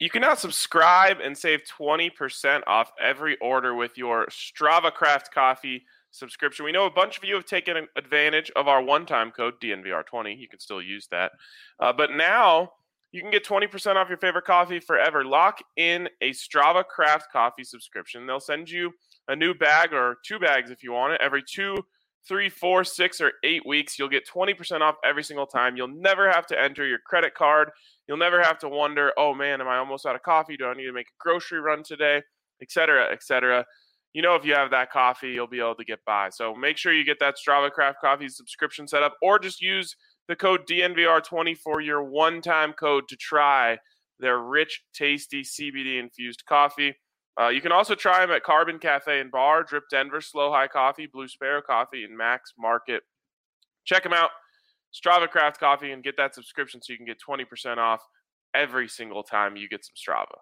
You can now subscribe and save 20% off every order with your Strava Craft Coffee subscription. We know a bunch of you have taken advantage of our one-time code, DNVR20. You can still use that. But now you can get 20% off your favorite coffee forever. Lock in a Strava Craft Coffee subscription. They'll send you a new bag or 2 bags if you want it. Every 2, 3, 4, 6, or 8 weeks, you'll get 20% off every single time. You'll never have to enter your credit card. You'll never have to wonder, oh man, am I almost out of coffee? Do I need to make a grocery run today? Et cetera, et cetera. You know, if you have that coffee, you'll be able to get by. So make sure you get that Strava Craft Coffee subscription set up, or just use the code DNVR20 for your one-time code to try their rich, tasty CBD-infused coffee. You can also try them at Carbon Cafe and Bar, Drip Denver, Slow High Coffee, Blue Sparrow Coffee, and Max Market. Check them out, Strava Craft Coffee, and get that subscription so you can get 20% off every single time you get some Strava.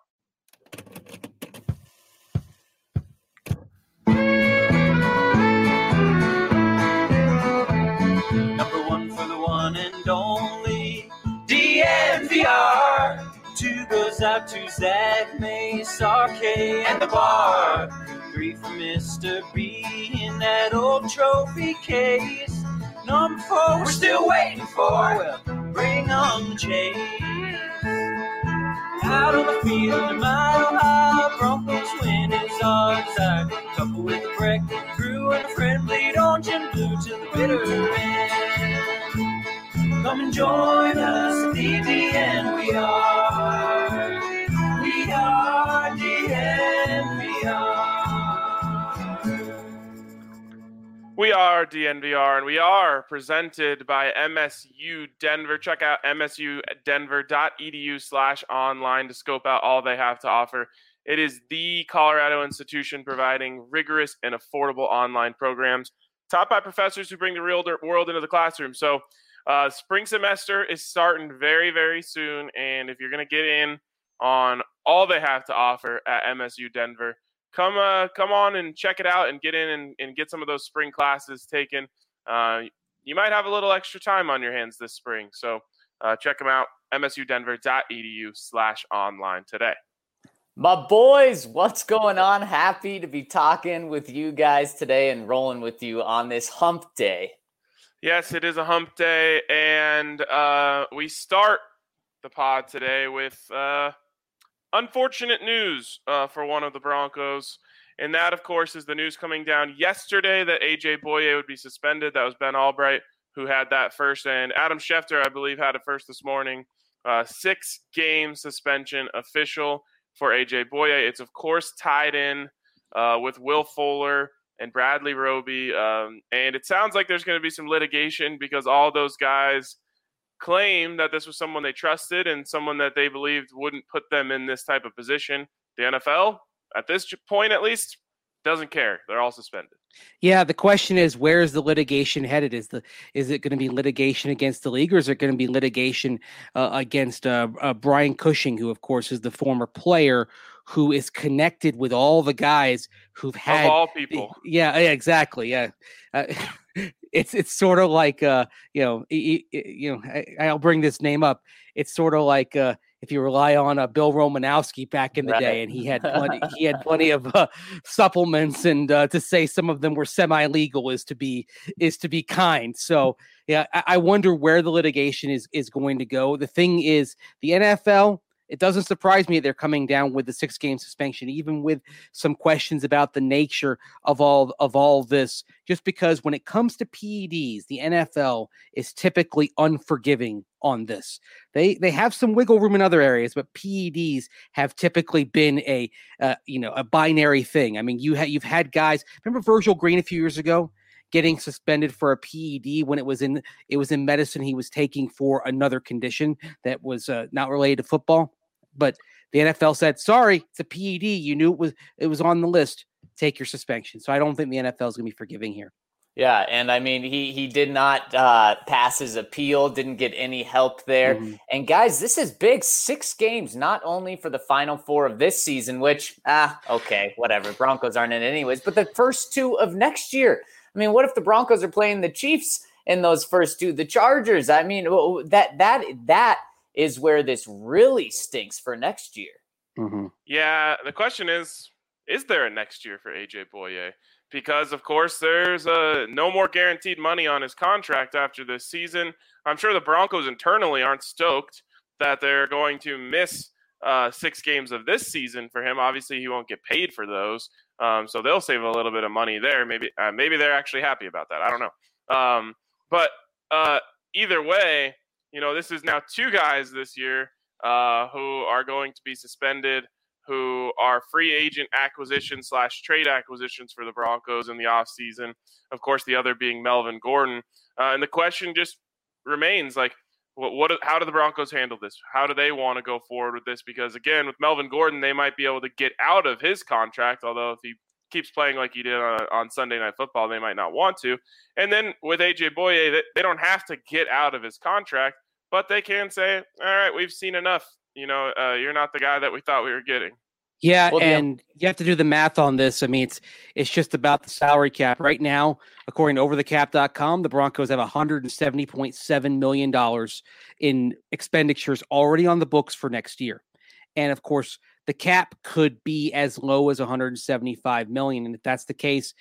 Number one for the one and only DNVR. 2 goes out to Zach Mace, RK, and the bar. 3 for Mr. B in that old trophy case. Number 4 we're still waiting for. Well, bring on the chase. Out on the field, a mile high, Broncos win is our desire. Couple with a break, crew and a friend, bleed orange and blue to the bitter end. Come and join us at the DNVR. We are DNVR. We are DNVR, and we are presented by MSU Denver. Check out msudenver.edu/online to scope out all they have to offer. It is the Colorado institution providing rigorous and affordable online programs, taught by professors who bring the real world into the classroom. So spring semester is starting very, very soon, and if you're going to get in on all they have to offer at MSU Denver, come on and check it out and get in and get some of those spring classes taken. You might have a little extra time on your hands this spring, so check them out, msudenver.edu/online today. My boys, what's going on? Happy to be talking with you guys today and rolling with you on this hump day. Yes, it is a hump day, and we start the pod today with unfortunate news for one of the Broncos, and that, of course, is the news coming down yesterday that A.J. Boye would be suspended. That was Ben Albright who had that first, and Adam Schefter, I believe, had it first this morning. 6-game suspension official for A.J. Boye. It's, of course, tied in with Will Fuller and Bradley Roby, and it sounds like there's going to be some litigation because all those guys claim that this was someone they trusted and someone that they believed wouldn't put them in this type of position. The NFL, at this point at least, doesn't care. They're all suspended. Yeah, the question is, where is the litigation headed? Is it going to be litigation against the league, or is it going to be litigation against Brian Cushing, who, of course, is the former player who is connected with all the guys who've had of all people. Yeah, exactly. Yeah. It's sort of like I'll bring this name up. It's sort of like if you rely on Bill Romanowski back in the day, and he had plenty of supplements, and to say some of them were semi-legal is to be kind. So yeah, I wonder where the litigation is going to go. The thing is, the NFL, it doesn't surprise me they're coming down with the 6-game suspension, even with some questions about the nature of all this, just because when it comes to PEDs, the NFL is typically unforgiving on this. They have some wiggle room in other areas, but PEDs have typically been a binary thing. I mean, you've had guys, remember Virgil Green a few years ago getting suspended for a PED when it was in medicine he was taking for another condition that was not related to football. But the NFL said, sorry, it's a PED. You knew it was on the list. Take your suspension. So I don't think the NFL is going to be forgiving here. Yeah, and I mean, he did not pass his appeal, didn't get any help there. Mm-hmm. And guys, this is big. 6 games, not only for the Final Four of this season, which, okay, whatever. Broncos aren't in it anyways, but the first 2 of next year. I mean, what if the Broncos are playing the Chiefs in those first 2, the Chargers? I mean, that is where this really stinks for next year. Yeah, the question is there a next year for AJ Boye? Because, of course, there's no more guaranteed money on his contract after this season. I'm sure the Broncos internally aren't stoked that they're going to miss 6 games of this season for him. Obviously, he won't get paid for those, so they'll save a little bit of money there. Maybe they're actually happy about that. I don't know. But either way, this is now 2 guys this year who are going to be suspended, who are free agent acquisitions / trade acquisitions for the Broncos in the offseason. Of course, the other being Melvin Gordon. And the question just remains, like, how do the Broncos handle this? How do they want to go forward with this? Because, again, with Melvin Gordon, they might be able to get out of his contract, although if he keeps playing like he did on Sunday Night Football, they might not want to. And then with AJ Boye, they don't have to get out of his contract, but they can say, all right, we've seen enough. You're not the guy that we thought we were getting. Yeah, and you have to do the math on this. I mean, it's just about the salary cap. Right now, according to overthecap.com, the Broncos have $170.7 million in expenditures already on the books for next year. And, of course, the cap could be as low as $175 million. And if that's the case,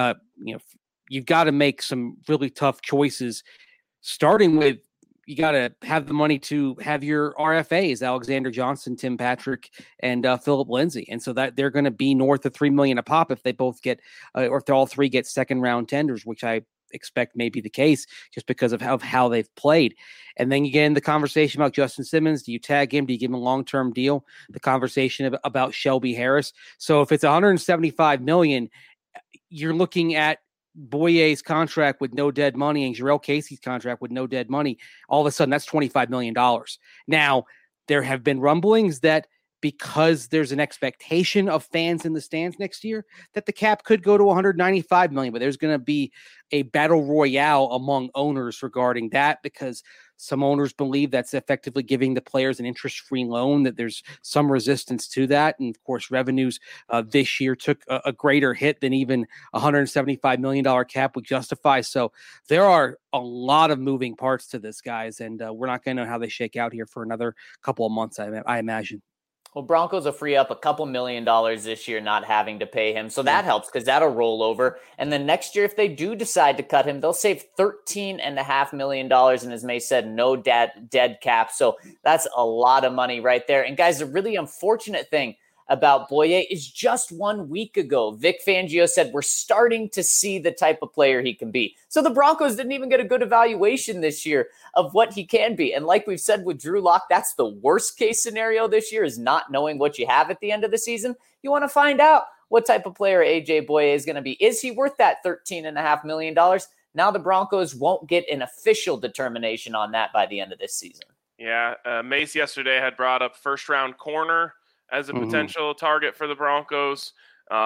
you've got to make some really tough choices, starting with you got to have the money to have your RFAs, Alexander Johnson, Tim Patrick, and Philip Lindsay. And so that they're going to be north of $3 million a pop if they both get, or if all 3 get second round tenders, which I expect may be the case just because of how they've played. And then you get in the conversation about Justin Simmons. Do you tag him? Do you give him a long-term deal? The conversation about Shelby Harris. So if it's $175 million, you're looking at Boye's contract with no dead money and Jarrell Casey's contract with no dead money. All of a sudden, that's $25 million. Now, there have been rumblings that because there's an expectation of fans in the stands next year, that the cap could go to $195 million, but there's going to be a battle royale among owners regarding that, because some owners believe that's effectively giving the players an interest-free loan, that there's some resistance to that. And of course, revenues this year took a greater hit than even $175 million cap would justify. So there are a lot of moving parts to this, guys, and we're not going to know how they shake out here for another couple of months, I imagine. Well, Broncos will free up a couple $1 million this year not having to pay him. So that helps because that'll roll over. And then next year, if they do decide to cut him, they'll save $13.5 million. And as May said, no dead cap. So that's a lot of money right there. And guys, the really unfortunate thing about Boye is just 1 week ago, Vic Fangio said we're starting to see the type of player he can be. So the Broncos didn't even get a good evaluation this year of what he can be. And like we've said with Drew Lock, that's the worst case scenario this year, is not knowing what you have at the end of the season. You want to find out what type of player AJ Boye is going to be. Is he worth that $13.5 million? Now the Broncos won't get an official determination on that by the end of this season. Yeah, Mace yesterday had brought up first-round corner as a potential target for the Broncos,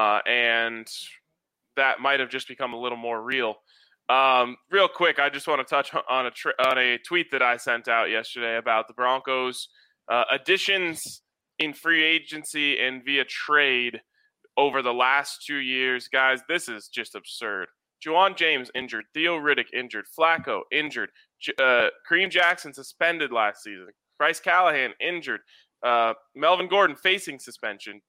and that might have just become a little more real. Real quick, I just want to touch on a tweet that I sent out yesterday about the Broncos' additions in free agency and via trade over the last 2 years. Guys, this is just absurd. Juwan James injured, Theo Riddick injured, Flacco injured, Kareem Jackson suspended last season, Bryce Callahan injured, Melvin Gordon facing suspension,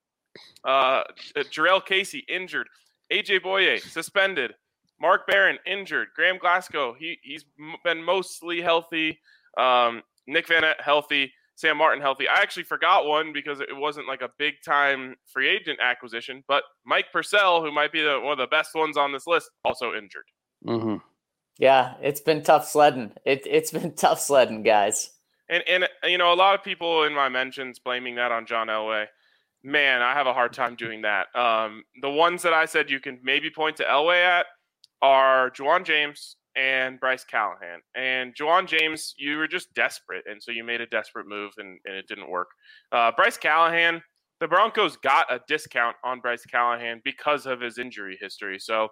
Jarrell Casey injured, AJ Boye suspended, Mark Barron injured, Graham Glasgow he's been mostly healthy, Nick Van Ette healthy, Sam Martin healthy. I actually forgot one because it wasn't like a big time free agent acquisition, but Mike Purcell, who might be one of the best ones on this list, also injured. Yeah, it's been tough sledding. It's been tough sledding, guys. And a lot of people in my mentions blaming that on John Elway. Man, I have a hard time doing that. The ones that I said you can maybe point to Elway at are Juwan James and Bryce Callahan. And Juwan James, you were just desperate, and so you made a desperate move, and it didn't work. Bryce Callahan, the Broncos got a discount on Bryce Callahan because of his injury history. So,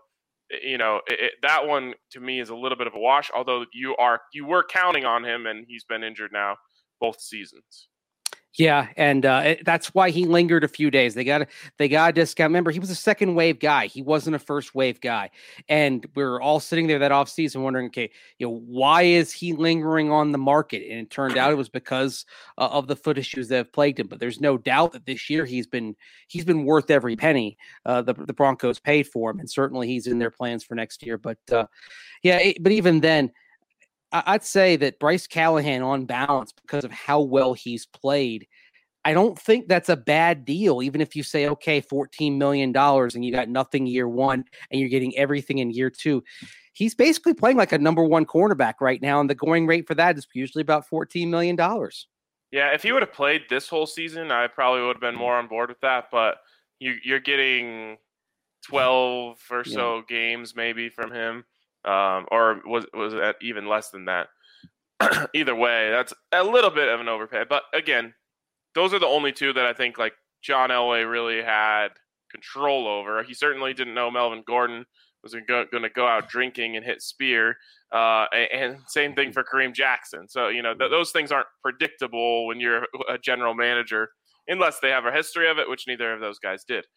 that one to me is a little bit of a wash, although you were counting on him, and he's been injured now both seasons. Yeah, and that's why he lingered a few days. They got to discount. Remember, he was a second wave guy. He wasn't a first wave guy. And we were all sitting there that offseason wondering, okay, why is he lingering on the market? And it turned out it was because of the foot issues that have plagued him. But there's no doubt that this year he's been worth every penny the Broncos paid for him, and certainly he's in their plans for next year. But but even then, I'd say that Bryce Callahan, on balance, because of how well he's played, I don't think that's a bad deal. Even if you say, okay, $14 million and you got nothing year one and you're getting everything in year two, he's basically playing like a number one cornerback right now. And the going rate for that is usually about $14 million. Yeah, if he would have played this whole season, I probably would have been more on board with that. But you're getting 12 or so games maybe from him. Or was it even less than that? Either way, that's a little bit of an overpay. But again, those are the only two that I think like John Elway really had control over. He certainly didn't know Melvin Gordon was going to go out drinking and hit spear. And same thing for Kareem Jackson. So, those things aren't predictable when you're a general manager, unless they have a history of it, which neither of those guys did.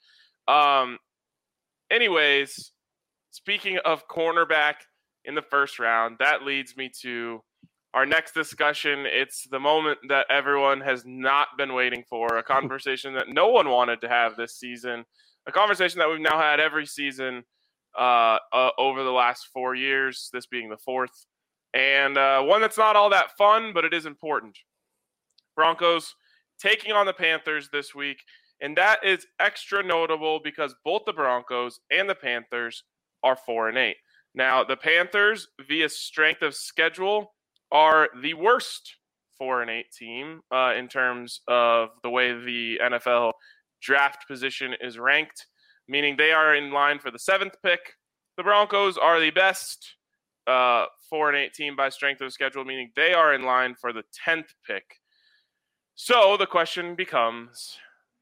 Anyways, speaking of cornerback in the first round, that leads me to our next discussion. It's the moment that everyone has not been waiting for, a conversation that no one wanted to have this season, a conversation that we've now had every season over the last 4 years, this being the fourth, and one that's not all that fun, but it is important. Broncos taking on the Panthers this week, and that is extra notable because both the Broncos and the Panthers are 4-8. Now, the Panthers, via strength of schedule, are the worst 4-8 team in terms of the way the NFL draft position is ranked, meaning they are in line for the 7th pick. The Broncos are the best 4-8 team by strength of schedule, meaning they are in line for the 10th pick. So the question becomes,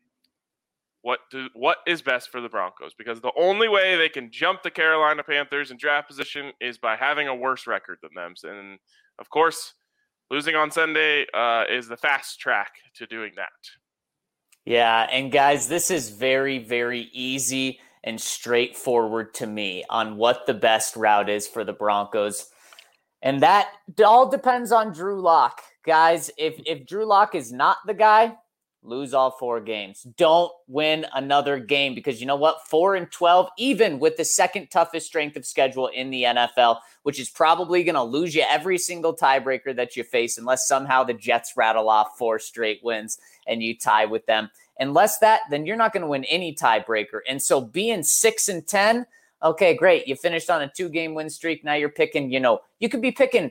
what is best for the Broncos? Because the only way they can jump the Carolina Panthers in draft position is by having a worse record than them. And, of course, losing on Sunday is the fast track to doing that. Yeah, and guys, this is very, very easy and straightforward to me on what the best route is for the Broncos. And that all depends on Drew Lock. Guys, if Drew Lock is not the guy, lose all 4 games. Don't win another game because you know what? 4-12, even with the second toughest strength of schedule in the NFL, which is probably going to lose you every single tiebreaker that you face unless somehow the Jets rattle off 4 straight wins and you tie with them. Unless that, then you're not going to win any tiebreaker. And so being 6-10, okay, great. You finished on a 2-game win streak. Now you're picking, you could be picking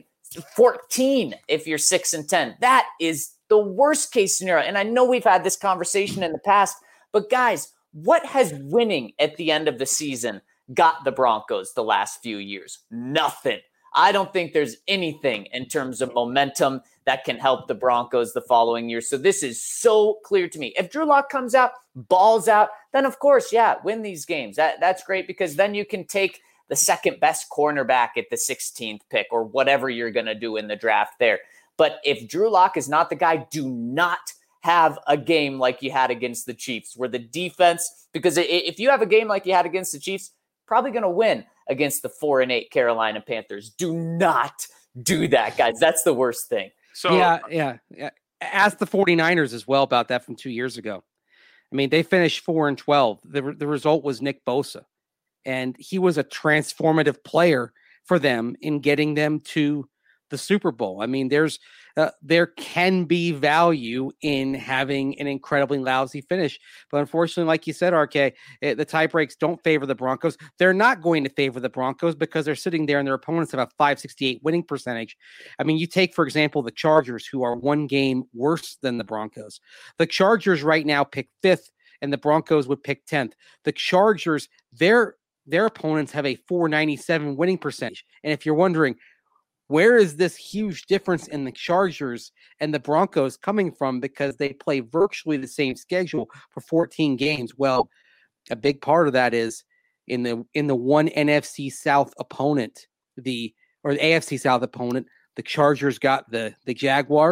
14 if you're 6-10. That is the worst case scenario. And I know we've had this conversation in the past, but guys, what has winning at the end of the season got the Broncos the last few years? Nothing. I don't think there's anything in terms of momentum that can help the Broncos the following year. So this is so clear to me. If Drew Lock comes out, balls out, then of course, win these games. That's great because then you can take the second best cornerback at the 16th pick or whatever you're going to do in the draft there. But if Drew Lock is not the guy, do not have a game like you had against the Chiefs where the defense, because if you have a game like you had against the Chiefs, probably going to win against the 4-8 Carolina Panthers. Do not do that, guys. That's the worst thing. So yeah. Ask the 49ers as well about that from 2 years ago. I mean, they finished 4-12. The result was Nick Bosa, and he was a transformative player for them in getting them to the Super Bowl. I mean, there can be value in having an incredibly lousy finish, but unfortunately, like you said, RK, the tie breaks don't favor the Broncos. They're not going to favor the Broncos because they're sitting there and their opponents have a .568 winning percentage. I mean, you take, for example, the Chargers, who are 1 game worse than the Broncos. The Chargers right now pick 5th, and the Broncos would pick 10th. The Chargers, their opponents have a .497 winning percentage, and if you're wondering, where is this huge difference in the Chargers and the Broncos coming from? Because they play virtually the same schedule for 14 games. Well, a big part of that is in the one NFC South opponent, the AFC South opponent, the Chargers got the Jaguars,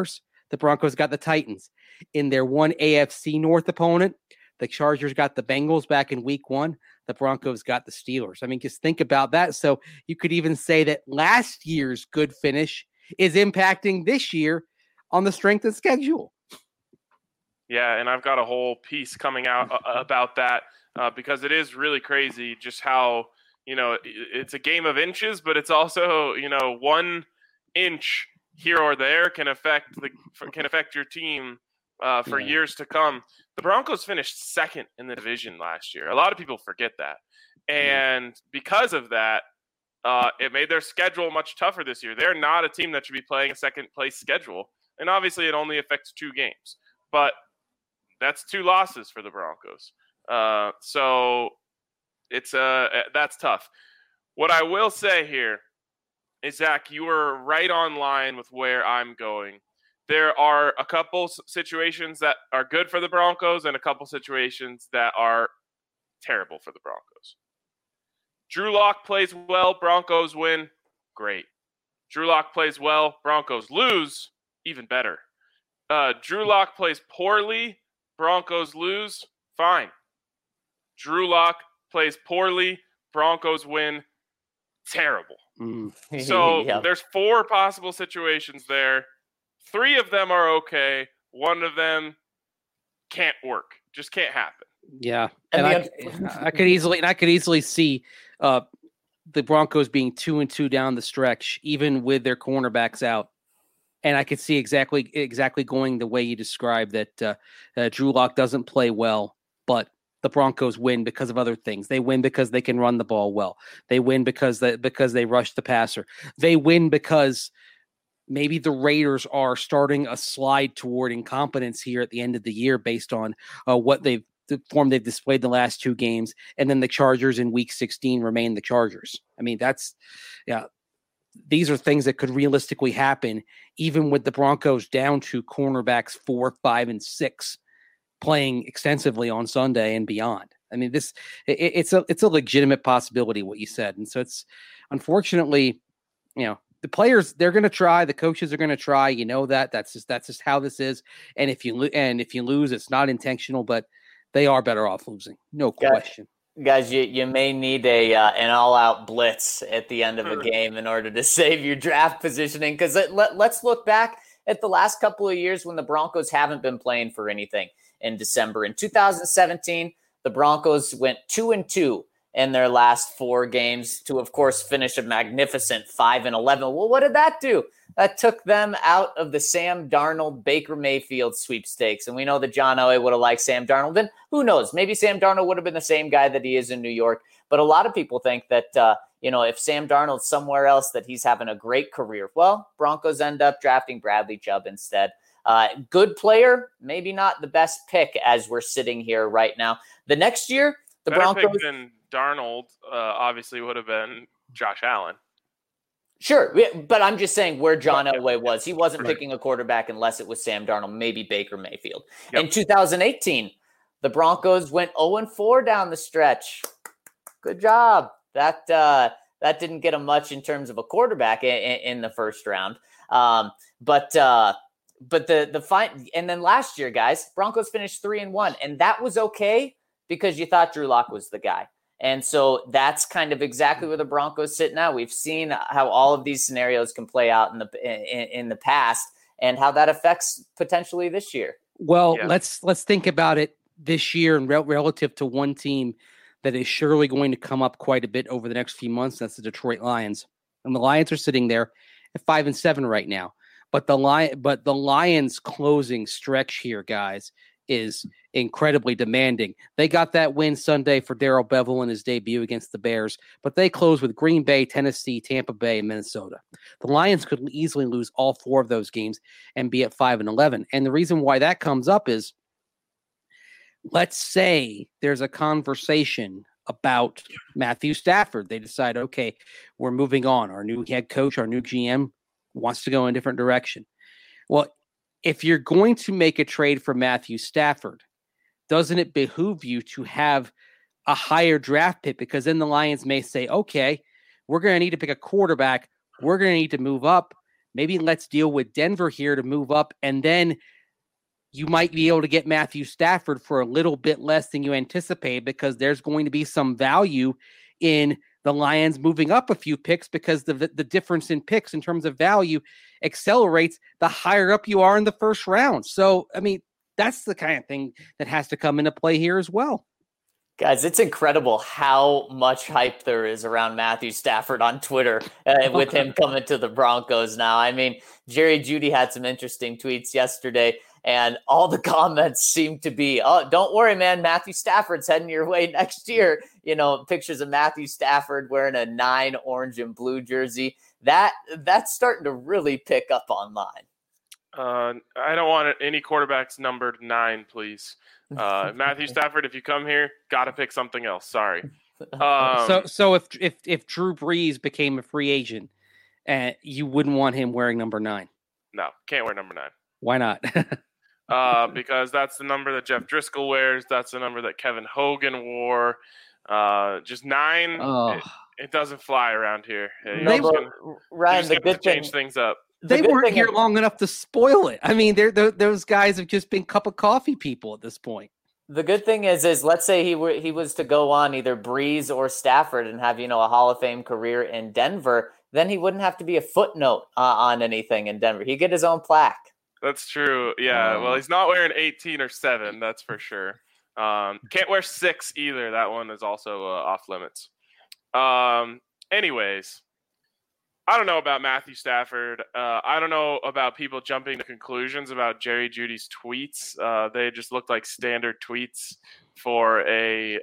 the Broncos got the Titans. In their one AFC North opponent, the Chargers got the Bengals back in week 1. The Broncos got the Steelers. I mean, just think about that. So you could even say that last year's good finish is impacting this year on the strength of schedule. Yeah, and I've got a whole piece coming out about that because it is really crazy just how, it's a game of inches, but it's also, 1 inch here or there can affect your team for years to come. The Broncos finished second in the division last year. A lot of people forget that. And because of that, it made their schedule much tougher this year. They're not a team that should be playing a second-place schedule. And obviously, it only affects 2 games. But that's 2 losses for the Broncos. So that's tough. What I will say here is, Zach, you were right on line with where I'm going. There are a couple situations that are good for the Broncos and a couple situations that are terrible for the Broncos. Drew Lock plays well, Broncos win, great. Drew Lock plays well, Broncos lose, even better. Drew Lock plays poorly, Broncos lose, fine. Drew Lock plays poorly, Broncos win, terrible. So there's 4 possible situations there. 3 of them are okay. 1 of them can't work. Just can't happen. Yeah, and I could easily see the Broncos being 2-2 down the stretch, even with their cornerbacks out. And I could see exactly going the way you described that. Drew Lock doesn't play well, but the Broncos win because of other things. They win because they can run the ball well. They win because they rush the passer. They win because maybe the Raiders are starting a slide toward incompetence here at the end of the year based on the form they've displayed the last 2 games. And then the Chargers in week 16 remain the Chargers. I mean, these are things that could realistically happen even with the Broncos down to cornerbacks 4, 5, and 6 playing extensively on Sunday and beyond. I mean, it's a legitimate possibility what you said. And so it's unfortunately, the players, they're going to try, the coaches are going to try, that's just how this is. And if you lose, it's not intentional, but they are better off losing. No question. Guys, you may need an all-out blitz at the end of a game in order to save your draft positioning. Because let's look back at the last couple of years when the Broncos haven't been playing for anything in December. In 2017, the Broncos went 2-2 in their last 4 games to, of course, finish a magnificent 5-11. Well, what did that do? That took them out of the Sam Darnold, Baker Mayfield sweepstakes. And we know that John Elway would have liked Sam Darnold. And who knows? Maybe Sam Darnold would have been the same guy that he is in New York. But a lot of people think that, if Sam Darnold's somewhere else, that he's having a great career. Well, Broncos end up drafting Bradley Chubb instead. Good player, maybe not the best pick as we're sitting here right now. The next year, the better Broncos pick than Darnold obviously would have been Josh Allen. Sure, but I'm just saying where John Elway was. He wasn't picking a quarterback unless it was Sam Darnold, maybe Baker Mayfield. Yep. In 2018, the Broncos went 0-4 down the stretch. Good job. That didn't get them much in terms of a quarterback in the first round. But the fine. And then last year, guys, Broncos finished 3-1, and that was okay because you thought Drew Lock was the guy. And so that's kind of exactly where the Broncos sit now. We've seen how all of these scenarios can play out in the past and how that affects potentially this year. Well, let's think about it this year and relative to one team that is surely going to come up quite a bit over the next few months. That's the Detroit Lions. And the Lions are sitting there at 5-7 right now. But the Lions closing stretch here, guys, is incredibly demanding. They got that win Sunday for Darrell Bevell in his debut against the Bears, but they close with Green Bay, Tennessee, Tampa Bay, and Minnesota. The Lions could easily lose all 4 of those games and be at 5-11. And the reason why that comes up is, let's say there's a conversation about Matthew Stafford. They decide, okay, we're moving on. Our new head coach, our new GM wants to go in a different direction. Well, if you're going to make a trade for Matthew Stafford, doesn't it behoove you to have a higher draft pick? Because then the Lions may say, okay, we're going to need to pick a quarterback. We're going to need to move up. maybe let's deal with Denver here to move up, and then you might be able to get Matthew Stafford for a little bit less than you anticipate, because there's going to be some value in the Lions moving up a few picks, because the difference in picks in terms of value accelerates the higher up you are in the first round. So, I mean, that's the kind of thing that has to come into play here as well. Guys, it's incredible how much hype there is around Matthew Stafford on Twitter with him coming to the Broncos now. I mean, Jerry Jeudy had some interesting tweets yesterday, and all the comments seem to be, oh, don't worry, man, Matthew Stafford's heading your way next year. You know, pictures of Matthew Stafford wearing a 9 orange and blue jersey. That's starting to really pick up online. I don't want any quarterbacks numbered 9, please. Matthew Stafford, if you come here, got to pick something else. Sorry. So if Drew Brees became a free agent, you wouldn't want him wearing number 9? No, can't wear number 9. Why not? Because that's the number that Jeff Driscoll wears. That's the number that Kevin Hogan wore. Just 9. Oh. It doesn't fly around here. Ryan, the good change things up. They weren't here long enough to spoil it. I mean, those guys have just been cup of coffee people at this point. The good thing is let's say he was to go on either Brees or Stafford and have, a Hall of Fame career in Denver, then he wouldn't have to be a footnote on anything in Denver. He'd get his own plaque. That's true. Yeah. Well, he's not wearing 18 or 7. That's for sure. Can't wear 6 either. That one is also off limits. Anyways. I don't know about Matthew Stafford. I don't know about people jumping to conclusions about Jerry Jeudy's tweets. They just looked like standard tweets for a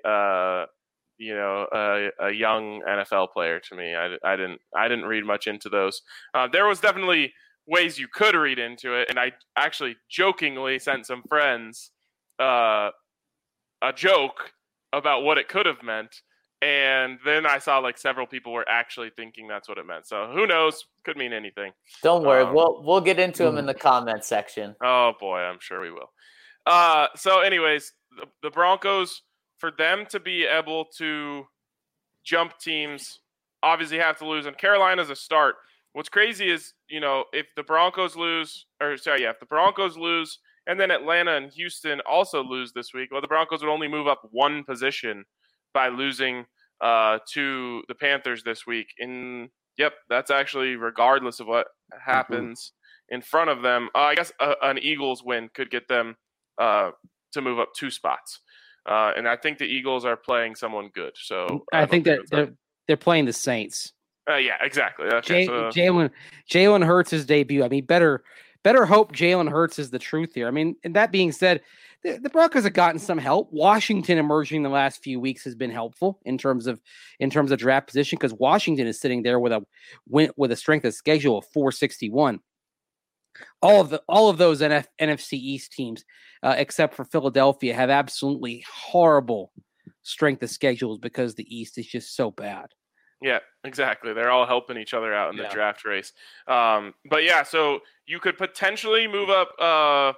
young NFL player to me. I didn't read much into those. There was definitely ways you could read into it, and I actually jokingly sent some friends a joke about what it could have meant. And then I saw several people were actually thinking that's what it meant. So who knows? Could mean anything. Don't worry. We'll get into them in the comment section. Oh, boy. I'm sure we will. So anyways, the Broncos, for them to be able to jump teams, obviously have to lose. And Carolina's a start. What's crazy is, if the Broncos lose and then Atlanta and Houston also lose this week, well, the Broncos would only move up 1 position by losing to the Panthers this week. That's actually regardless of what happens in front of them. I guess an Eagles win could get them to move up 2 spots. And I think the Eagles are playing someone good. So I think that they're playing the Saints. Yeah, exactly. Okay, Jalen Hurts' debut. I mean, better hope Jalen Hurts is the truth here. I mean, and that being said, the Broncos have gotten some help. Washington emerging in the last few weeks has been helpful in terms of draft position, because Washington is sitting there with a strength of schedule of 461. All of those NFC East teams, except for Philadelphia, have absolutely horrible strength of schedules because the East is just so bad. Yeah, exactly. They're all helping each other out in the draft race. But yeah, so you could potentially move up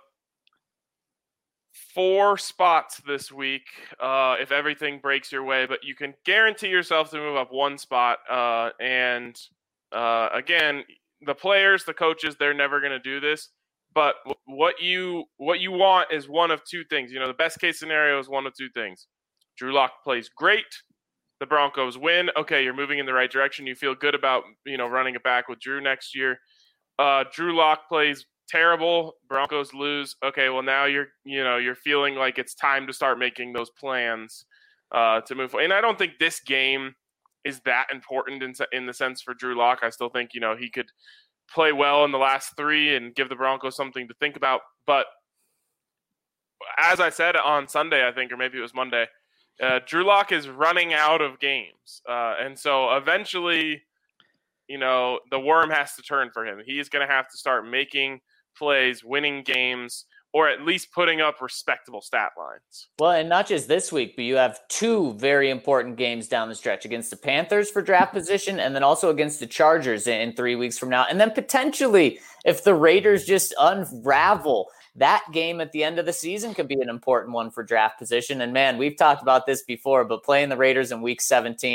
4 spots this week if everything breaks your way, but you can guarantee yourself to move up 1 spot. And again, the players, the coaches, they're never going to do this. But what you want is one of 2 things. The best case scenario is one of 2 things. Drew Lock plays great. The Broncos win. Okay, you're moving in the right direction. You feel good about running it back with Drew next year. Drew Lock plays terrible. Broncos lose. Okay, well now you're feeling like it's time to start making those plans to move forward. And I don't think this game is that important in the sense for Drew Lock. I still think he could play well in the last 3 and give the Broncos something to think about. But as I said on Sunday, I think, or maybe it was Monday, Drew Lock is running out of games, and so eventually, the worm has to turn for him. He's going to have to start making plays, winning games, or at least putting up respectable stat lines. Well, and not just this week, but you have 2 very important games down the stretch against the Panthers for draft position, and then also against the Chargers in 3 weeks from now. And then potentially, if the Raiders just unravel, that game at the end of the season could be an important one for draft position. And man, we've talked about this before, but playing the Raiders in week 17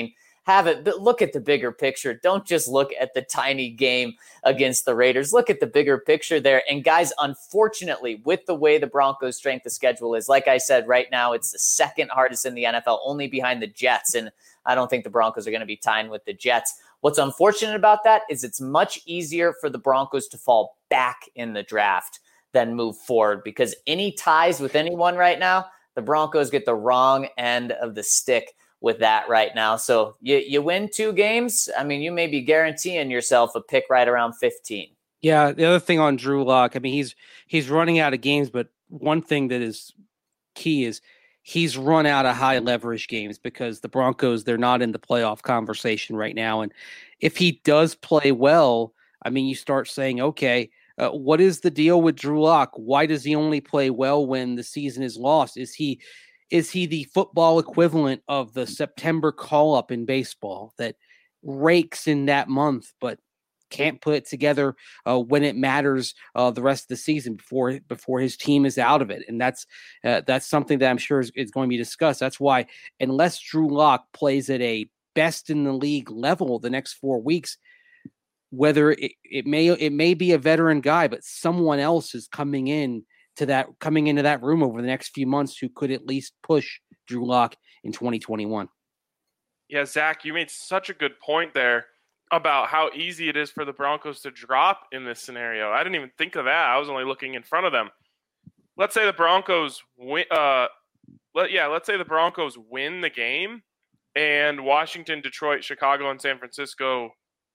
have it, but look at the bigger picture. Don't just look at the tiny game against the Raiders. Look at the bigger picture there. And guys, unfortunately, with the way the Broncos' strength of schedule is, like I said, right now, it's the second hardest in the NFL, only behind the Jets. And I don't think the Broncos are going to be tying with the Jets. What's unfortunate about that is it's much easier for the Broncos to fall back in the draft than move forward, because any ties with anyone right now, the Broncos get the wrong end of the stick with that right now. So you win 2 games. I mean, you may be guaranteeing yourself a pick right around 15. Yeah. The other thing on Drew Lock, I mean, he's running out of games, but one thing that is key is he's run out of high leverage games because the Broncos, they're not in the playoff conversation right now. And if he does play well, I mean, you start saying, okay, what is the deal with Drew Lock? Why does he only play well when the season is lost? Is he the football equivalent of the September call-up in baseball that rakes in that month, but can't put it together when it matters the rest of the season before his team is out of it? And that's something that I'm sure is going to be discussed. That's why, unless Drew Lock plays at a best in the league level the next 4 weeks, whether it may be a veteran guy, but someone else is coming into that room over the next few months who could at least push Drew Lock in 2021. Yeah, Zach, you made such a good point there about how easy it is for the Broncos to drop in this scenario. I didn't even think of that. I was only looking in front of them. Let's say the Broncos win. Let's say the Broncos win the game, and Washington, Detroit, Chicago, and San Francisco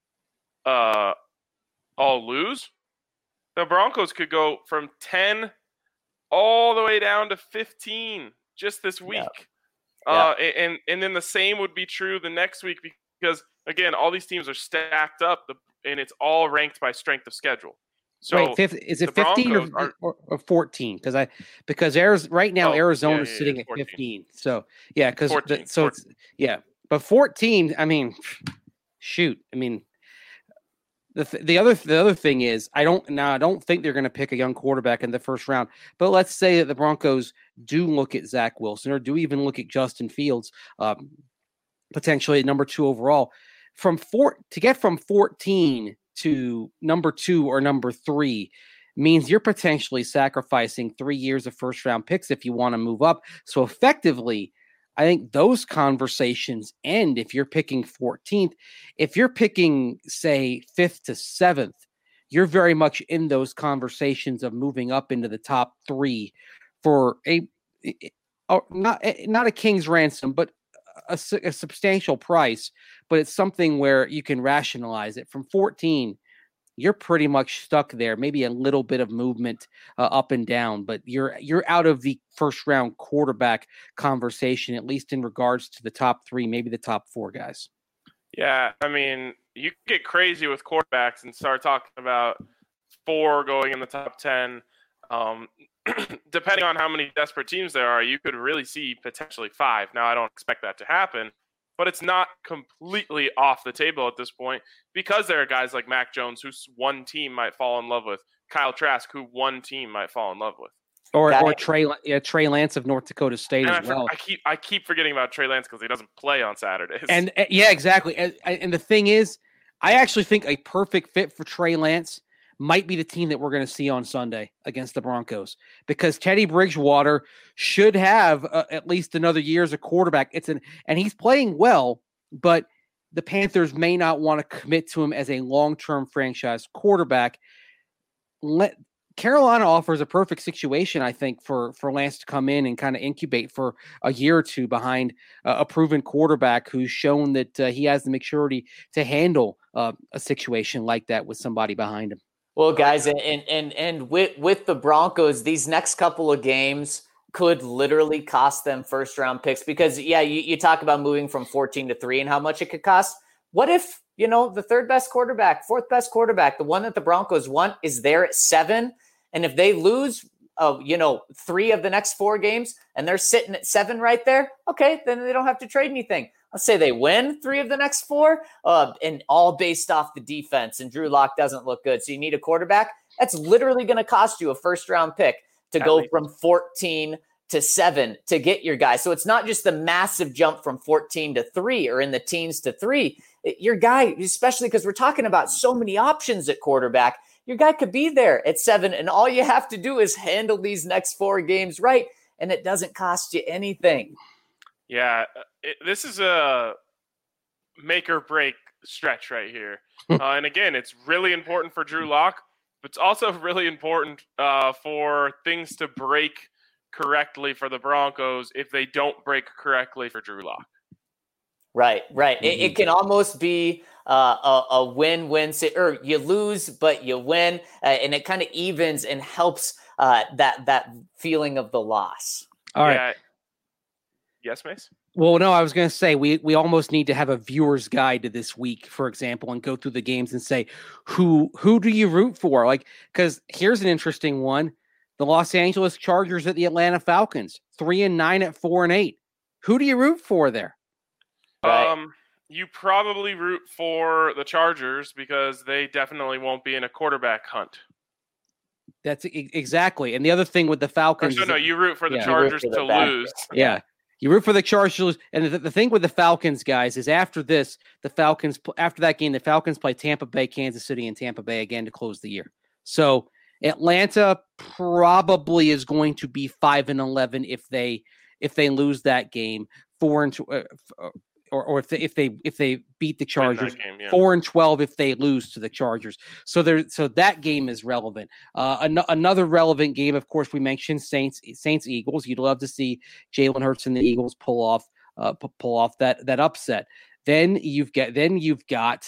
all lose. The Broncos could go from 10 all the way down to 15 just this week. Yeah. And then the same would be true the next week, because again, all these teams are stacked up and it's all ranked by strength of schedule. So is it 15 or 14? Because right now Arizona is sitting at 15. So yeah, but 14. I mean, shoot. I mean, the other thing is I don't think they're going to pick a young quarterback in the first round. But let's say that the Broncos do look at Zach Wilson or do even look at Justin Fields, potentially at number 2 overall. To get from 14 to number 2 or number 3 means you're potentially sacrificing 3 years of first round picks if you want to move up. So effectively, I think those conversations end if you're picking 14th. If you're picking, say, 5th to 7th, you're very much in those conversations of moving up into the top 3 for not a king's ransom, but a substantial price. But it's something where you can rationalize it. From 14, you're pretty much stuck there. Maybe a little bit of movement up and down, but you're out of the first round quarterback conversation, at least in regards to the top 3, maybe the top 4 guys. Yeah, I mean, you get crazy with quarterbacks and start talking about 4 going in the top 10. Depending on how many desperate teams there are, you could really see potentially 5. Now, I don't expect that to happen, but it's not completely off the table at this point, because there are guys like Mac Jones, who one team might fall in love with, Kyle Trask, who one team might fall in love with, or Trey Lance of North Dakota State as well. I keep forgetting about Trey Lance because he doesn't play on Saturdays. And yeah, exactly. And the thing is, I actually think a perfect fit for Trey Lance might be the team that we're going to see on Sunday against the Broncos, because Teddy Bridgewater should have at least another year as a quarterback. And he's playing well, but the Panthers may not want to commit to him as a long-term franchise quarterback. Carolina offers a perfect situation, I think, for Lance to come in and kind of incubate for a year or two behind a proven quarterback who's shown that he has the maturity to handle a situation like that with somebody behind him. Well, guys, and with the Broncos, these next couple of games could literally cost them first round picks, because you talk about moving from 14 to 3 and how much it could cost. What if, the third best quarterback, fourth best quarterback, the one that the Broncos want, is there at 7? And if they lose, 3 of the next 4 games and they're sitting at 7 right there, okay, then they don't have to trade anything. Let's say they win 3 of the next 4, and all based off the defense, and Drew Lock doesn't look good. So you need a quarterback. That's literally going to cost you a first round pick to go from 14 to 7 to get your guy. So it's not just the massive jump from 14 to 3 or in the teens to 3. Your guy, especially because we're talking about so many options at quarterback, your guy could be there at 7, and all you have to do is handle these next 4 games right, and it doesn't cost you anything. Yeah, this is a make or break stretch right here. And again, it's really important for Drew Lock, but it's also really important for things to break correctly for the Broncos if they don't break correctly for Drew Lock. Right. It can almost be a win-win, or you lose, but you win, and it kind of evens and helps that feeling of the loss. All right. Yes, Mace? Well, no, I was going to say we almost need to have a viewer's guide to this week, for example, and go through the games and say who do you root for? Like, because here's an interesting one: the Los Angeles Chargers at the Atlanta Falcons, 3-9 at 4-8. Who do you root for there? Right. You probably root for the Chargers because they definitely won't be in a quarterback hunt. That's exactly. And the other thing with the Falcons, you root for the Chargers to lose. Yeah. You root for the Chargers. And the thing with the Falcons, guys, is after that game, the Falcons play Tampa Bay, Kansas City, and Tampa Bay again to close the year. So Atlanta probably is going to be 5-11 if they lose that game. 4-2. Or if they beat the Chargers, 4-12 if they lose to the Chargers. So that game is relevant. Another relevant game, of course, we mentioned Saints Eagles. You'd love to see Jalen Hurts and the Eagles pull off that upset. Then you've got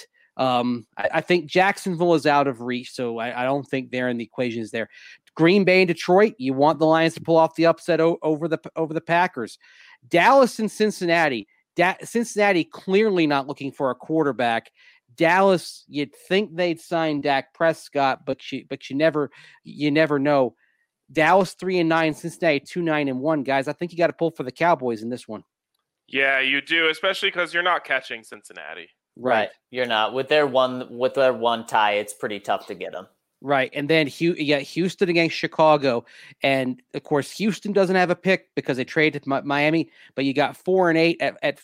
I think Jacksonville is out of reach, so I don't think they're in the equations there. Green Bay and Detroit, you want the Lions to pull off the upset over the Packers. Dallas and Cincinnati. Cincinnati clearly not looking for a quarterback. Dallas, you'd think they'd sign Dak Prescott, but you never know. Dallas 3-9, Cincinnati 2-9-1. Guys, I think you got to pull for the Cowboys in this one. Yeah, you do, especially because you're not catching Cincinnati. Right, you're not with their one tie. It's pretty tough to get them. Right, and then Houston against Chicago, and of course Houston doesn't have a pick because they traded Miami. But you got 4-8 at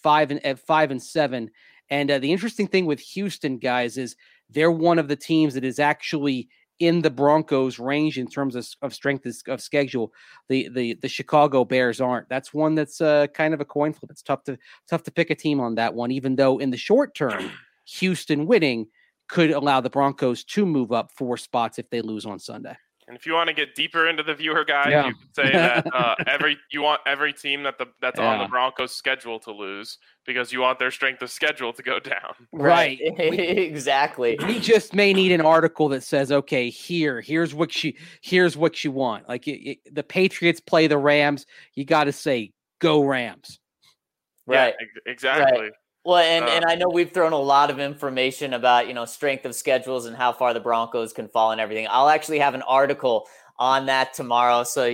5-7, and the interesting thing with Houston, guys, is they're one of the teams that is actually in the Broncos' range in terms of strength of schedule. The Chicago Bears aren't. That's one that's kind of a coin flip. It's tough to pick a team on that one, even though in the short term, Houston winning could allow the Broncos to move up 4 spots if they lose on Sunday. And if you want to get deeper into the viewer guide, you could say that you want every team that's on the Broncos schedule to lose because you want their strength of schedule to go down. Right. Exactly. We just may need an article that says, okay, here's what you want. Like the Patriots play the Rams, you got to say go Rams. Right. Yeah, exactly. Right. Well, and I know we've thrown a lot of information about, strength of schedules and how far the Broncos can fall and everything. I'll actually have an article on that tomorrow. So,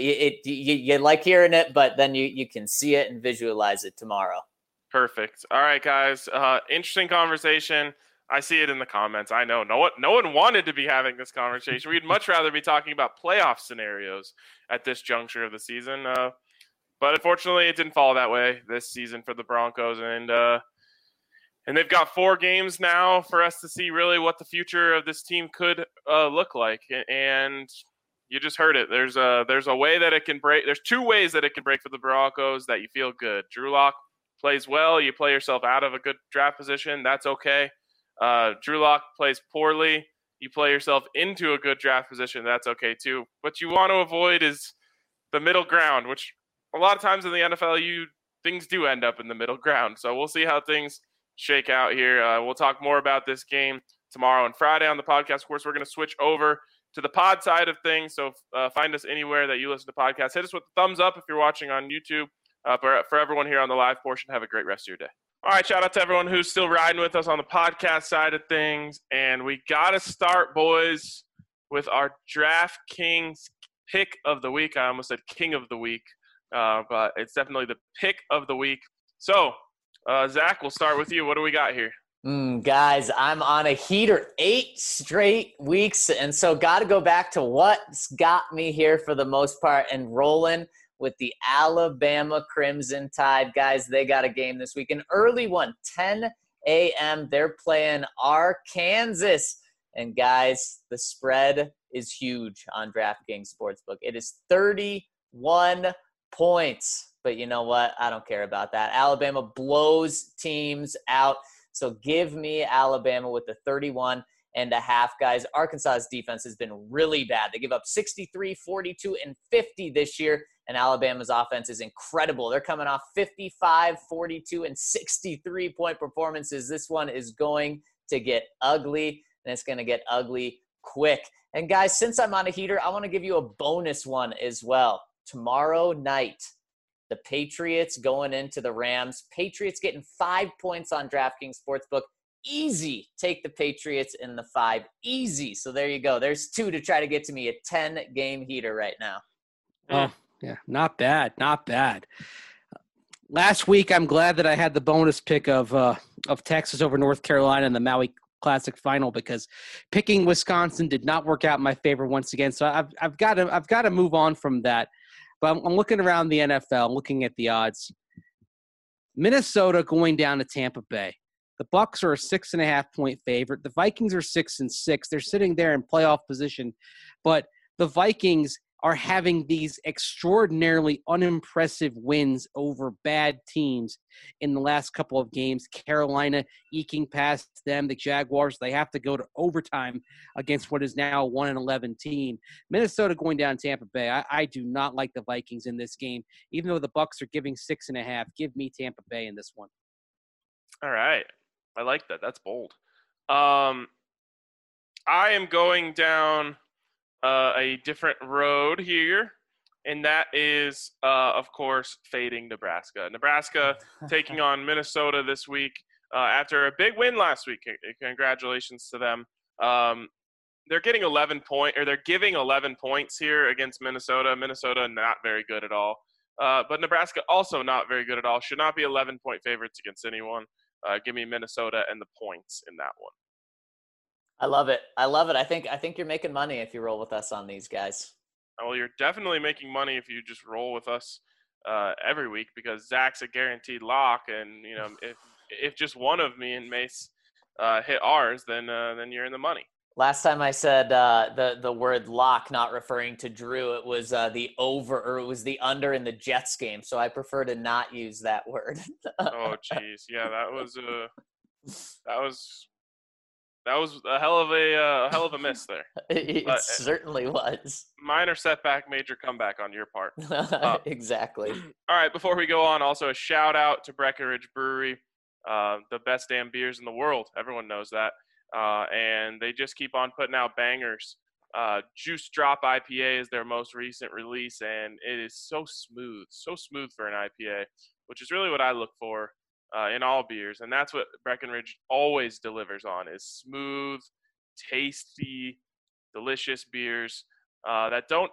you like hearing it, but then you can see it and visualize it tomorrow. Perfect. All right, guys. Interesting conversation. I see it in the comments. I know no one wanted to be having this conversation. We'd much rather be talking about playoff scenarios at this juncture of the season. But unfortunately, it didn't fall that way this season for the Broncos, and they've got 4 games now for us to see really what the future of this team could look like. And you just heard it. There's a way that it can break. There's 2 ways that it can break for the Broncos that you feel good. Drew Lock plays well. You play yourself out of a good draft position. That's okay. Drew Lock plays poorly. You play yourself into a good draft position. That's okay too. What you want to avoid is the middle ground, which a lot of times in the NFL, things do end up in the middle ground. So we'll see how things shake out here. We'll talk more about this game tomorrow and Friday on the podcast. Of course, we're going to switch over to the pod side of things. So find us anywhere that you listen to podcasts. Hit us with a thumbs up if you're watching on YouTube. For everyone here on the live portion, have a great rest of your day. All right, shout out to everyone who's still riding with us on the podcast side of things. And we got to start, boys, with our DraftKings pick of the week. I almost said king of the week. But it's definitely the pick of the week. So, Zach, we'll start with you. What do we got here? Guys, I'm on a heater 8 straight weeks, and so got to go back to what's got me here for the most part and rolling with the Alabama Crimson Tide. Guys, they got a game this week, an early one, 10 a.m. They're playing Arkansas. And guys, the spread is huge on DraftKings Sportsbook. It is 31 points. But you know what? I don't care about that. Alabama blows teams out. So give me Alabama with the 31.5, guys. Arkansas's defense has been really bad. They give up 63, 42, and 50 this year. And Alabama's offense is incredible. They're coming off 55, 42, and 63-point performances. This one is going to get ugly, and it's going to get ugly quick. And guys, since I'm on a heater, I want to give you a bonus one as well. Tomorrow night, the Patriots going into the Rams. Patriots getting 5 points on DraftKings Sportsbook. Easy. Take the Patriots in the 5. Easy. So there you go. There's 2 to try to get to me. A 10-game heater right now. Oh, yeah. Not bad. Not bad. Last week, I'm glad that I had the bonus pick of Texas over North Carolina in the Maui Classic final, because picking Wisconsin did not work out in my favor once again. So I've got to move on from that. But I'm looking around the NFL, looking at the odds. Minnesota going down to Tampa Bay. The Bucs are a 6.5-point favorite. The Vikings are 6-6. They're sitting there in playoff position, but the Vikings are having these extraordinarily unimpressive wins over bad teams in the last couple of games. Carolina eking past them. The Jaguars, they have to go to overtime against what is now a 1-11 team. Minnesota going down Tampa Bay. I do not like the Vikings in this game, even though the Bucs are giving 6.5. Give me Tampa Bay in this one. All right. I like that. That's bold. I am going down a different road here, and that is, of course, fading Nebraska. Nebraska taking on Minnesota this week after a big win last week. Congratulations to them. They're getting 11 points, or they're giving 11 points here against Minnesota. Minnesota not very good at all, but Nebraska also not very good at all. Should not be 11-point favorites against anyone. Give me Minnesota and the points in that one. I love it. I love it. I think you're making money if you roll with us on these guys. Well, you're definitely making money if you just roll with us every week, because Zach's a guaranteed lock, and you know if just one of me and Mace hit ours, then you're in the money. Last time I said the word lock, not referring to Drew, it was the over, or it was the under in the Jets game. So I prefer to not use that word. Oh, geez, yeah, that was a hell of a miss there. It certainly was. Minor setback, major comeback on your part. Exactly. All right, before we go on, also a shout out to Breckenridge Brewery, the best damn beers in the world. Everyone knows that. And they just keep on putting out bangers. Juice Drop IPA is their most recent release, and it is so smooth for an IPA, which is really what I look for in all beers. And that's what Breckenridge always delivers on, is smooth, tasty, delicious beers that don't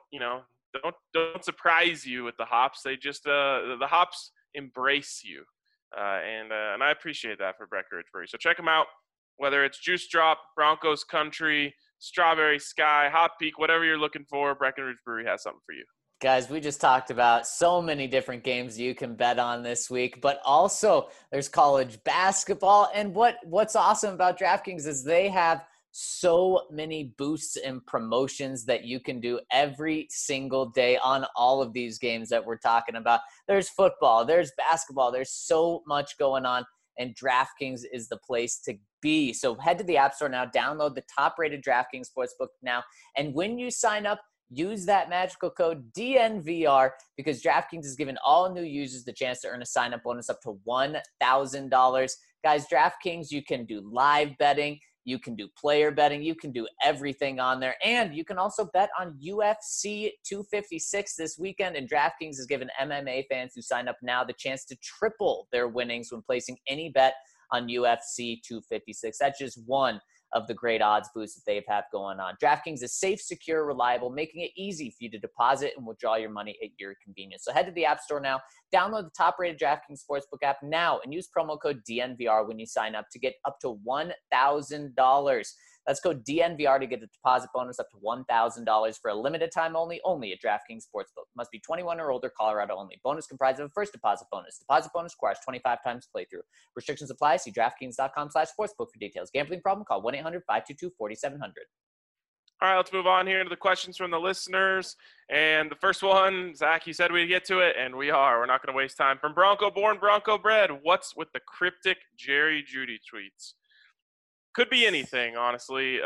surprise you with the hops. They just the hops embrace you, and I appreciate that for Breckenridge Brewery. So check them out. Whether it's Juice Drop, Broncos Country, Strawberry Sky, Hot Peak, whatever you're looking for, Breckenridge Brewery has something for you. Guys, we just talked about so many different games you can bet on this week, but also there's college basketball. And what's awesome about DraftKings is they have so many boosts and promotions that you can do every single day on all of these games that we're talking about. There's football, there's basketball, there's so much going on, and DraftKings is the place to be. So head to the App Store now, download the top-rated DraftKings Sportsbook now, and when you sign up, use that magical code DNVR, because DraftKings is giving all new users the chance to earn a sign-up bonus up to $1,000. Guys, DraftKings, you can do live betting, you can do player betting, you can do everything on there, and you can also bet on UFC 256 this weekend, and DraftKings is giving MMA fans who sign up now the chance to triple their winnings when placing any bet on UFC 256. That's just one of the great odds boosts that they've had going on. DraftKings is safe, secure, reliable, making it easy for you to deposit and withdraw your money at your convenience. So head to the App Store now, download the top-rated DraftKings Sportsbook app now, and use promo code DNVR when you sign up to get up to $1,000. That's code DNVR to get a deposit bonus up to $1,000 for a limited time only at DraftKings Sportsbook. Must be 21 or older, Colorado only. Bonus comprised of a first deposit bonus. Deposit bonus requires 25 times playthrough. Restrictions apply. See DraftKings.com/sportsbook for details. Gambling problem? Call 1-800-522-4700. All right, let's move on here to the questions from the listeners. And the first one, Zach, you said we'd get to it, and we are. We're not going to waste time. From Bronco Born, Bronco Bred, what's with the cryptic Jerry Jeudy tweets? Could be anything, honestly.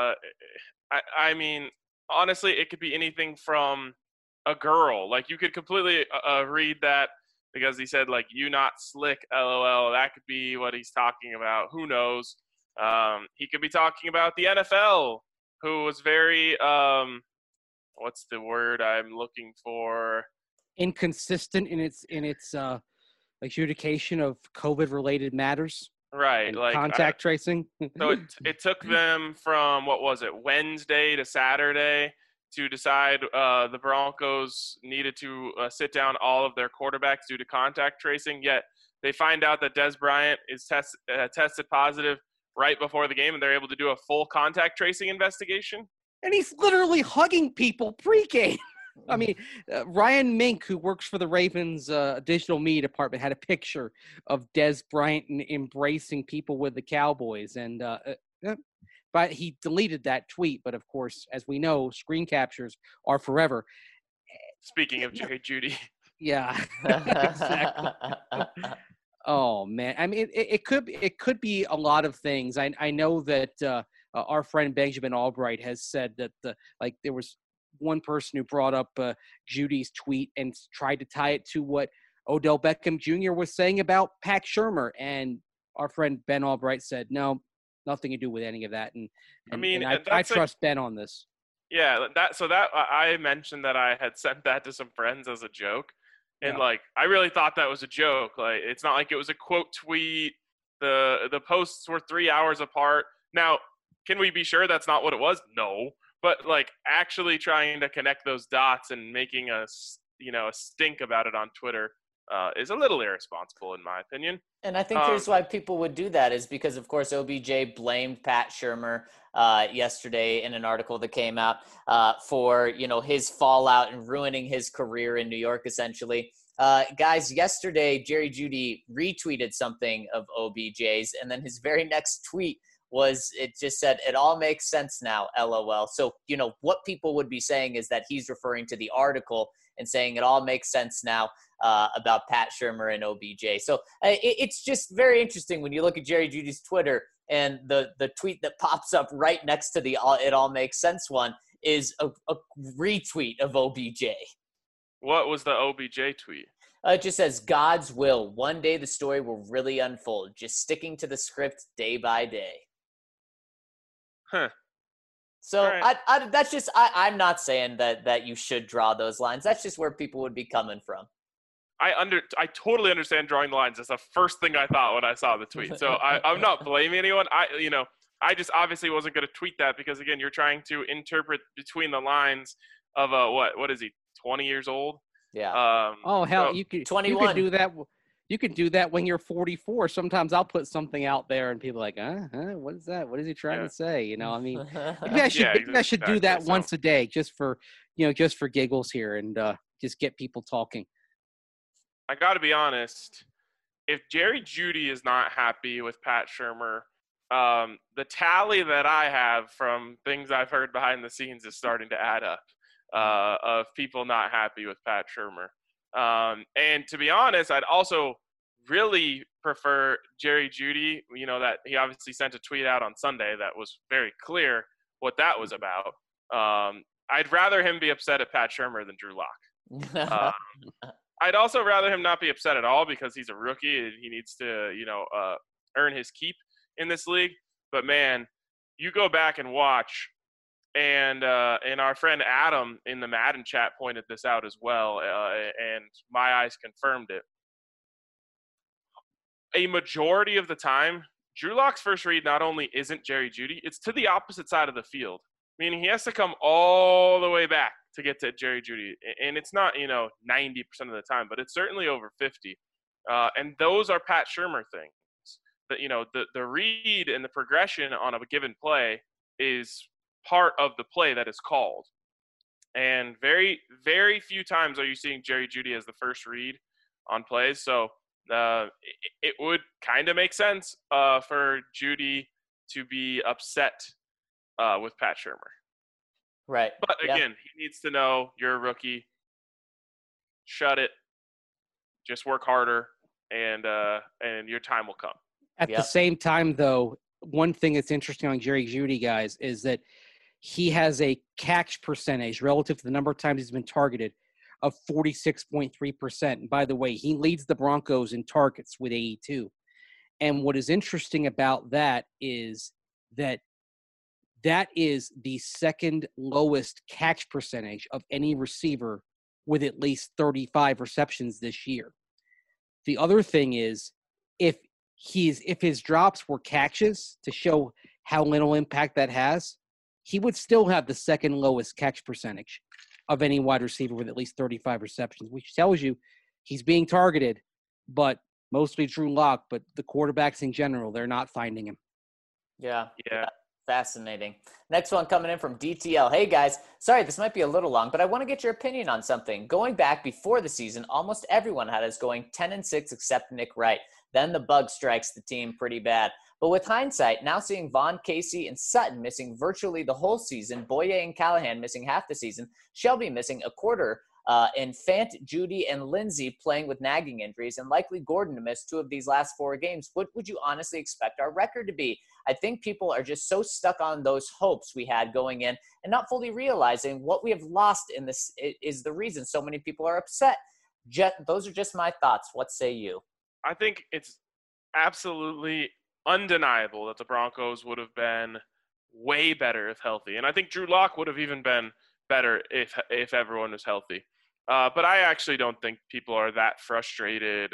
I mean, honestly, it could be anything from a girl. Like, you could completely read that because he said, like, you not slick, LOL. That could be what he's talking about. Who knows? He could be talking about the NFL, who was very, what's the word I'm looking for? Inconsistent in its adjudication of COVID-related matters. Right, like contact tracing. So it took them from, what was it, Wednesday to Saturday to decide the Broncos needed to sit down all of their quarterbacks due to contact tracing. Yet they find out that Dez Bryant is tested positive right before the game, and they're able to do a full contact tracing investigation. And he's literally hugging people pre-game. I mean, Ryan Mink, who works for the Ravens digital media department, had a picture of Dez Bryant embracing people with the Cowboys. And but he deleted that tweet. But, of course, as we know, screen captures are forever. Speaking of Jerry Jeudy. Yeah, exactly. Oh, man. I mean, it could be a lot of things. I know that our friend Benjamin Albright has said that there was one person who brought up Judy's tweet and tried to tie it to what Odell Beckham Jr. was saying about Pat Shurmur. And our friend Ben Albright said, no, nothing to do with any of that. And I trust Ben on this. Yeah, I mentioned that I had sent that to some friends as a joke. And, I really thought that was a joke. Like, it's not like it was a quote tweet. The posts were 3 hours apart. Now, can we be sure that's not what it was? No. But, actually trying to connect those dots and making a stink about it on Twitter is a little irresponsible, in my opinion. And I think here's why people would do that is because, of course, OBJ blamed Pat Shurmur yesterday in an article that came out for, his fallout and ruining his career in New York, essentially. Guys, yesterday, Jerry Jeudy retweeted something of OBJ's, and then his very next tweet it just said, it all makes sense now, LOL. So, what people would be saying is that he's referring to the article and saying it all makes sense now about Pat Shurmur and OBJ. So it's just very interesting when you look at Jerry Jeudy's Twitter and the tweet that pops up right next to the it all makes sense one is a retweet of OBJ. What was the OBJ tweet? It just says, God's will. One day the story will really unfold. Just sticking to the script day by day. Huh. So right. that's just I'm not saying that you should draw those lines. That's just where people would be coming from. I totally understand drawing the lines. That's the first thing I thought when I saw the tweet. So I'm not blaming anyone. I just obviously wasn't going to tweet that because, again, you're trying to interpret between the lines of what is he, 20 years old? Yeah. You could 21. You could do that. You can do that when you're 44. Sometimes I'll put something out there and people are like, what is that? What is he trying to say? I mean, maybe I should do that once a day just for giggles here and just get people talking. I got to be honest. If Jerry Jeudy is not happy with Pat Shurmur, the tally that I have from things I've heard behind the scenes is starting to add up of people not happy with Pat Shurmur. And to be honest, I'd also really prefer Jerry Jeudy, that he obviously sent a tweet out on Sunday that was very clear what that was about. I'd rather him be upset at Pat Shurmur than Drew Lock. I'd also rather him not be upset at all because he's a rookie and he needs to, earn his keep in this league. But man, you go back and watch, and our friend Adam in the Madden chat pointed this out as well, and my eyes confirmed it. A majority of the time, Drew Lock's first read not only isn't Jerry Jeudy, it's to the opposite side of the field, meaning he has to come all the way back to get to Jerry Jeudy. And it's not, 90% of the time, but it's certainly over 50. And those are Pat Shurmur things. But, the read and the progression on a given play is part of the play that is called. And very, very few times are you seeing Jerry Jeudy as the first read on plays. So it would kind of make sense for Jeudy to be upset with Pat Shurmur. Right. But again, he needs to know you're a rookie. Shut it. Just work harder, and your time will come. At the same time, though, one thing that's interesting on Jerry Jeudy, guys, is that he has a catch percentage relative to the number of times he's been targeted of 46.3%. And by the way, he leads the Broncos in targets with 82. And what is interesting about that is that is the second lowest catch percentage of any receiver with at least 35 receptions this year. The other thing is, if his drops were catches, to show how little impact that has, he would still have the second lowest catch percentage of any wide receiver with at least 35 receptions, which tells you he's being targeted, but mostly Drew Lock, but the quarterbacks in general, they're not finding him. Yeah. Fascinating. Next one coming in from DTL. Hey guys, sorry this might be a little long, but I want to get your opinion on something. Going back before the season, almost everyone had us going 10-6 except Nick Wright. Then the bug strikes the team pretty bad. But with hindsight, now seeing Vaughn, Casey, and Sutton missing virtually the whole season, Boye and Callahan missing half the season, Shelby missing a quarter, and Fant, Jeudy, and Lindsey playing with nagging injuries, and likely Gordon to miss 2 of these last 4 games, what would you honestly expect our record to be? I think people are just so stuck on those hopes we had going in and not fully realizing what we have lost in this is the reason so many people are upset. Those are just my thoughts. What say you? I think it's absolutely undeniable that the Broncos would have been way better if healthy. And I think Drew Lock would have even been better if everyone was healthy. But I actually don't think people are that frustrated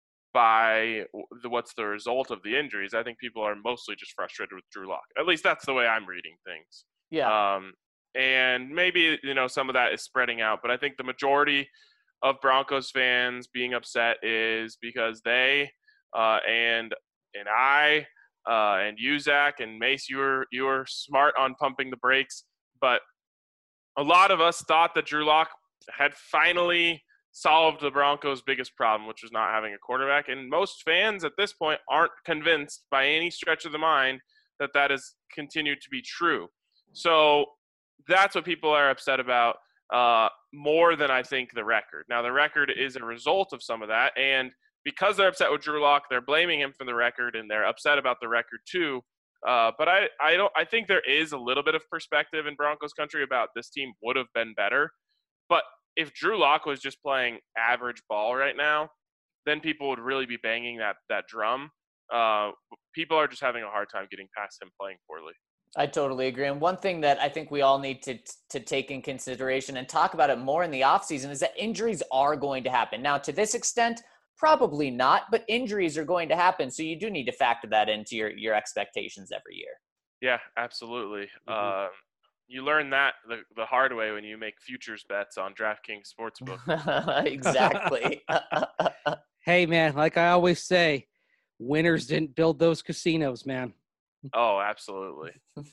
by what's the result of the injuries. I think people are mostly just frustrated with Drew Lock. At least that's the way I'm reading things. Yeah. And maybe, some of that is spreading out, but I think the majority of Broncos fans being upset is because they and I and you, Zach, and Mace, you were smart on pumping the brakes, but a lot of us thought that Drew Lock had finally solved the Broncos' biggest problem, which was not having a quarterback. And most fans at this point aren't convinced by any stretch of the mind that has continued to be true. So that's what people are upset about more than I think the record. Now, the record is a result of some of that. And because they're upset with Drew Lock, they're blaming him for the record, and they're upset about the record too. But I think there is a little bit of perspective in Broncos country about this team would have been better. But if Drew Lock was just playing average ball right now, then people would really be banging that drum. People are just having a hard time getting past him playing poorly. I totally agree. And one thing that I think we all need to take in consideration and talk about it more in the offseason is that injuries are going to happen. Now, to this extent, probably not, but injuries are going to happen. So you do need to factor that into your expectations every year. Yeah, absolutely. Mm-hmm. You learn that the hard way when you make futures bets on DraftKings Sportsbook. Exactly. Hey, man, like I always say, winners didn't build those casinos, man. Oh, absolutely.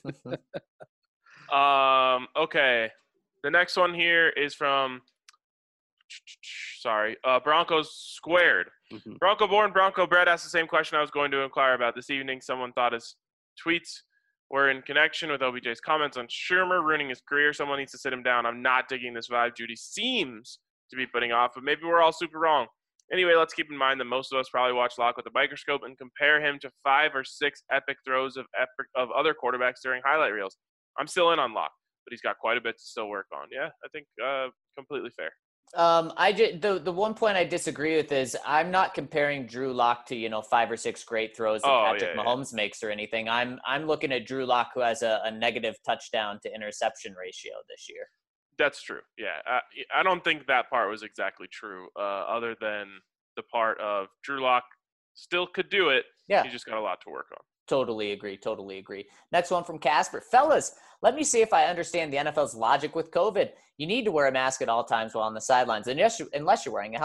Okay. The next one here is from Broncos Squared. Mm-hmm. Bronco born, Bronco bred asked the same question I was going to inquire about this evening. Someone thought his tweets were in connection with OBJ's comments on Shurmur ruining his career. Someone needs to sit him down. I'm not digging this vibe Jeudy seems to be putting off, but maybe we're all super wrong. Anyway, let's keep in mind that most of us probably watch Lock with a microscope and compare him to 5 or 6 epic throws of other quarterbacks during highlight reels. I'm still in on Lock, but he's got quite a bit to still work on. Yeah, I think completely fair. The one point I disagree with is I'm not comparing Drew Lock to 5 or 6 great throws that Patrick Mahomes makes or anything. I'm looking at Drew Lock, who has a negative touchdown to interception ratio this year. That's true. Yeah, I don't think that part was exactly true. Other than the part of Drew Lock still could do it. Yeah, he just got a lot to work on. Totally agree. Next one from Casper. Fellas, let me see if I understand the NFL's logic with COVID. You need to wear a mask at all times while on the sidelines, unless you're wearing a helmet.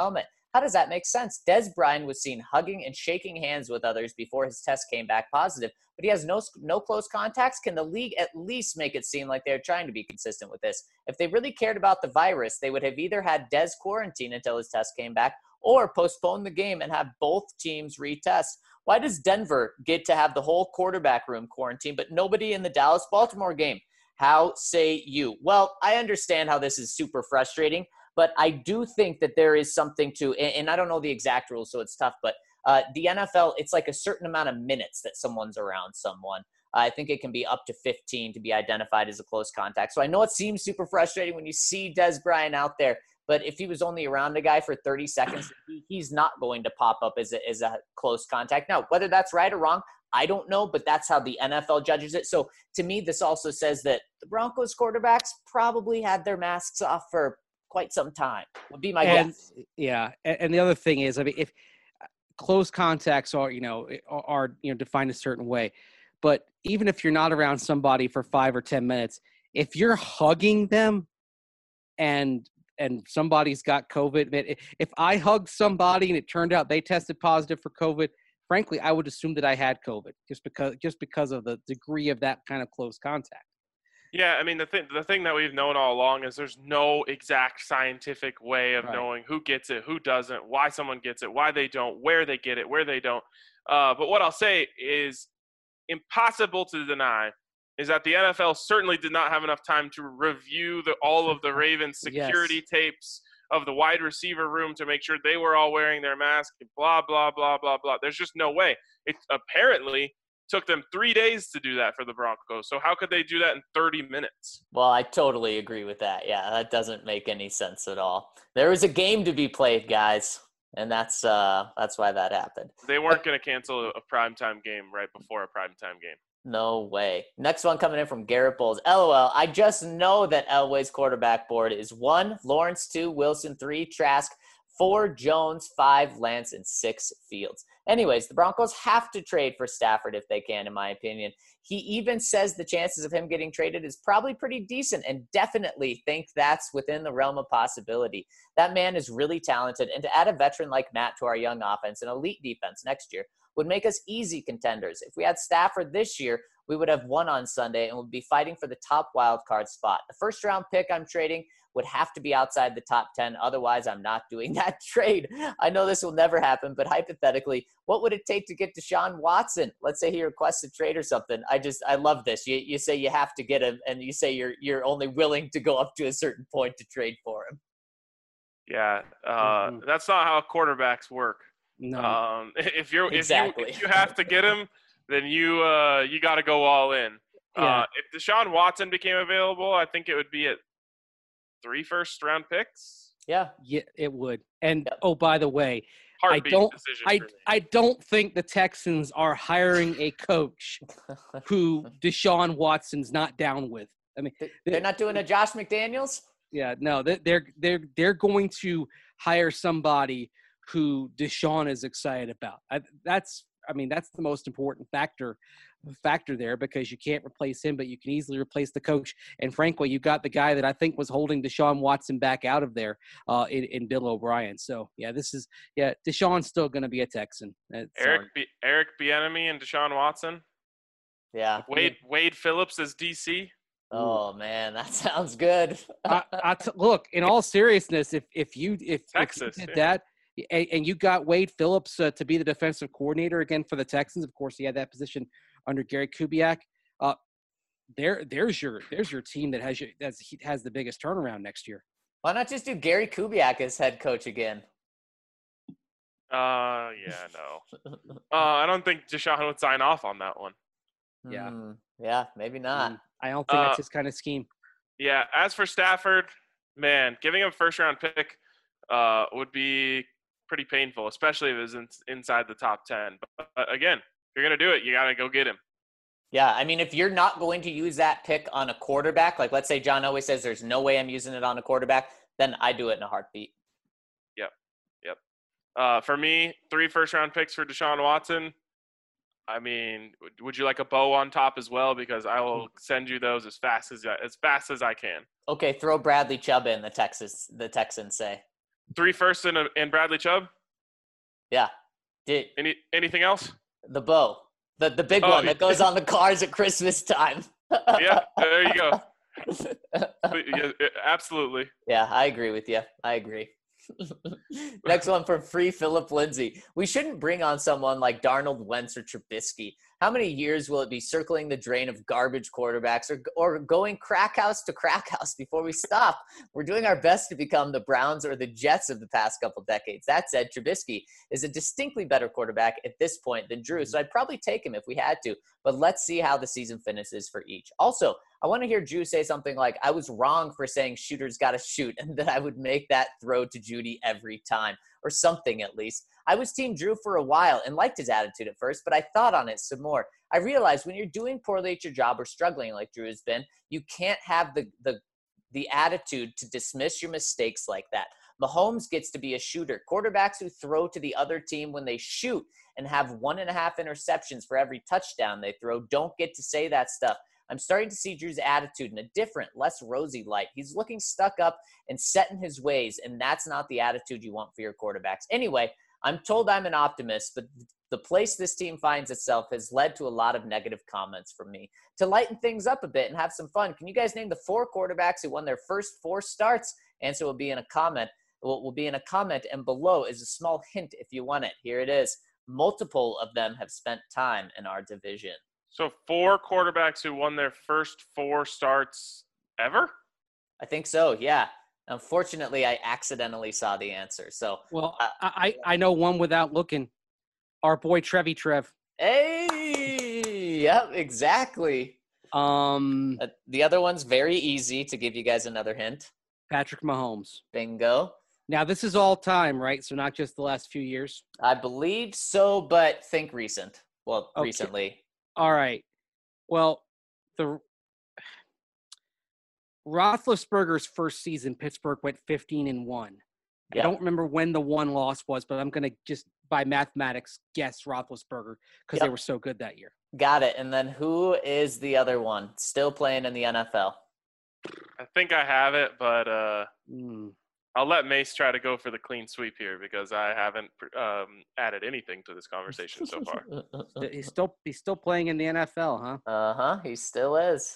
How does that make sense? Des Bryant was seen hugging and shaking hands with others before his test came back positive, but he has no close contacts. Can the league at least make it seem like they're trying to be consistent with this? If they really cared about the virus, they would have either had Des quarantine until his test came back or postpone the game and have both teams retest. Why does Denver get to have the whole quarterback room quarantine, but nobody in the Dallas-Baltimore game? How say you? Well, I understand how this is super frustrating, but I do think that there is something to, and I don't know the exact rules, so it's tough, but the NFL, it's like a certain amount of minutes that someone's around someone. I think it can be up to 15 to be identified as a close contact. So I know it seems super frustrating when you see Des Bryant out there, but if he was only around a guy for 30 seconds, he's not going to pop up as a close contact. Now, whether that's right or wrong, I don't know, but that's how the NFL judges it. So to me, this also says that the Broncos quarterbacks probably had their masks off for quite some time, would be my guess. Yeah. And the other thing is, I mean, if close contacts are defined a certain way, but even if you're not around somebody for 5 or 10 minutes, if you're hugging them and somebody's got COVID, if I hugged somebody and it turned out they tested positive for COVID, frankly, I would assume that I had COVID just because of the degree of that kind of close contact. Yeah, I mean, the thing that we've known all along is there's no exact scientific way of knowing who gets it, who doesn't, why someone gets it, why they don't, where they get it, where they don't. But what I'll say is impossible to deny is that the NFL certainly did not have enough time to review all of the Ravens security tapes of the wide receiver room to make sure they were all wearing their mask, blah, blah, blah, blah, blah. There's just no way. It apparently took them 3 days to do that for the Broncos. So how could they do that in 30 minutes? Well, I totally agree with that. Yeah, that doesn't make any sense at all. There was a game to be played, guys, and that's why that happened. They weren't going to cancel a primetime game right before a primetime game. No way. Next one coming in from Garrett Bowles. LOL, I just know that Elway's quarterback board is 1, Lawrence 2, Wilson 3, Trask 4, Jones 5, Lance, and 6, Fields. Anyways, the Broncos have to trade for Stafford if they can, in my opinion. He even says the chances of him getting traded is probably pretty decent and definitely think that's within the realm of possibility. That man is really talented, and to add a veteran like Matt to our young offense and elite defense next year would make us easy contenders. If we had Stafford this year, we would have won on Sunday and would be fighting for the top wild card spot. The first round pick I'm trading would have to be outside the top 10. Otherwise, I'm not doing that trade. I know this will never happen, but hypothetically, what would it take to get Deshaun Watson? Let's say he requests a trade or something. I love this. You say you have to get him, and you say you're only willing to go up to a certain point to trade for him. Yeah, that's not how quarterbacks work. No. If you have to get him, then you got to go all in. Yeah. If Deshaun Watson became available, I think it would be at 3 first-round picks. Yeah, it would. And oh, by the way, I don't think the Texans are hiring a coach who Deshaun Watson's not down with. I mean, they're not doing a Josh McDaniels. Yeah, no, they're going to hire somebody who Deshaun is excited about. That's the most important factor there, because you can't replace him, but you can easily replace the coach. And frankly, you got the guy that I think was holding Deshaun Watson back out of there in Bill O'Brien. So Deshaun's still going to be a Texan. Eric Bieniemy and Deshaun Watson. Yeah. Wade Phillips as DC. Oh man, that sounds good. Look, in all seriousness, if you did that, and you got Wade Phillips to be the defensive coordinator again for the Texans. Of course, he had that position under Gary Kubiak. There's your team that has the biggest turnaround next year. Why not just do Gary Kubiak as head coach again? I don't think Deshaun would sign off on that one. Yeah, maybe not. I don't think that's his kind of scheme. Yeah. As for Stafford, man, giving him a first-round pick would be pretty painful, especially if it was inside the top 10. But again, if you're going to do it, you got to go get him. Yeah, I mean, if you're not going to use that pick on a quarterback, like let's say John always says there's no way I'm using it on a quarterback, then I do it in a heartbeat. Yep. For me, 3 first-round picks for Deshaun Watson. I mean, would you like a bow on top as well? Because I will send you those as fast as I can. Okay, throw Bradley Chubb in, the Texans say. 3 firsts and Bradley Chubb. Yeah. Anything else? The bow, the big one that goes on the cars at Christmas time. Yeah, there you go. Yeah, absolutely. Yeah, I agree with you. I agree. Next one from Free Philip Lindsay. We shouldn't bring on someone like Darnold, Wentz, or Trubisky. How many years will it be circling the drain of garbage quarterbacks or going crack house to crack house before we stop? We're doing our best to become the Browns or the Jets of the past couple decades. That said, Trubisky is a distinctly better quarterback at this point than Drew, so I'd probably take him if we had to, but let's see how the season finishes for each. Also, I want to hear Drew say something like, I was wrong for saying shooters got to shoot, and that I would make that throw to Judy every time, or something at least. I was Team Drew for a while and liked his attitude at first, but I thought on it some more. I realized when you're doing poorly at your job or struggling like Drew has been, you can't have the attitude to dismiss your mistakes like that. Mahomes gets to be a shooter. Quarterbacks who throw to the other team when they shoot and have 1.5 interceptions for every touchdown they throw don't get to say that stuff. I'm starting to see Drew's attitude in a different, less rosy light. He's looking stuck up and set in his ways, and that's not the attitude you want for your quarterbacks. Anyway, I'm told I'm an optimist, but the place this team finds itself has led to a lot of negative comments from me. To lighten things up a bit and have some fun, can you guys name the 4 quarterbacks who won their first 4 starts? Answer will be in a comment. Will be in a comment, and below is a small hint if you want it. Here it is. Multiple of them have spent time in our division. So 4 quarterbacks who won their first 4 starts ever? I think so, yeah. Unfortunately, I accidentally saw the answer. So, well, I know one without looking. Our boy Trev. Hey, yep, exactly. The other one's very easy to give you guys another hint. Patrick Mahomes. Bingo. Now this is all time, right? So not just the last few years. I believe so, but think recent. Well, okay. Recently. All right. Well, the Roethlisberger's first season, Pittsburgh went 15-1. Yep. I don't remember when the one loss was, but I'm going to just by mathematics guess Roethlisberger because they were so good that year. Got it. And then who is the other one still playing in the NFL? I think I have it, but I'll let Mace try to go for the clean sweep here because I haven't added anything to this conversation so far. He's still playing in the NFL, huh? Uh-huh. He still is.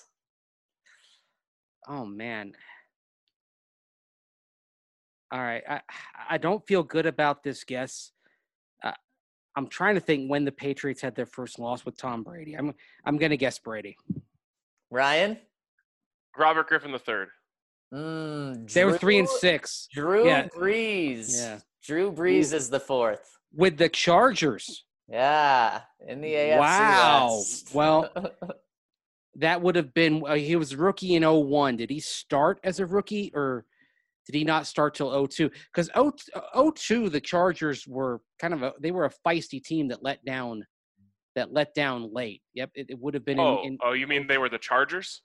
Oh, man. All right. I don't feel good about this guess. I'm trying to think when the Patriots had their first loss with Tom Brady. I'm going to guess Brady. Ryan? Robert Griffin III. They were 3-6. Drew Brees. Yeah. Drew Brees is the 4th. With the Chargers. Yeah. In the AFC West. Well, that would have been he was rookie in 01. Did he start as a rookie or did he not start till 02? Because 02, the Chargers were they were a feisty team that let down late. Yep, it would have been you mean they were the Chargers?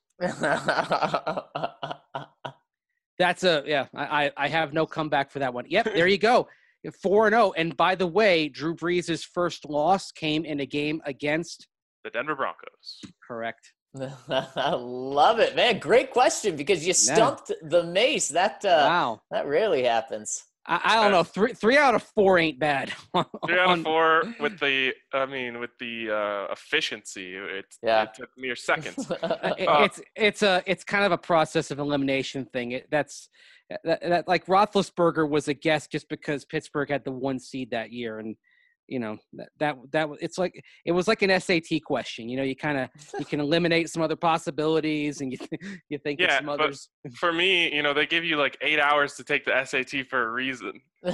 That's I have no comeback for that one. Yep, there you go. 4-0. And by the way, Drew Brees' first loss came in a game against the Denver Broncos. Correct. I love it, man. Great question because you stumped the Mace. Wow. That rarely happens. I don't know. 3 out of 4 ain't bad. 3 out of 4 with the efficiency. It took mere seconds. It's kind of a process of elimination thing. That's like Roethlisberger was a guess just because Pittsburgh had the 1 seed that year, and that it was like an SAT question. You can eliminate some other possibilities, and you think of some others. For me, they give you like 8 hours to take the SAT for a reason.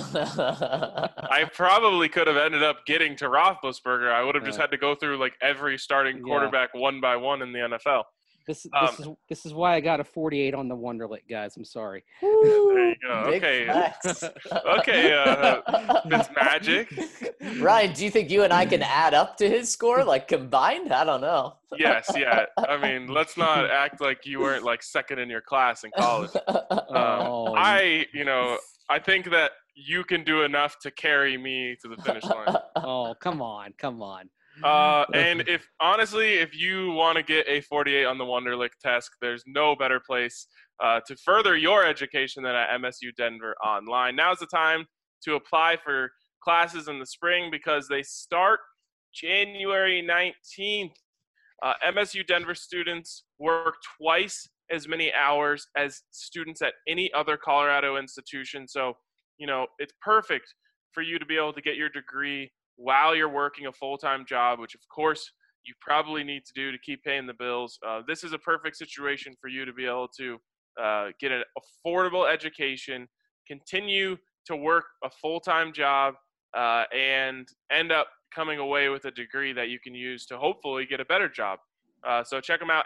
I probably could have ended up getting to Roethlisberger. I would have just had to go through like every starting quarterback one by one in the NFL. This is why I got a 48 on the Wonderlic, guys. I'm sorry. There you go. Okay. Okay, Fitzmagic. Ryan, do you think you and I can add up to his score, like combined? I don't know. Yes, yeah. I mean, let's not act like you weren't like second in your class in college. I think that you can do enough to carry me to the finish line. Oh, come on. And if you want to get a 48 on the Wonderlic test, there's no better place to further your education than at MSU Denver Online. Now's the time to apply for classes in the spring because they start January 19th. MSU Denver students work twice as many hours as students at any other Colorado institution. So, it's perfect for you to be able to get your degree while you're working a full-time job, which of course you probably need to do to keep paying the bills. This is a perfect situation for you to be able to get an affordable education, continue to work a full-time job, and end up coming away with a degree that you can use to hopefully get a better job. So check them out,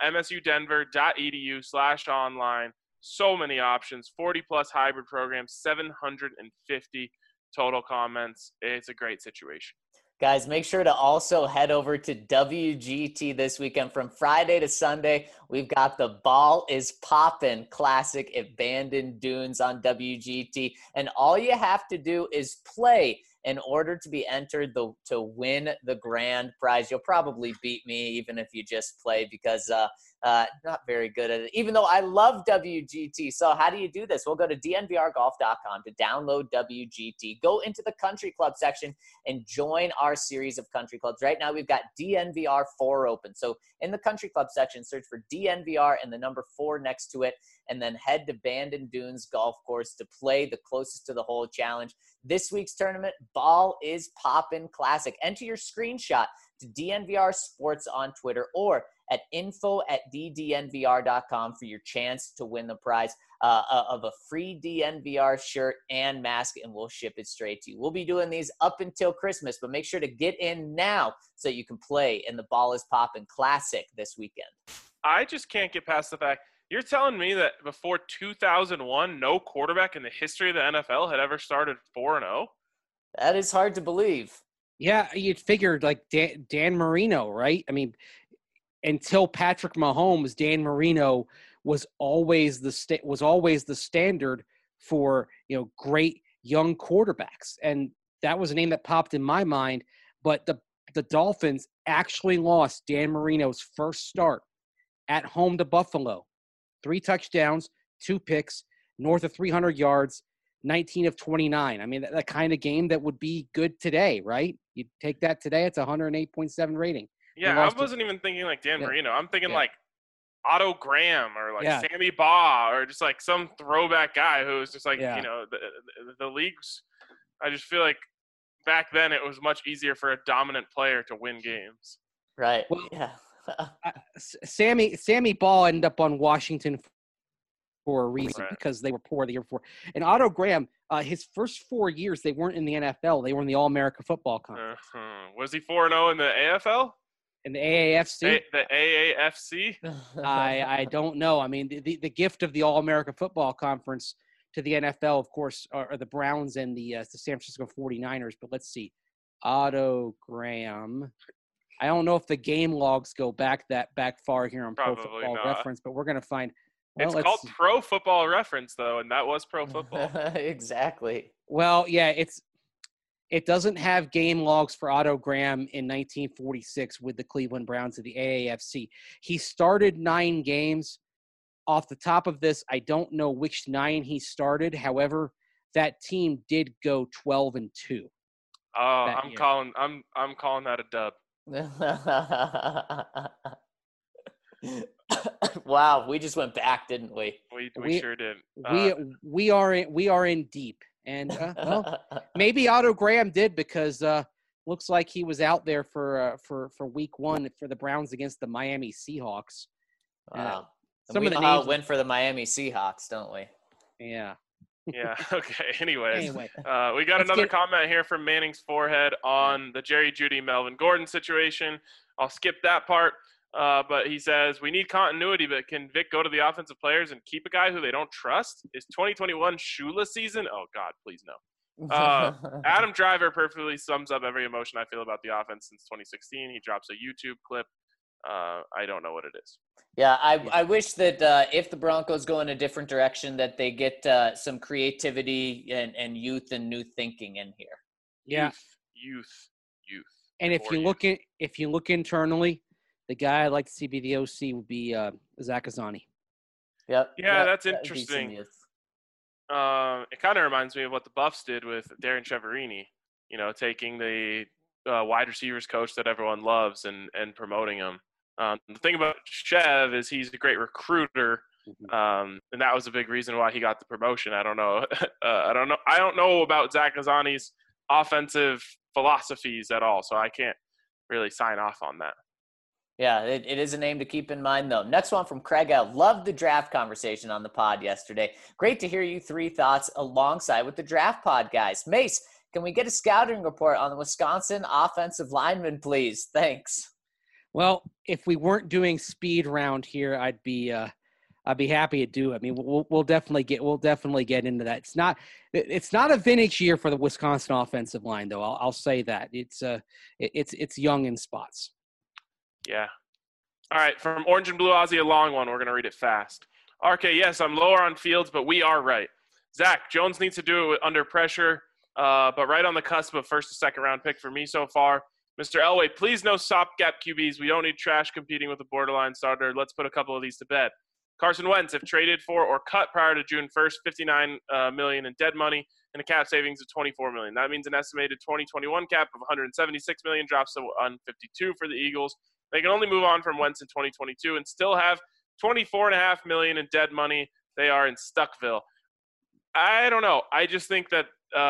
msudenver.edu/online. So many options, 40-plus hybrid programs, 750 total comments. It's a great situation. Guys, make sure to also head over to WGT this weekend from Friday to Sunday. We've got the Ball is Poppin' Classic at Bandon Dunes on WGT. And all you have to do is play in order to be entered to win the grand prize. You'll probably beat me even if you just play because not very good at it, even though I love WGT. So how do you do this? We'll go to dnvrgolf.com to download WGT. Go into the country club section and join our series of country clubs. Right now we've got DNVR 4 open. So in the country club section, search for DNVR and the number 4 next to it, and then head to Bandon Dunes Golf Course to play the closest to the hole challenge. This week's tournament, Ball is Poppin' Classic. Enter your screenshot to DNVR Sports on Twitter or at info@ddnvr.com for your chance to win the prize of a free DNVR shirt and mask, and we'll ship it straight to you. We'll be doing these up until Christmas, but make sure to get in now so you can play in the Ball is Poppin' Classic this weekend. I just can't get past the fact you're telling me that before 2001, no quarterback in the history of the NFL had ever started 4-0? That is hard to believe. Yeah, you'd figured like Dan Marino, right? I mean, until Patrick Mahomes, Dan Marino was always the standard for great young quarterbacks, and that was a name that popped in my mind. But the Dolphins actually lost Dan Marino's first start at home to Buffalo. 3 touchdowns, 2 picks, north of 300 yards, 19 of 29. I mean, that kind of game that would be good today, right? You take that today, it's 108.7 rating. Yeah, I wasn't even thinking like Dan Marino. I'm thinking like Otto Graham or like Sammy Baugh or just like some throwback guy who was just like, the leagues. I just feel like back then it was much easier for a dominant player to win games. Right. Well, Sammy Baugh ended up on Washington for a reason because they were poor the year before. And Otto Graham, his first 4 years, they weren't in the NFL. They were in the All-America Football Conference. Was he 4-0 in the AFL? In the AAFC? The AAFC? I don't know. I mean, the gift of the All-America Football Conference to the NFL, of course, are the Browns and the San Francisco 49ers. But let's see. Otto Graham. I don't know if the game logs go back far here on Pro Football Reference, but we're going to find. Well, it's called Pro Football Reference, though, and that was Pro Football. Exactly. Well, yeah, it doesn't have game logs for Otto Graham in 1946 with the Cleveland Browns of the AAFC. He started 9 games. Off the top of this, I don't know which 9 he started. However, that team did go 12-2. Oh, I'm calling that a dub. Wow, we just went back, didn't we? We sure did. We are in deep, and well, maybe Otto Graham did because looks like he was out there for week 1 for the Browns against the Miami Seahawks. Wow, some of the names went for the Miami Seahawks, don't we? Yeah. Yeah. Okay. Anyway, we got another comment here from Manning's Forehead on the Jerry Jeudy, Melvin Gordon situation. I'll skip that part. But he says, we need continuity, but can Vic go to the offensive players and keep a guy who they don't trust? Is 2021 Shula season? Oh, God, please no. Adam Driver perfectly sums up every emotion I feel about the offense since 2016. He drops a YouTube clip. I don't know what it is. Yeah, I wish that if the Broncos go in a different direction, that they get some creativity and youth and new thinking in here. Yeah. Youth. And if you look internally, the guy I'd like to see be the OC would be Zach Azzani. Yep. Yeah, that's that'd be some interesting. youth. It kind of reminds me of what the Buffs did with Darren Cheverini. Taking the wide receivers coach that everyone loves and promoting him. The thing about Chev is he's a great recruiter, and that was a big reason why he got the promotion. I don't know. I don't know about Zach Azzani's offensive philosophies at all, so I can't really sign off on that. Yeah, it is a name to keep in mind, though. Next one from Craig L. Loved the draft conversation on the pod yesterday. Great to hear you three thoughts alongside with the draft pod, guys. Mace, can we get a scouting report on the Wisconsin offensive lineman, please? Thanks. Well, if we weren't doing speed round here, I'd be happy to do it. I mean, we'll definitely get into that. It's not a vintage year for the Wisconsin offensive line, though. I'll say that it's young in spots. Yeah. All right, from Orange and Blue Aussie, a long one. We're going to read it fast. RK, yes, I'm lower on Fields, but we are right. Zach, Jones needs to do it under pressure, but right on the cusp of first or second round pick for me so far. Mr. Elway, please no stopgap QBs. We don't need trash competing with a borderline starter. Let's put a couple of these to bed. Carson Wentz, if traded for or cut prior to June 1st, $59 million in dead money and a cap savings of $24 million. That means an estimated 2021 cap of $176 million drops to $152 for the Eagles. They can only move on from Wentz in 2022 and still have $24.5 million in dead money. They are in Stuckville. I don't know. I just think that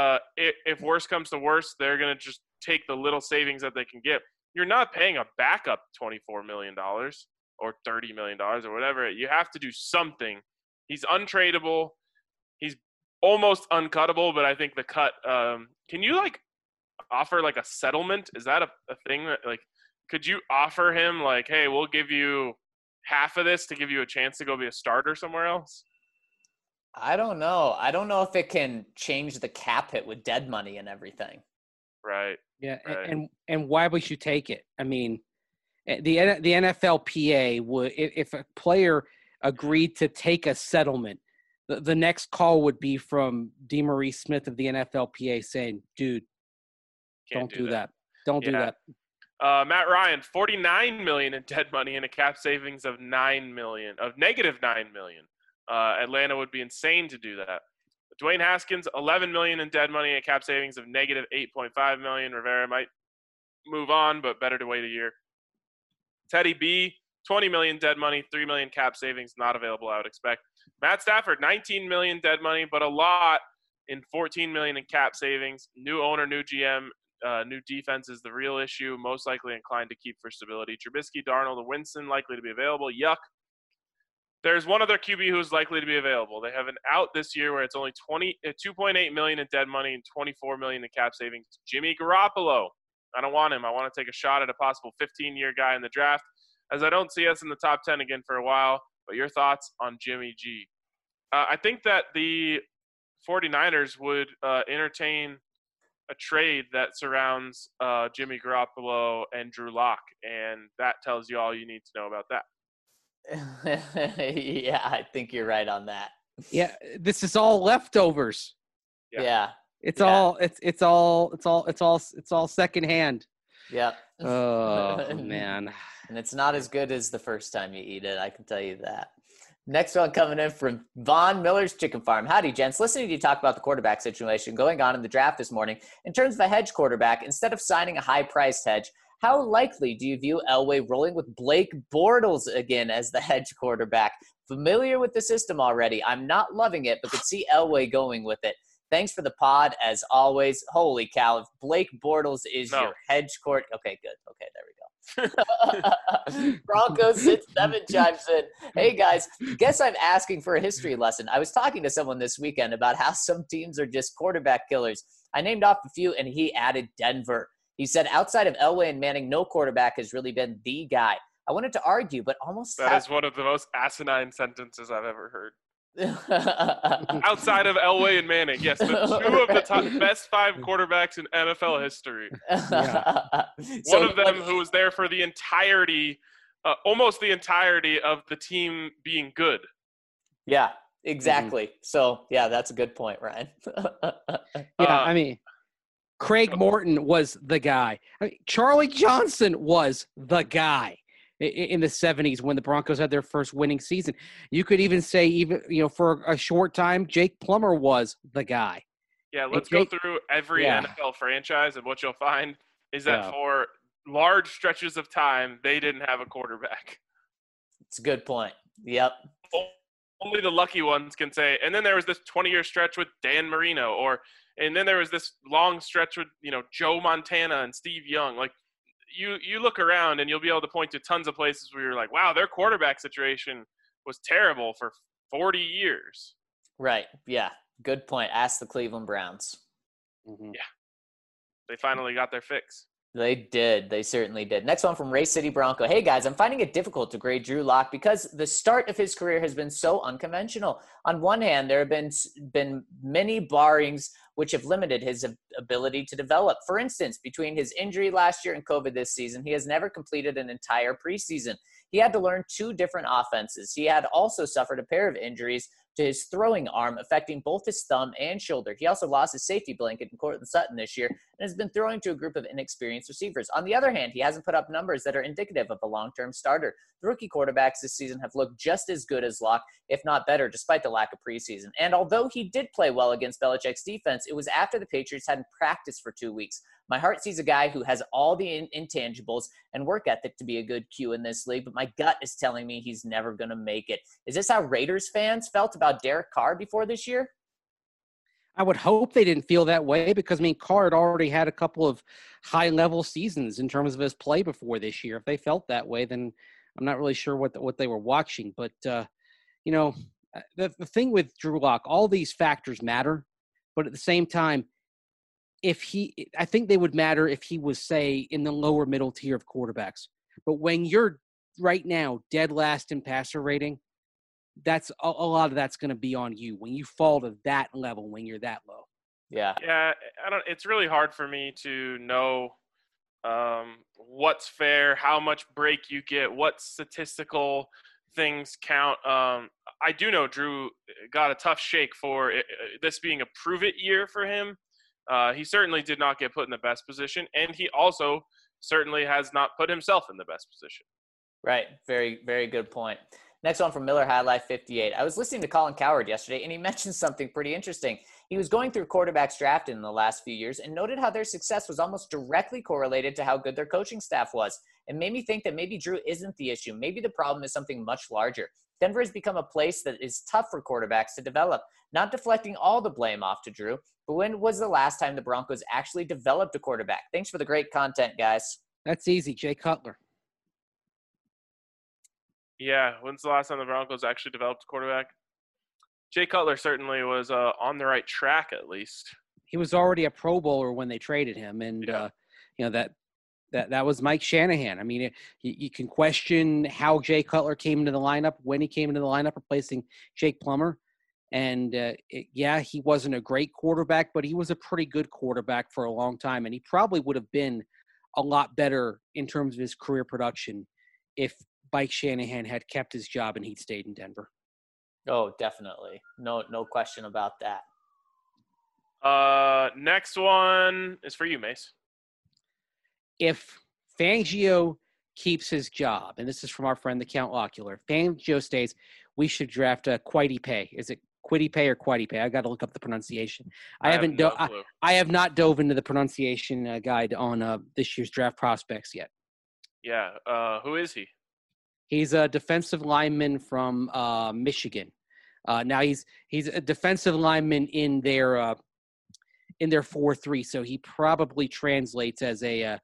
if worse comes to worse, they're going to just take the little savings that they can get. You're not paying a backup $24 million or $30 million or whatever. You have to do something. He's untradeable. He's almost uncuttable, but I think the cut can you offer a settlement? Is that a thing that could you offer him hey, we'll give you half of this to give you a chance to go be a starter somewhere else? I don't know. I don't know if it can change the cap hit with dead money and everything. Right. Yeah, right. And why would you take it? I mean, the NFLPA would, if a player agreed to take a settlement, the next call would be from DeMaurice Smith of the NFLPA saying, "Dude, don't do that. Don't do that." Matt Ryan, $49 million in dead money and a cap savings of -$9 million. Atlanta would be insane to do that. Dwayne Haskins, $11 million in dead money and a cap savings of -$8.5 million. Rivera might move on, but better to wait a year. Teddy B, $20 million dead money, $3 million cap savings, not available, I would expect. Matt Stafford, $19 million dead money, but a lot in $14 million in cap savings. New owner, new GM. New defense is the real issue, most likely inclined to keep for stability. Trubisky, Darnold, and Winston likely to be available. Yuck. There's one other QB who's likely to be available. They have an out this year where it's only $2.8 million in dead money and $24 million in cap savings. Jimmy Garoppolo. I don't want him. I want to take a shot at a possible 15-year guy in the draft, as I don't see us in the top 10 again for a while. But your thoughts on Jimmy G? I think that the 49ers would entertain a trade that surrounds Jimmy Garoppolo and Drew Lock, and that tells you all you need to know about that. Yeah, I think you're right on that. Yeah, this is all leftovers. Yeah. It's all secondhand. Yep. Oh man. And it's not as good as the first time you eat it, I can tell you that. Next one coming in from Von Miller's Chicken Farm. Howdy, gents. Listening to you talk about the quarterback situation going on in the draft this morning, in terms of a hedge quarterback, instead of signing a high-priced hedge, how likely do you view Elway rolling with Blake Bortles again as the hedge quarterback? Familiar with the system already. I'm not loving it, but could see Elway going with it. Thanks for the pod, as always. Holy cow, if Blake Bortles is your hedge court. Okay, good. Okay, there we go. Broncos 6-7 chimes in. Hey guys, guess I'm asking for a history lesson. I was talking to someone this weekend about how some teams are just quarterback killers. I named off a few and he added Denver. He said outside of Elway and Manning, no quarterback has really been the guy. I wanted to argue, but almost that is one of the most asinine sentences I've ever heard. Outside of Elway and Manning, yes, the two of the best 5 quarterbacks in NFL history. Yeah. One of them who was there for the entirety, almost the entirety of the team being good. Yeah, exactly. Mm-hmm. So, yeah, that's a good point, Ryan. I mean, Craig Morton was the guy. I mean, Charlie Johnson was the guy. in the 70s when the Broncos had their first winning season. You could even say, for a short time, Jake Plummer was the guy. Yeah, let's go through every NFL franchise, and what you'll find is that for large stretches of time, they didn't have a quarterback. It's a good point. Yep. Only the lucky ones can say. And then there was this 20-year stretch with Dan Marino, and then there was this long stretch with Joe Montana and Steve Young. Like you look around and you'll be able to point to tons of places where you're like, wow, their quarterback situation was terrible for 40 years. Right. Yeah. Good point. Ask the Cleveland Browns. Mm-hmm. Yeah. They finally got their fix. They did. They certainly did. Next one from Ray City Bronco. Hey, guys, I'm finding it difficult to grade Drew Lock because the start of his career has been so unconventional. On one hand, there have been many barrings which have limited his ability to develop. For instance, between his injury last year and COVID this season, he has never completed an entire preseason. He had to learn 2 different offenses. He had also suffered a pair of injuries to his throwing arm, affecting both his thumb and shoulder. He also lost his safety blanket in Cortland Sutton this year and has been throwing to a group of inexperienced receivers. On the other hand, he hasn't put up numbers that are indicative of a long-term starter. The rookie quarterbacks this season have looked just as good as Locke, if not better, despite the lack of preseason. And although he did play well against Belichick's defense, it was after the Patriots hadn't practiced for 2 weeks. My heart sees a guy who has all the intangibles and work ethic to be a good Q in this league, but my gut is telling me he's never going to make it. Is this how Raiders fans felt about Derek Carr before this year? I would hope they didn't feel that way because, Carr had already had a couple of high-level seasons in terms of his play before this year. If they felt that way, then I'm not really sure what they were watching. But, the thing with Drew Lock, all these factors matter, but at the same time, I think they would matter if he was, say, in the lower middle tier of quarterbacks. But when you're right now dead last in passer rating, that's a lot of that's going to be on you when you fall to that level, when you're that low. Yeah. Yeah. It's really hard for me to know what's fair, how much break you get, what statistical things count. I do know Drew got a tough shake for this being a prove it year for him. He certainly did not get put in the best position, and he also certainly has not put himself in the best position. Right. Very, very good point. Next one from Miller High Life 58. I was listening to Colin Cowherd yesterday, and he mentioned something pretty interesting. He was going through quarterbacks drafted in the last few years and noted how their success was almost directly correlated to how good their coaching staff was. It made me think that maybe Drew isn't the issue. Maybe the problem is something much larger. Denver has become a place that is tough for quarterbacks to develop, not deflecting all the blame off to Drew. But when was the last time the Broncos actually developed a quarterback? Thanks for the great content, guys. That's easy. Jay Cutler. Yeah, when's the last time the Broncos actually developed a quarterback? Jay Cutler certainly was on the right track, at least. He was already a Pro Bowler when they traded him, and that was Mike Shanahan. I mean, you can question how Jay Cutler came into the lineup, when he came into the lineup, replacing Jake Plummer. And, he wasn't a great quarterback, but he was a pretty good quarterback for a long time. And he probably would have been a lot better in terms of his career production if Mike Shanahan had kept his job and he'd stayed in Denver. Oh, definitely. No question about that. Next one is for you, Mace. If Fangio keeps his job, and this is from our friend the Count Ocular, if Fangio stays, we should draft a Quiddy Pay. Is it Quiddy Pay or Quiddy Pay? I got to look up the pronunciation. I have not dove into the pronunciation guide on this year's draft prospects yet. Yeah. Who is he? He's a defensive lineman from Michigan. Now he's a defensive lineman in their 4-3, so he probably translates as a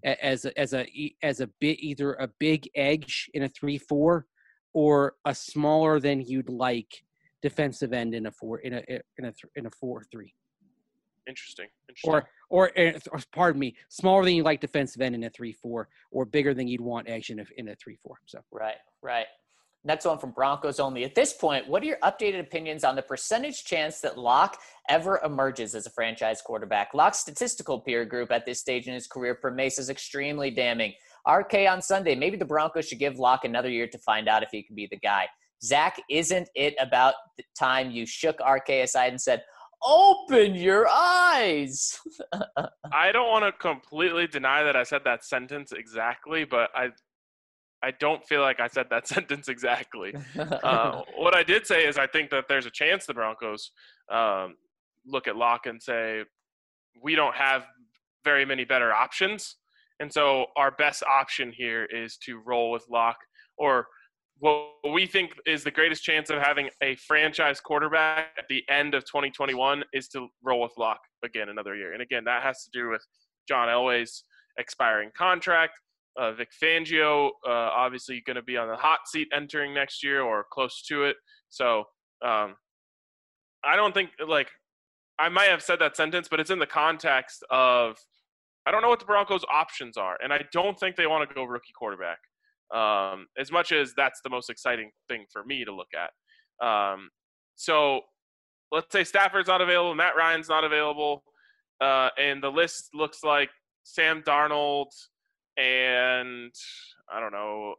bit either a big edge in a 3-4 or a smaller than you'd like defensive end in a 4-3. Interesting. Or pardon me, smaller than you like defensive end in a 3-4, or bigger than you'd want edge in a 3-4. So right. Next one from Broncos Only. At this point, what are your updated opinions on the percentage chance that Locke ever emerges as a franchise quarterback? Locke's statistical peer group at this stage in his career for Mace is extremely damning. RK on Sunday, maybe the Broncos should give Locke another year to find out if he can be the guy. Zach, isn't it about the time you shook RK aside and said, open your eyes? I don't want to completely deny that I said that sentence exactly, but I don't feel like I said that sentence exactly. What I did say is I think that there's a chance the Broncos look at Locke and say, we don't have very many better options. And so our best option here is to roll with Locke, or what we think is the greatest chance of having a franchise quarterback at the end of 2021 is to roll with Locke again another year. And again, that has to do with John Elway's expiring contract. Vic Fangio, obviously going to be on the hot seat entering next year or close to it. So I don't think, like, I might have said that sentence, but it's in the context of I don't know what the Broncos' options are, and I don't think they want to go rookie quarterback. As much as that's the most exciting thing for me to look at. So let's say Stafford's not available, Matt Ryan's not available, and the list looks like Sam Darnold and, I don't know,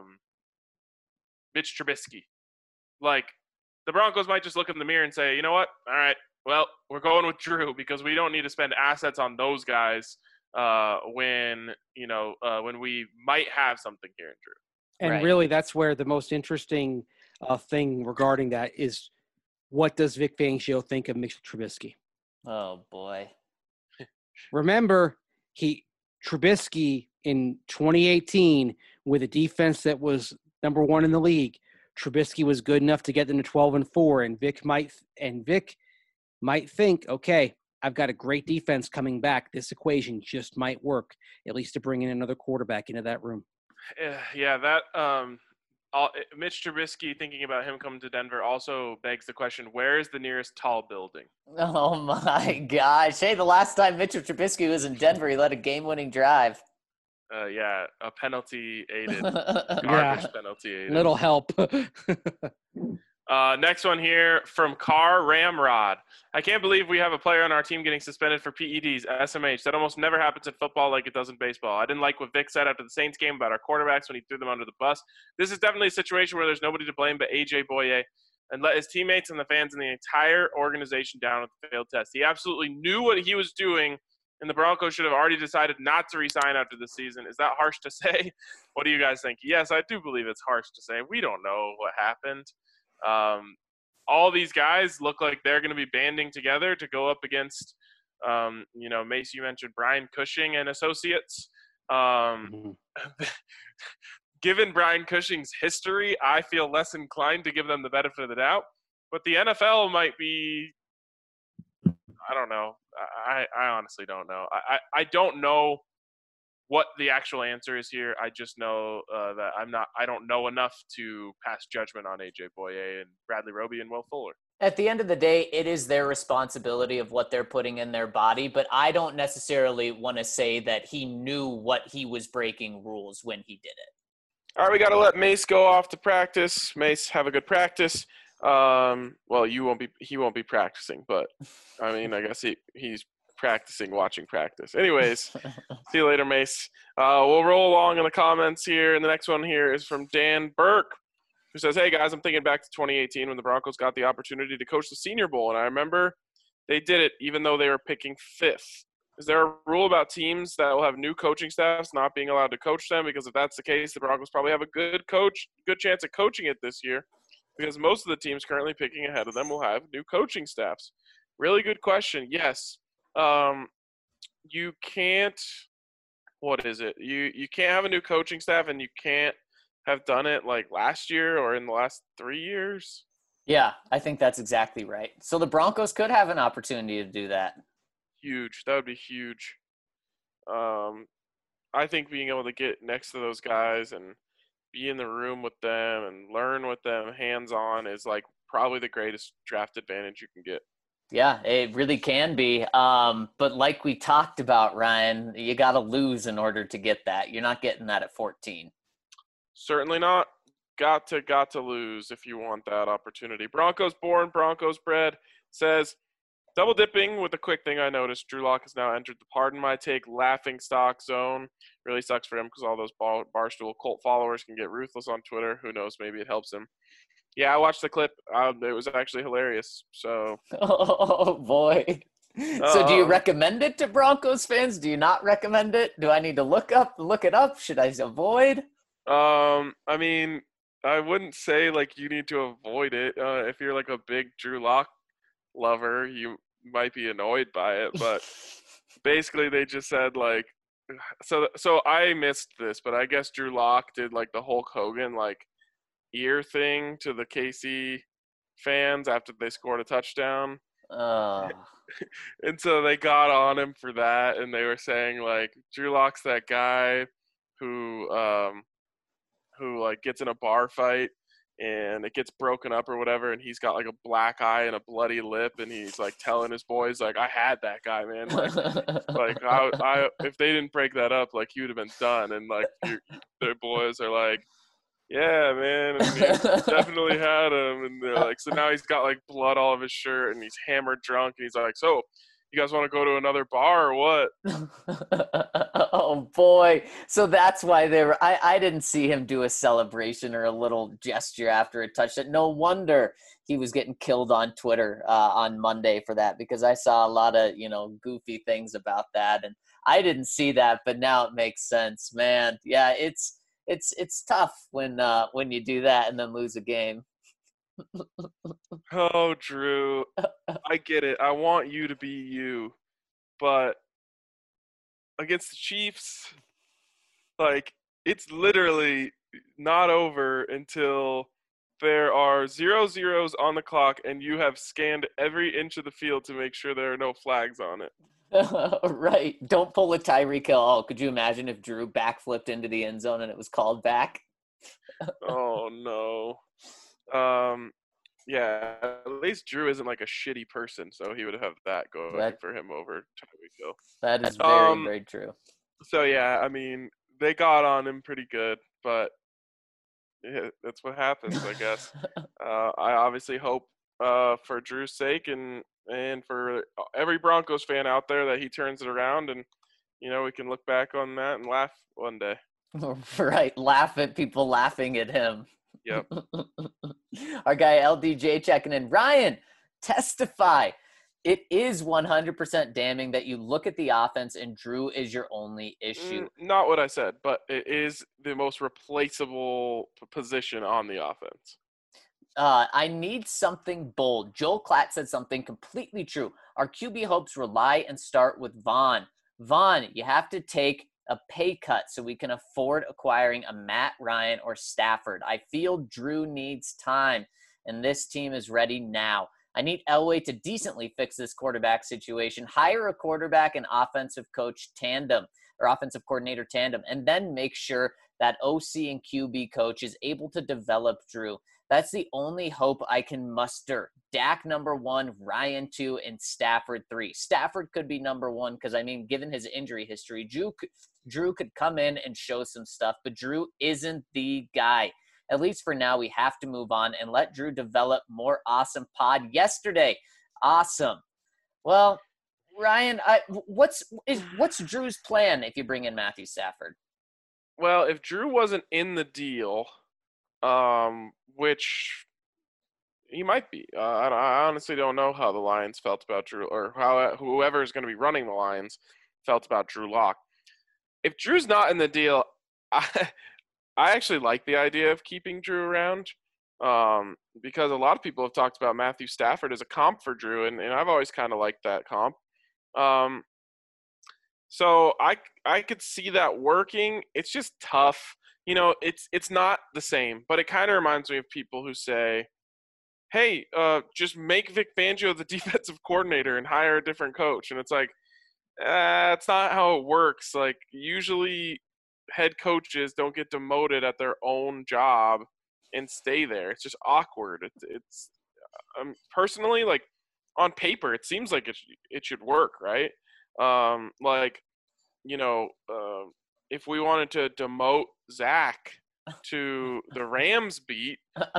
Mitch Trubisky. Like, the Broncos might just look in the mirror and say, you know what? All right, well, we're going with Drew because we don't need to spend assets on those guys when we might have something here in Drew. And Right. really, that's where the most interesting thing regarding that is, what does Vic Fangio think of Mitch Trubisky? Oh boy. Remember, Trubisky in 2018 with a defense that was number 1 in the league, Trubisky was good enough to get them to 12-4, and Vic might think, okay, I've got a great defense coming back. This equation just might work, at least to bring in another quarterback into that room. Yeah, that Mitch Trubisky, thinking about him coming to Denver also begs the question, where is the nearest tall building? Oh my gosh. Hey, the last time Mitchell Trubisky was in Denver, he led a game-winning drive. Yeah, a penalty-aided, Yeah. garbage penalty-aided. Little help. Next one here from Car Ramrod. I can't believe we have a player on our team getting suspended for PEDs, SMH. That almost never happens in football like it does in baseball. I didn't like what Vic said after the Saints game about our quarterbacks when he threw them under the bus. This is definitely a situation where there's nobody to blame but A.J. Boye, and let his teammates and the fans and the entire organization down with the failed test. He absolutely knew what he was doing, and the Broncos should have already decided not to resign after the season. Is that harsh to say? What do you guys think? Yes, I do believe it's harsh to say. We don't know what happened. All these guys look like they're going to be banding together to go up against, Mace, you mentioned Brian Cushing and Associates. Given Brian Cushing's history, I feel less inclined to give them the benefit of the doubt. But the NFL might be, I don't know. I honestly don't know. I don't know what the actual answer is here. I just know that I don't know enough to pass judgment on A.J. Boye and Bradley Roby and Will Fuller. At the end of the day, it is their responsibility of what they're putting in their body, but I don't necessarily want to say that he knew what he was breaking rules when he did it. All right, we got to let Mace go off to practice. Mace, have a good practice. Well, he won't be practicing, but I mean, I guess he's practicing watching practice. Anyways, see you later, Mace. We'll roll along in the comments here, and the next one here is from Dan Burke, who says, hey guys, I'm thinking back to 2018 when the Broncos got the opportunity to coach the Senior Bowl, and I remember they did it even though they were picking 5th. Is there a rule about teams that will have new coaching staffs not being allowed to coach them? Because if that's the case, the Broncos probably have a good chance of coaching it this year, because most of the teams currently picking ahead of them will have new coaching staffs. Really good question. Yes. You can't, what is it? You can't have a new coaching staff, and you can't have done it like last year or in the last 3 years. Yeah, I think that's exactly right. So the Broncos could have an opportunity to do that. Huge. That would be huge. I think being able to get next to those guys and be in the room with them and learn with them hands-on is like probably the greatest draft advantage you can get. Yeah, it really can be. But like we talked about, Ryan, you got to lose in order to get that. You're not getting that at 14. Certainly not. Got to lose if you want that opportunity. Broncos born, Broncos bred says, double dipping with a quick thing I noticed. Drew Lock has now entered the pardon my take laughing stock zone. Really sucks for him because all those Barstool cult followers can get ruthless on Twitter. Who knows? Maybe it helps him. Yeah, I watched the clip. It was actually hilarious. So. Oh boy. So do you recommend it to Broncos fans? Do you not recommend it? Do I need to look it up? Should I avoid? I mean, I wouldn't say like you need to avoid it. If you're like a big Drew Lock lover, you might be annoyed by it. But basically, they just said like, so I missed this, but I guess Drew Lock did like the Hulk Hogan like ear thing to the KC fans after they scored a touchdown. And so they got on him for that, and they were saying like Drew Lock's that guy who like gets in a bar fight and it gets broken up or whatever, and he's got like a black eye and a bloody lip, and he's like telling his boys like, I had that guy, man, like I if they didn't break that up, like he would have been done. And like their boys are like, yeah, man, and he definitely had him. And they're like, so now he's got like blood all of his shirt and he's hammered drunk, and he's like, so you guys want to go to another bar or what? Oh boy. So that's why I didn't see him do a celebration or a little gesture after a touchdown. No wonder he was getting killed on Twitter on Monday for that, because I saw a lot of, goofy things about that, and I didn't see that, but now it makes sense, man. Yeah, it's tough when you do that and then lose a game. Oh, Drew, I get it. I want you to be you, but against the Chiefs, like, it's literally not over until there are 0-0s on the clock and you have scanned every inch of the field to make sure there are no flags on it. Right. Don't pull a Tyreek Hill. Oh, could you imagine if Drew backflipped into the end zone and it was called back? Oh, no. Yeah, at least Drew isn't like a shitty person, so he would have that going for him over Tyreek Hill. That is very, very true. So, yeah, I mean, they got on him pretty good, but yeah, that's what happens, I guess. I obviously hope for Drew's sake and for every Broncos fan out there that he turns it around, and, we can look back on that and laugh one day. Right, laugh at people laughing at him. Yep. Our guy LDJ checking in. Ryan, testify. It is 100% damning that you look at the offense and Drew is your only issue. Not what I said, but it is the most replaceable position on the offense. I need something bold. Joel Klatt said something completely true. Our QB hopes rely and start with Vaughn. Vaughn, you have to take a pay cut so we can afford acquiring a Matt Ryan or Stafford. I feel Drew needs time, and this team is ready now. I need Elway to decently fix this quarterback situation, hire a quarterback and offensive coach tandem or offensive coordinator tandem, and then make sure that OC and QB coach is able to develop Drew. That's the only hope I can muster. Dak number 1, Ryan 2, and Stafford 3. Stafford could be number 1 because, given his injury history, Drew could come in and show some stuff, but Drew isn't the guy. At least for now, we have to move on and let Drew develop more awesome pod yesterday. Awesome. Well, Ryan, what's Drew's plan if you bring in Matthew Stafford? Well, if Drew wasn't in the deal, which he might be. I honestly don't know how the Lions felt about Drew, or how whoever is going to be running the Lions felt about Drew Lock. If Drew's not in the deal, I actually like the idea of keeping Drew around, because a lot of people have talked about Matthew Stafford as a comp for Drew, and I've always kind of liked that comp. So I could see that working. It's just tough. It's not the same, but it kind of reminds me of people who say, hey, just make Vic Fangio the defensive coordinator and hire a different coach. And it's like, it's not how it works. Like, usually head coaches don't get demoted at their own job and stay there. It's just awkward. It's personally, like, on paper, it seems like it should work, right? If we wanted to demote Zach to the Rams beat,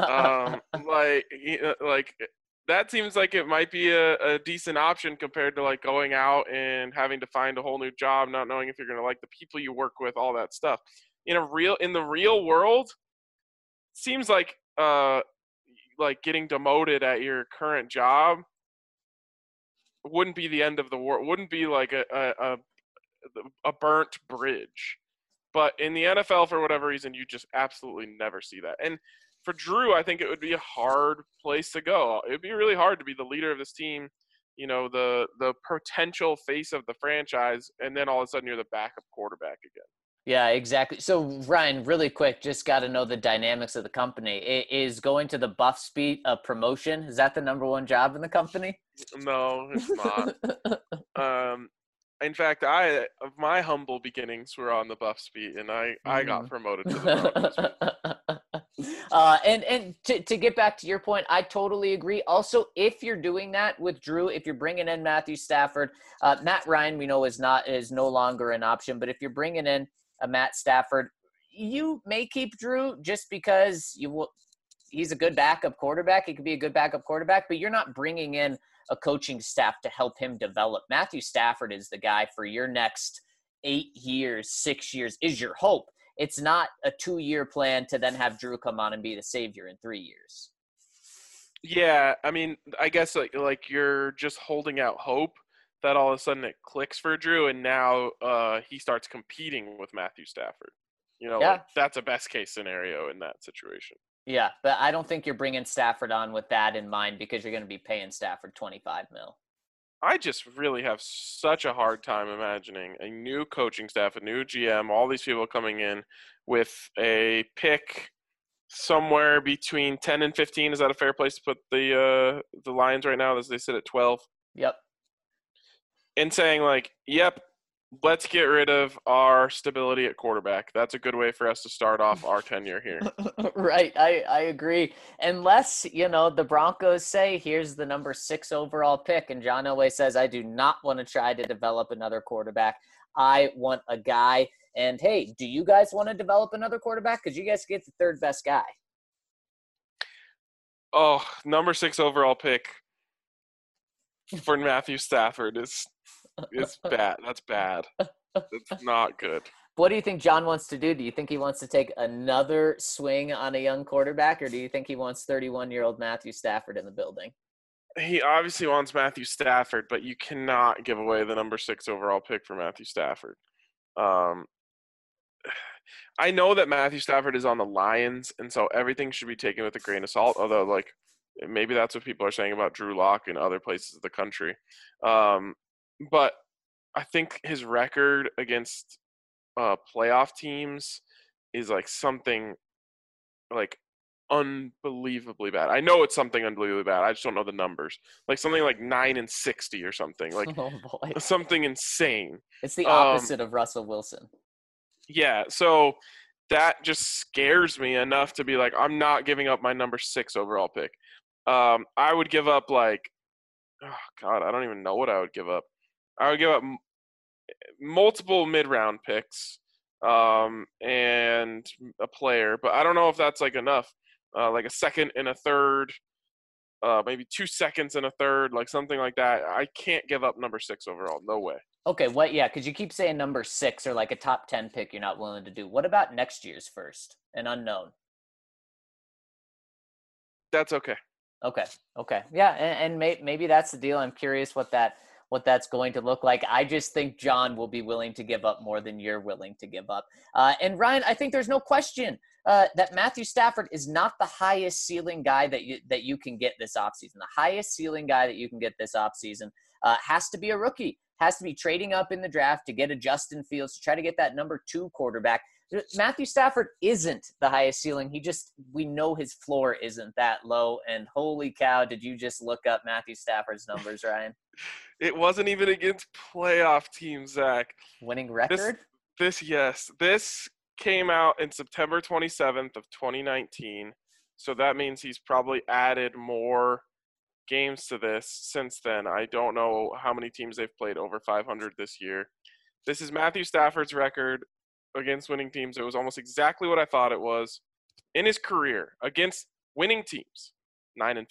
that seems like it might be a decent option compared to like going out and having to find a whole new job, not knowing if you're going to like the people you work with, all that stuff. In the real world, it seems like getting demoted at your current job wouldn't be the end of the world. Wouldn't be like a burnt bridge. But in the NFL, for whatever reason, you just absolutely never see that. And for Drew, I think it would be a hard place to go. It would be really hard to be the leader of this team, the potential face of the franchise, and then all of a sudden you're the backup quarterback again. Yeah, exactly. So, Ryan, really quick, just got to know the dynamics of the company. Is going to the Buffs beat a promotion? Is that the number one job in the company? No, it's not. In fact, my humble beginnings were on the Buffs beat, and I got promoted to the Broncos beat. And to get back to your point, I totally agree. Also, if you're doing that with Drew, if you're bringing in Matthew Stafford, Matt Ryan, we know is no longer an option. But if you're bringing in a Matt Stafford, you may keep Drew just because he's a good backup quarterback. He could be a good backup quarterback, but you're not bringing in a coaching staff to help him develop. Matthew Stafford is the guy for your next 8 years, 6 years is your hope. It's not a 2-year plan to then have Drew come on and be the savior in 3 years. Yeah, I mean, I guess like you're just holding out hope that all of a sudden it clicks for Drew, and now he starts competing with Matthew Stafford. Like, that's a best case scenario in that situation. Yeah, but I don't think you're bringing Stafford on with that in mind because you're going to be paying Stafford $25 million. I just really have such a hard time imagining a new coaching staff, a new GM, all these people coming in with a pick somewhere between 10 and 15. Is that a fair place to put the Lions right now as they sit at 12? Yep. And saying like, yep, let's get rid of our stability at quarterback. That's a good way for us to start off our tenure here. Right. I agree. Unless, the Broncos say, here's the number 6 overall pick. And John Elway says, I do not want to try to develop another quarterback. I want a guy. And hey, do you guys want to develop another quarterback? Because you guys get the 3rd best guy. Oh, number 6 overall pick for Matthew Stafford is bad. That's bad. It's not good. What do you think John wants to do? Do you think he wants to take another swing on a young quarterback, or do you think he wants 31-year-old Matthew Stafford in the building? He obviously wants Matthew Stafford, but you cannot give away the number 6 overall pick for Matthew Stafford. I know that Matthew Stafford is on the Lions, and so everything should be taken with a grain of salt, although, like, maybe that's what people are saying about Drew Lock in other places of the country. But I think his record against playoff teams is like something like unbelievably bad. I know it's something unbelievably bad. I just don't know the numbers. Like something like 9-60 or something. Like something insane. It's the opposite of Russell Wilson. Yeah, so that just scares me enough to be like, I'm not giving up my number 6 overall pick. I would give up like, oh God, I don't even know what I would give up. I would give up multiple mid-round picks and a player, but I don't know if that's like enough. Like a second and a third, maybe 2 seconds and a third, like something like that. I can't give up number 6 overall. No way. Okay, yeah, because you keep saying number 6 or like a top 10 pick you're not willing to do. What about next year's first, an unknown? That's okay. Okay. Yeah, and maybe that's the deal. I'm curious what that's going to look like. I just think John will be willing to give up more than you're willing to give up. And Ryan, I think there's no question that Matthew Stafford is not the highest ceiling guy that you can get this offseason. The highest ceiling guy that you can get this offseason has to be a rookie, has to be trading up in the draft to get a Justin Fields, to try to get that number 2 quarterback. Matthew Stafford isn't the highest ceiling. We know his floor isn't that low. And holy cow, did you just look up Matthew Stafford's numbers, Ryan? It wasn't even against playoff teams, Zach. Winning record? This came out in September 27th of 2019. So that means he's probably added more games to this since then. I don't know how many teams they've played over 500 this year. This is Matthew Stafford's record against winning teams. It was almost exactly what I thought it was in his career against winning teams. 9-54.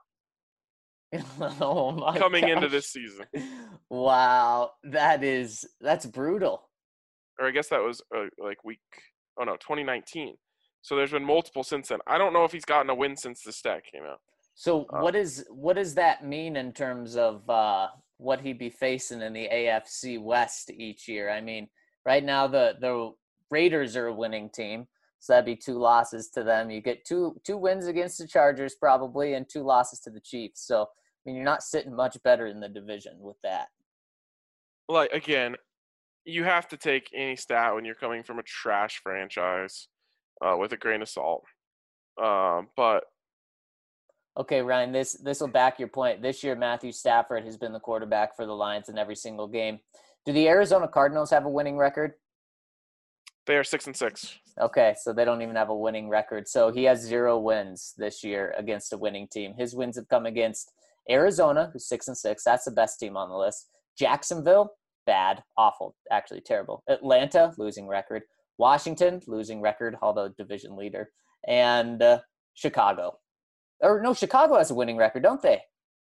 Oh my coming gosh. into this season. Wow, that's brutal. Or I guess that was like 2019. So there's been multiple since then. I don't know if he's gotten a win since the stat came out. So what does that mean in terms of what he'd be facing in the AFC West each year? I mean, right now the Raiders are a winning team, so that'd be 2 losses to them. You get two wins against the Chargers probably, and 2 losses to the Chiefs. So, I mean, you're not sitting much better in the division with that. Like, again, you have to take any stat when you're coming from a trash franchise with a grain of salt. But okay, Ryan, this will back your point. This year, Matthew Stafford has been the quarterback for the Lions in every single game. Do the Arizona Cardinals have a winning record? they are 6-6. Okay, so they don't even have a winning record. So he has 0 wins this year against a winning team. His wins have come against Arizona, who's 6-6. That's the best team on the list. Jacksonville, bad, awful, actually terrible. Atlanta, losing record. Washington, losing record, although division leader. And Chicago. Or no, Chicago has a winning record, don't they?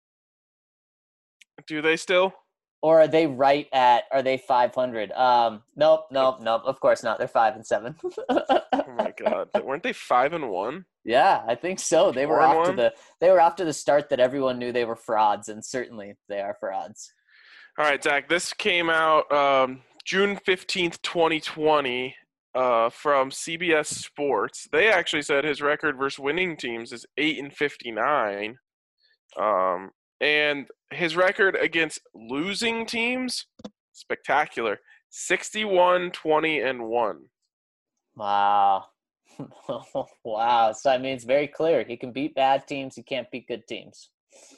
Do they still? Or are they are they 500? Nope. Of course not. They're 5-7. Oh my God. Weren't they 5-1? Yeah, I think so. They were off to the start that everyone knew they were frauds, and certainly they are frauds. All right, Zach, this came out June 15th, 2020 from CBS Sports. They actually said his record versus winning teams is 8-59. And his record against losing teams, spectacular. 61-20-1. Wow. Wow. So, I mean, it's very clear. He can beat bad teams. He can't beat good teams.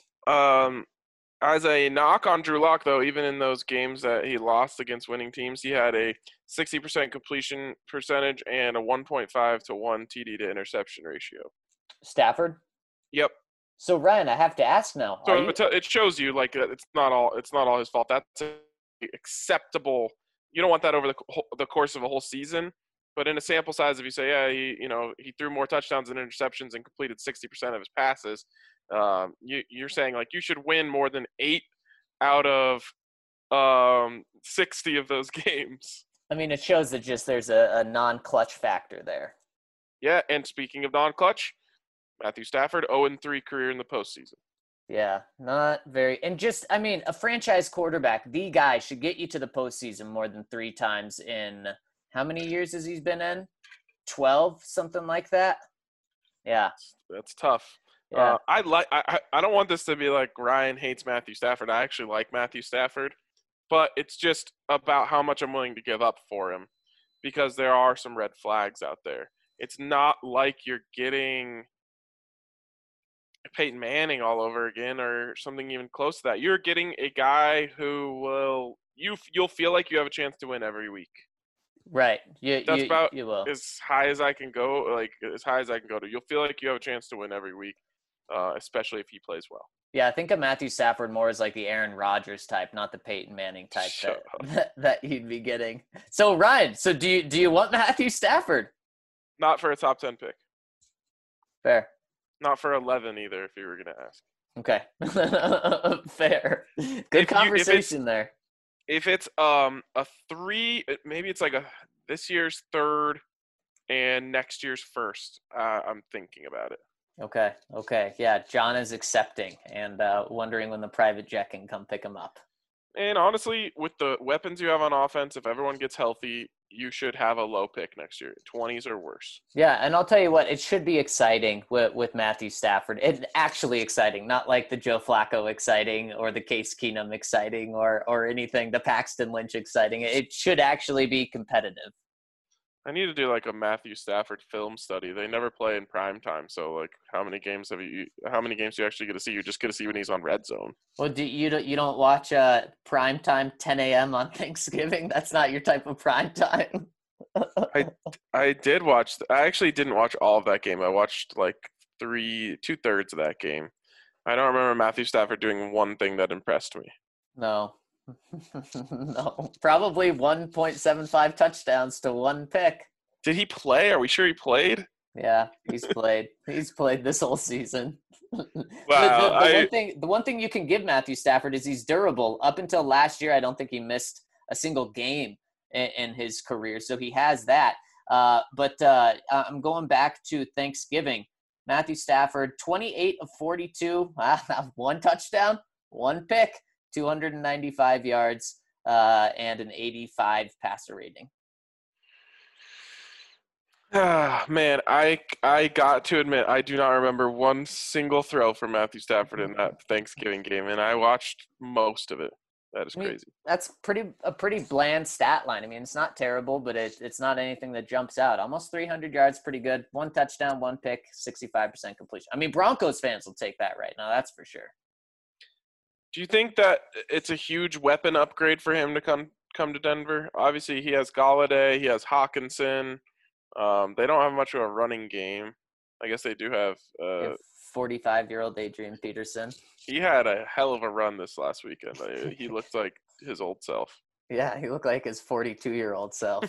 As a knock on Drew Lock, though, even in those games that he lost against winning teams, he had a 60% completion percentage and a 1.5 to 1 TD to interception ratio. Stafford? Yep. So, Ryan, I have to ask now. So it shows you like it's not all his fault. That's acceptable. You don't want that over the course of a whole season. But in a sample size, if you say, yeah, he threw more touchdowns and interceptions and completed 60% of his passes, you're saying like you should win more than 8 out of 60 of those games. I mean, it shows that just there's a non-clutch factor there. Yeah, and speaking of non-clutch, Matthew Stafford, 0-3 career in the postseason. Yeah, not very. And just, I mean, a franchise quarterback, the guy should get you to the postseason more than 3 times in how many years has he been in? 12, something like that. Yeah, that's tough. Yeah. I don't want this to be like Ryan hates Matthew Stafford. I actually like Matthew Stafford, but it's just about how much I'm willing to give up for him because there are some red flags out there. It's not like you're getting Peyton Manning all over again or something even close to that. You're getting a guy who you'll feel like you have a chance to win every week. Right. That's about you will. as high as I can go, like as high as I can go to. You'll feel like you have a chance to win every week, especially if he plays well. Yeah, I think of Matthew Stafford more as like the Aaron Rodgers type, not the Peyton Manning type that you'd be getting. So Ryan, do you want Matthew Stafford? Not for a top 10 pick. Fair. Not for 11 either, if you were going to ask. Okay. Fair. Good conversation there. If it's a 3, maybe it's like this year's 3rd and next year's 1st. I'm thinking about it. Okay. Yeah, John is accepting and wondering when the private jet can come pick him up. And honestly, with the weapons you have on offense, if everyone gets healthy, you should have a low pick next year. 20s or worse. Yeah, and I'll tell you what, it should be exciting with Matthew Stafford. It's actually exciting, not like the Joe Flacco exciting or the Case Keenum exciting or anything, the Paxton Lynch exciting. It should actually be competitive. I need to do like a Matthew Stafford film study. They never play in prime time, so like how many games do you actually get to see? You just get to see when he's on Red Zone. Well, you don't watch prime time 10 a.m. on Thanksgiving? That's not your type of prime time. I did watch. I actually didn't watch all of that game. I watched like 2/3 of that game. I don't remember Matthew Stafford doing one thing that impressed me. No. No, probably 1.75 touchdowns to 1 pick. Did he play? Are we sure he played? Yeah, he's played. He's played this whole season. Wow. The one thing you can give Matthew Stafford is he's durable. Up until last year, I don't think he missed a single game in his career, so he has that. But I'm going back to Thanksgiving. Matthew Stafford, 28 of 42, 1 touchdown, 1 pick. 295 yards and an 85 passer rating. Man, I got to admit I do not remember one single throw from Matthew Stafford in that Thanksgiving game, and I watched most of it. That is I mean, crazy. that's a pretty bland stat line. I mean, it's not terrible, but it's not anything that jumps out. Almost 300 yards, pretty good. 1 touchdown, 1 pick, 65% completion. I mean, Broncos fans will take that right now. That's for sure. Do you think that it's a huge weapon upgrade for him to come to Denver? Obviously, he has Galladay, he has Hawkinson. They don't have much of a running game. I guess they do have. 45-year-old Adrian Peterson. He had a hell of a run this last weekend. He looked like his old self. Yeah, he looked like his 42-year-old self.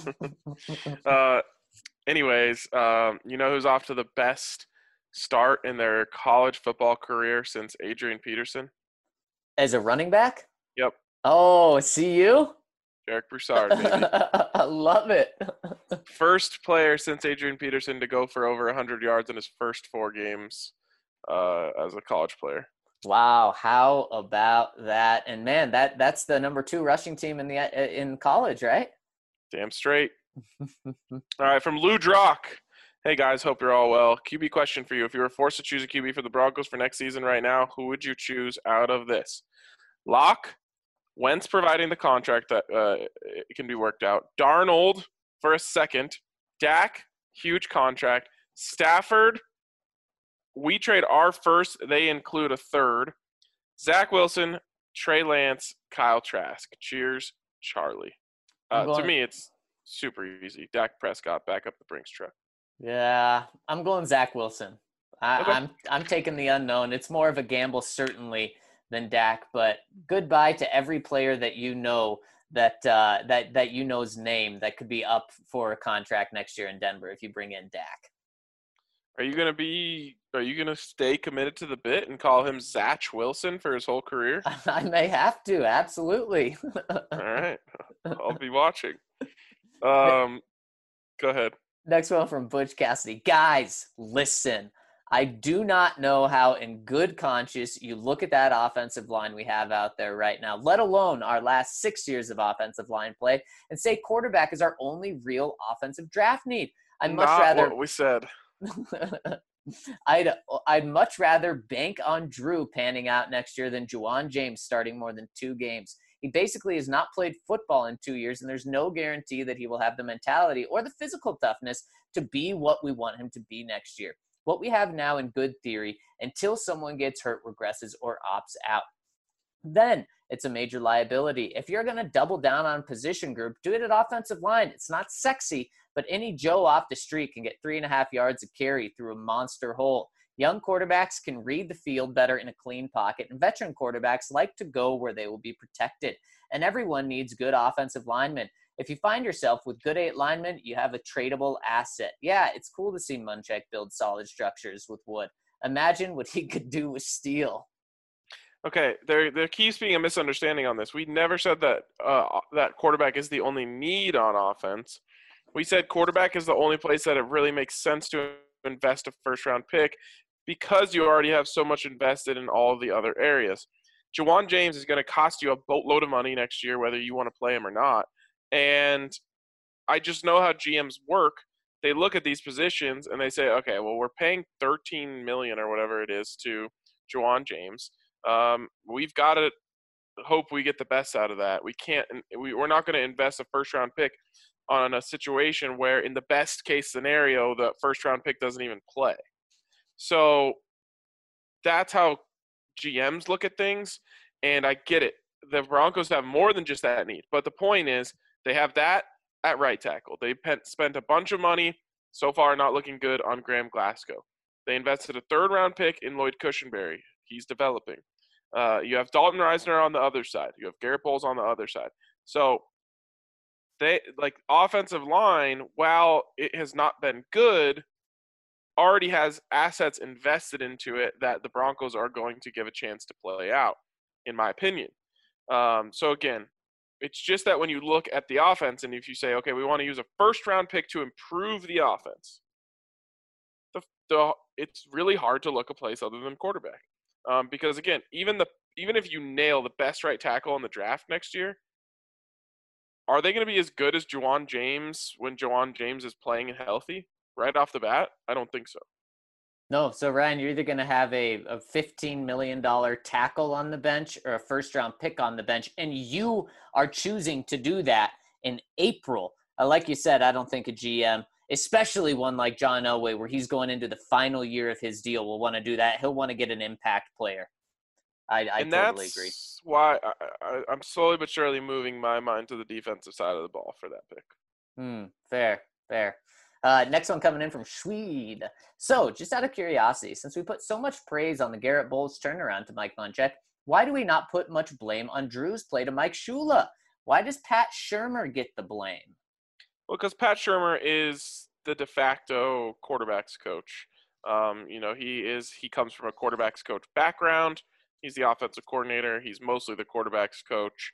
Anyways, you know who's off to the best start in their college football career since Adrian Peterson? As a running back? Yep. Oh, see you? Derek Broussard, baby. I love it. First player since Adrian Peterson to go for over 100 yards in his first 4 games as a college player. Wow, how about that? And man, that's the number 2 rushing team in college, right? Damn straight. All right, from Lou Drock. Hey guys, hope you're all well. QB question for you. If you were forced to choose a QB for the Broncos for next season right now, who would you choose out of this? Locke, Wentz providing the contract that it can be worked out. Darnold for a second. Dak, huge contract. Stafford, we trade our first. They include a third. Zach Wilson, Trey Lance, Kyle Trask. Cheers, Charlie. To me, it's super easy. Dak Prescott, back up the Brinks truck. Yeah, I'm going Zach Wilson. Okay. I'm taking the unknown. It's more of a gamble, certainly, than Dak. But goodbye to every player that you know that you know's name that could be up for a contract next year in Denver if you bring in Dak. Are you gonna stay committed to the bit and call him Zach Wilson for his whole career? I may have to, absolutely. All right, I'll be watching. Go ahead. Next one from Butch Cassidy. Guys, listen. I do not know how in good conscience you look at that offensive line we have out there right now, let alone our last 6 years of offensive line play, and say quarterback is our only real offensive draft need. I'd much rather what we said. I'd much rather bank on Drew panning out next year than Juwan James starting more than 2 games. He basically has not played football in 2 years, and there's no guarantee that he will have the mentality or the physical toughness to be what we want him to be next year. What we have now in good theory, until someone gets hurt, regresses, or opts out. Then it's a major liability. If you're going to double down on position group, do it at offensive line. It's not sexy, but any Joe off the street can get 3.5 yards of carry through a monster hole. Young quarterbacks can read the field better in a clean pocket, and veteran quarterbacks like to go where they will be protected. And everyone needs good offensive linemen. If you find yourself with good 8 linemen, you have a tradable asset. Yeah, it's cool to see Munchak build solid structures with wood. Imagine what he could do with steel. Okay, there keeps being a misunderstanding on this. We never said that that quarterback is the only need on offense. We said quarterback is the only place that it really makes sense to invest a first-round pick because you already have so much invested in all the other areas. Juwan James is going to cost you a boatload of money next year, whether you want to play him or not. And I just know how GMs work. They look at these positions and they say, okay, well, we're paying $13 million or whatever it is to Juwan James. We've got to hope we get the best out of that. We're not going to invest a first-round pick on a situation where in the best case scenario, the first round pick doesn't even play. So that's how GMs look at things. And I get it. The Broncos have more than just that need. But the point is they have that at right tackle. They spent a bunch of money, so far not looking good, on Graham Glasgow. They invested a 3rd round pick in Lloyd Cushenberry. He's developing. You have Dalton Reisner on the other side. You have Garrett Bowles on the other side. So they offensive line, while it has not been good, already has assets invested into it that the Broncos are going to give a chance to play out, in my opinion. So again, it's just that when you look at the offense and if you say, okay, we want to use a first-round pick to improve the offense, it's really hard to look a place other than quarterback. Because again, even if you nail the best right tackle in the draft next year, are they going to be as good as Juwan James when Juwan James is playing and healthy right off the bat? I don't think so. No, so Ryan, you're either going to have a $15 million tackle on the bench or a first-round pick on the bench, and you are choosing to do that in April. Like you said, I don't think a GM, especially one like John Elway, where he's going into the final year of his deal, will want to do that. He'll want to get an impact player. I totally agree. That's why I'm slowly but surely moving my mind to the defensive side of the ball for that pick. Fair. Next one coming in from Swede. So, just out of curiosity, since we put so much praise on the Garrett Bowles turnaround to Mike Munchak, why do we not put much blame on Drew's play to Mike Shula? Why does Pat Shurmur get the blame? Well, because Pat Shurmur is the de facto quarterbacks coach. He comes from a quarterbacks coach background. He's the offensive coordinator. He's mostly the quarterbacks coach.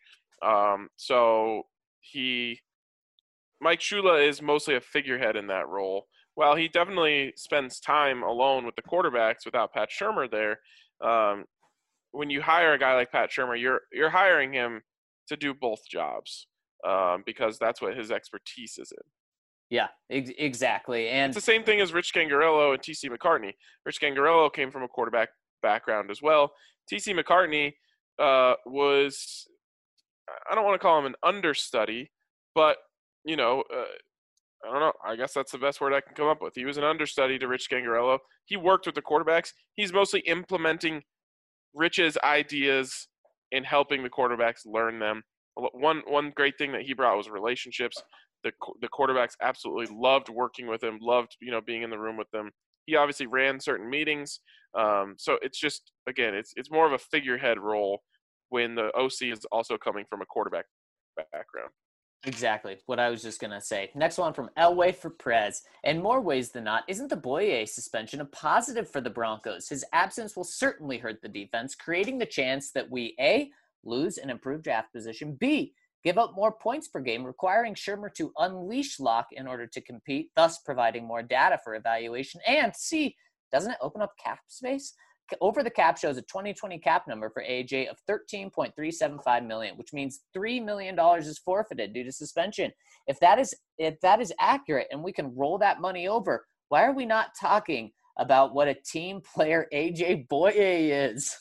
Mike Shula is mostly a figurehead in that role. While he definitely spends time alone with the quarterbacks without Pat Shurmur there, when you hire a guy like Pat Shurmur, you're hiring him to do both jobs because that's what his expertise is in. Yeah, exactly. And it's the same thing as Rich Gangarello and T.C. McCartney. Rich Gangarello came from a quarterback background as well. T.C. McCartney was, I don't want to call him an understudy, but, I don't know. I guess that's the best word I can come up with. He was an understudy to Rich Gangarello. He worked with the quarterbacks. He's mostly implementing Rich's ideas and helping the quarterbacks learn them. One great thing that he brought was relationships. The quarterbacks absolutely loved working with him, loved, being in the room with them. He obviously ran certain meetings. So it's just, again, it's more of a figurehead role when the OC is also coming from a quarterback background. Exactly what I was just going to say. Next one from Elway for Prez. In more ways than not, isn't the Boye suspension a positive for the Broncos? His absence will certainly hurt the defense, creating the chance that we, A, lose an improved draft position, B, give up more points per game, requiring Shurmur to unleash Locke in order to compete, thus providing more data for evaluation, and C, doesn't it open up cap space? Over the cap shows a 2020 cap number for AJ of $13.375 million, which means $3 million is forfeited due to suspension. If that is accurate and we can roll that money over, why are we not talking about what a team player AJ Boye is?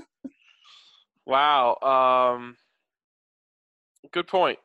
Wow. Good point.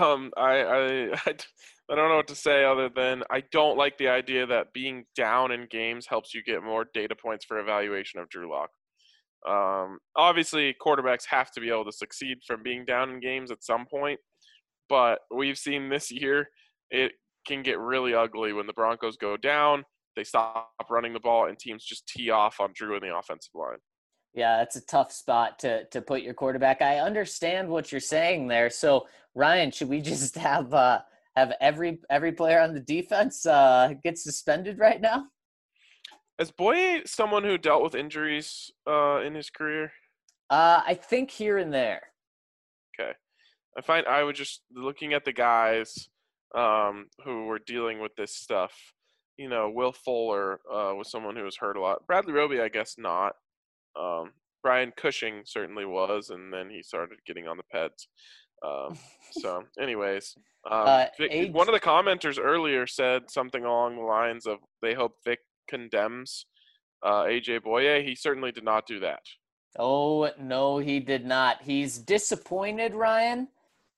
I don't know what to say other than I don't like the idea that being down in games helps you get more data points for evaluation of Drew Lock. Obviously, quarterbacks have to be able to succeed from being down in games at some point, but we've seen this year it can get really ugly when the Broncos go down, they stop running the ball, and teams just tee off on Drew in the offensive line. Yeah, that's a tough spot to put your quarterback. I understand what you're saying there. So, Ryan, should we just have every player on the defense get suspended right now? Is Boye someone who dealt with injuries in his career? I think here and there. Okay. I was just looking at the guys who were dealing with this stuff. Will Fuller was someone who was hurt a lot. Bradley Roby, I guess not. Brian Cushing certainly was, and then he started getting on the peds. So, anyways, one of the commenters earlier said something along the lines of they hope Vic condemns AJ Boye. He certainly did not do that. Oh, no, he did not. He's disappointed, Ryan.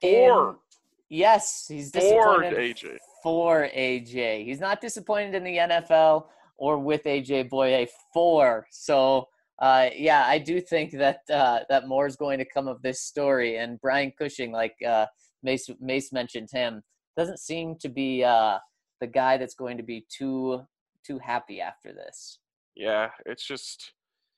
Yes, he's disappointed for AJ. He's not disappointed in the NFL or with AJ Boye for. So, yeah, I do think that that more is going to come of this story. And Brian Cushing, like Mace mentioned him, doesn't seem to be the guy that's going to be too happy after this. Yeah, it's just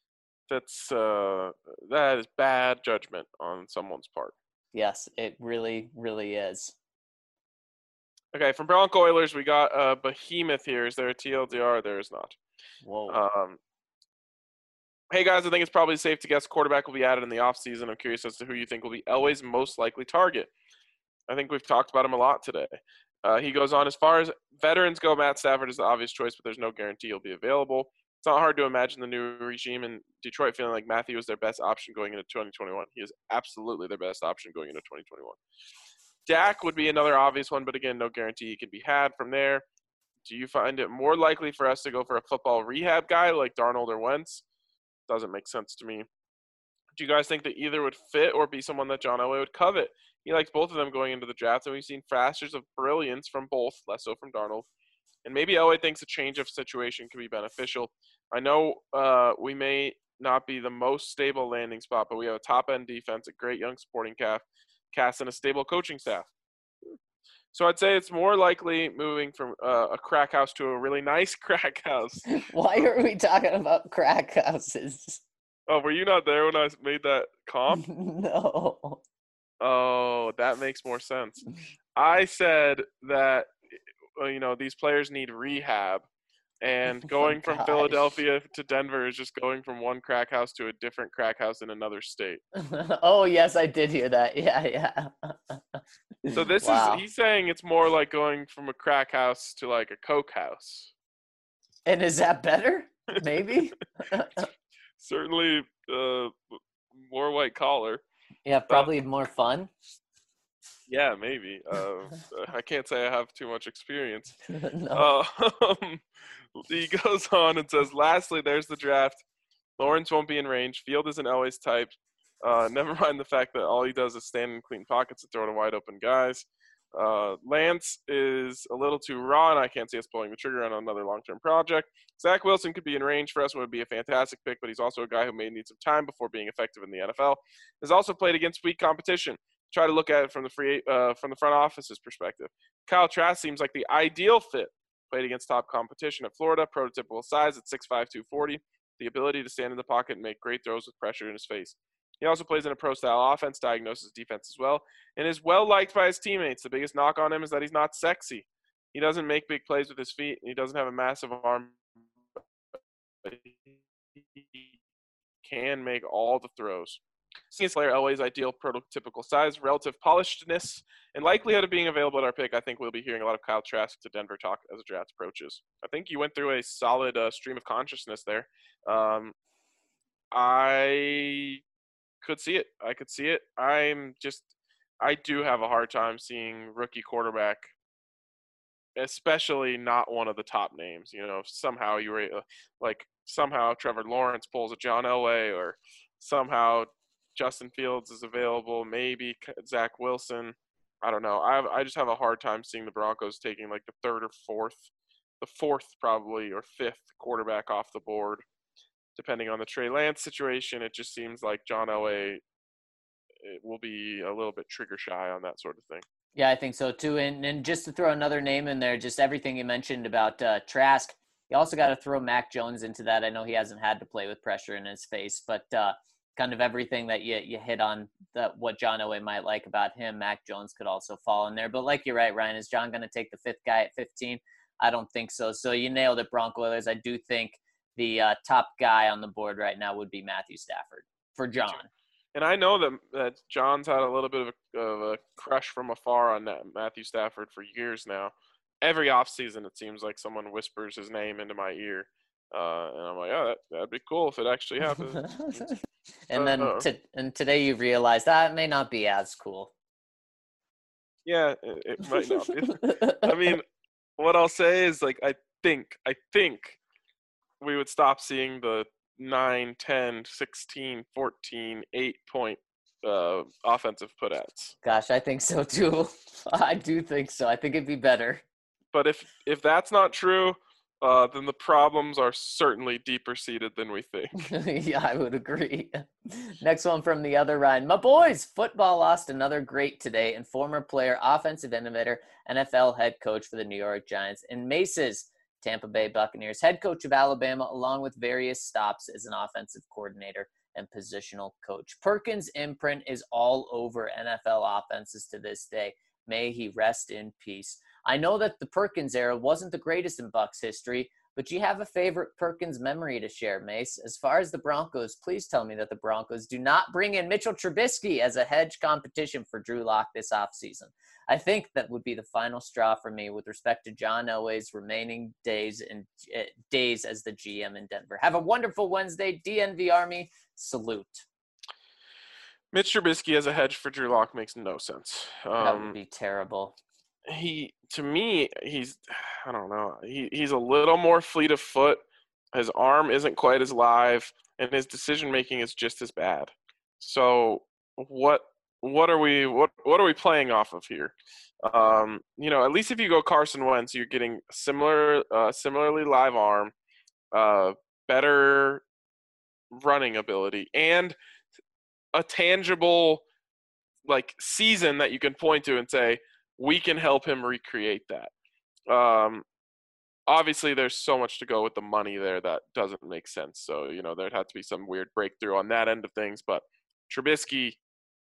that is bad judgment on someone's part. Yes, it really, really is. Okay, from Bronco Oilers, we got a behemoth here. Is there a TLDR? There is not. Whoa. Hey, guys, I think it's probably safe to guess quarterback will be added in the offseason. I'm curious as to who you think will be Elway's most likely target. I think we've talked about him a lot today. He goes on, as far as veterans go, Matt Stafford is the obvious choice, but there's no guarantee he'll be available. It's not hard to imagine the new regime in Detroit feeling like Matthew is their best option going into 2021. He is absolutely their best option going into 2021. Dak would be another obvious one, but again, no guarantee he can be had from there. Do you find it more likely for us to go for a football rehab guy like Darnold or Wentz? Doesn't make sense to me. Do you guys think that either would fit or be someone that John Elway would covet? He likes both of them going into the draft, and we've seen flashes of brilliance from both, less so from Darnold. And maybe Elway thinks a change of situation could be beneficial. I know we may not be the most stable landing spot, but we have a top-end defense, a great young supporting cast, and a stable coaching staff. So I'd say it's more likely moving from a crack house to a really nice crack house. Why are we talking about crack houses? Oh, were you not there when I made that comp? No. Oh, that makes more sense. I said that, these players need rehab. And going from Philadelphia to Denver is just going from one crack house to a different crack house in another state. Oh, yes, I did hear that. Yeah. So he's saying it's more like going from a crack house to like a coke house. And is that better? Maybe? Certainly more white collar. Yeah, probably more fun. Yeah, maybe. I can't say I have too much experience. No. He goes on and says, lastly, there's the draft. Lawrence won't be in range. Field isn't always type. Never mind the fact that all he does is stand in clean pockets and throw to wide open guys. Lance is a little too raw, and I can't see us pulling the trigger on another long-term project. Zach Wilson could be in range for us and would be a fantastic pick, but he's also a guy who may need some time before being effective in the NFL. Has also played against weak competition. Try to look at it from the front office's perspective. Kyle Trask seems like the ideal fit. Played against top competition at Florida, prototypical size at 6'5", 240, the ability to stand in the pocket and make great throws with pressure in his face. He also plays in a pro-style offense, diagnoses defense as well, and is well-liked by his teammates. The biggest knock on him is that he's not sexy. He doesn't make big plays with his feet, and he doesn't have a massive arm. But he can make all the throws. Seeing his player Elway's ideal prototypical size, relative polishedness, and likelihood of being available at our pick, I think we'll be hearing a lot of Kyle Trask to Denver talk as the draft approaches. I think you went through a solid stream of consciousness there. I could see it. I could see it. I do have a hard time seeing rookie quarterback, especially not one of the top names. If somehow somehow Trevor Lawrence pulls a John Elway, or somehow Justin Fields is available, maybe Zach Wilson. I don't know. I just have a hard time seeing the Broncos taking like the third or fourth probably, or fifth quarterback off the board. Depending on the Trey Lance situation, it just seems like John Elway will be a little bit trigger shy on that sort of thing. Yeah, I think so too. And just to throw another name in there, just everything you mentioned about Trask, you also got to throw Mac Jones into that. I know he hasn't had to play with pressure in his face, but kind of everything that you hit on, what John Elway might like about him, Mac Jones could also fall in there. But like you're right, Ryan, is John going to take the fifth guy at 15? I don't think so. So you nailed it, Bronco Oilers. I do think the top guy on the board right now would be Matthew Stafford for John. And I know that John's had a little bit of a crush from afar on Matthew Stafford for years now. Every offseason, it seems like someone whispers his name into my ear. And I'm like, oh, that'd be cool if it actually happens. And then and today you realize that may not be as cool. Yeah, it might not be. I mean, what I'll say is, like, I think we would stop seeing the 9, 10, 16, 14, 8-point offensive put-outs. Gosh, I think so too. I do think so. I think it'd be better. But if that's not true, then the problems are certainly deeper seated than we think. Yeah, I would agree. Next one from the other Ryan. My boys, football lost another great today, and former player, offensive innovator, NFL head coach for the New York Giants, and Mace's Tampa Bay Buccaneers, head coach of Alabama, along with various stops as an offensive coordinator and positional coach. Perkins' imprint is all over NFL offenses to this day. May he rest in peace. I know that the Perkins era wasn't the greatest in Bucs history, but you have a favorite Perkins memory to share, Mace. As far as the Broncos, please tell me that the Broncos do not bring in Mitchell Trubisky as a hedge competition for Drew Lock this offseason. I think that would be the final straw for me with respect to John Elway's remaining days as the GM in Denver. Have a wonderful Wednesday, DNV Army. Salute. Mitch Trubisky as a hedge for Drew Lock makes no sense. That would be terrible. To me, I don't know. He's a little more fleet of foot. His arm isn't quite as live, and his decision making is just as bad. So what are we playing off of here? At least if you go Carson Wentz, you're getting similarly live arm, better running ability, and a tangible season that you can point to and say we can help him recreate that. Obviously, there's so much to go with the money there that doesn't make sense. So there'd have to be some weird breakthrough on that end of things. But Trubisky,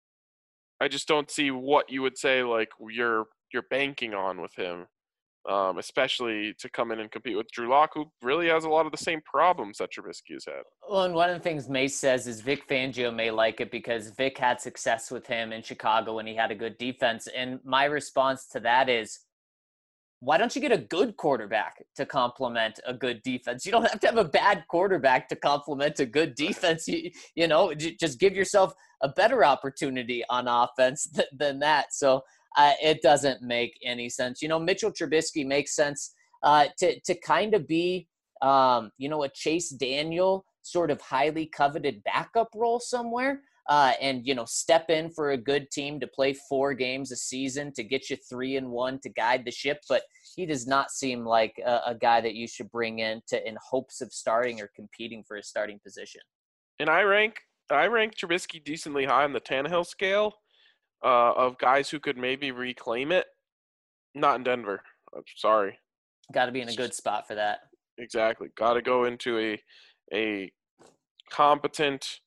I just don't see what you would say you're banking on with him, especially to come in and compete with Drew Lock, who really has a lot of the same problems that Trubisky has had. Well, and one of the things Mace says is Vic Fangio may like it because Vic had success with him in Chicago when he had a good defense. And my response to that is, why don't you get a good quarterback to complement a good defense? You don't have to have a bad quarterback to complement a good defense. Just give yourself a better opportunity on offense than that. So it doesn't make any sense. Mitchell Trubisky makes sense to kind of be, a Chase Daniel sort of highly coveted backup role somewhere. And step in for a good team to play 4 games a season to get you 3-1 to guide the ship. But he does not seem like a guy that you should bring in hopes of starting or competing for a starting position. And I rank Trubisky decently high on the Tannehill scale of guys who could maybe reclaim it. Not in Denver. I'm sorry. Got to be in a good spot for that. Exactly. Got to go into a competent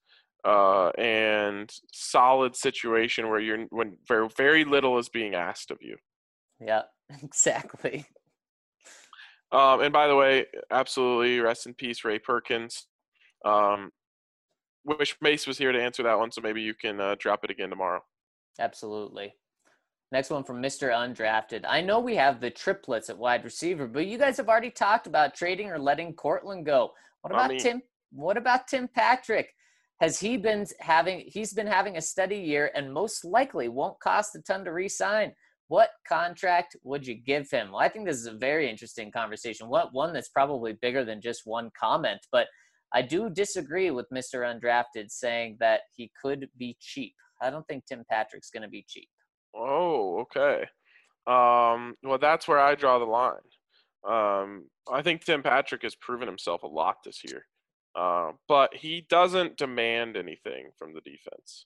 and solid situation where when very, very little is being asked of you. Yeah, exactly. And by the way, absolutely, rest in peace, Ray Perkins. Wish Mace was here to answer that one, so maybe you can drop it again tomorrow. Absolutely. Next one from Mr. Undrafted. I know we have the triplets at wide receiver, but you guys have already talked about trading or letting Cortland go. What about Tim Patrick? He's been having a steady year and most likely won't cost a ton to re-sign. What contract would you give him? Well, I think this is a very interesting conversation. One that's probably bigger than just one comment, but I do disagree with Mr. Undrafted saying that he could be cheap. I don't think Tim Patrick's going to be cheap. Oh, okay. Well, that's where I draw the line. I think Tim Patrick has proven himself a lot this year. But he doesn't demand anything from the defense.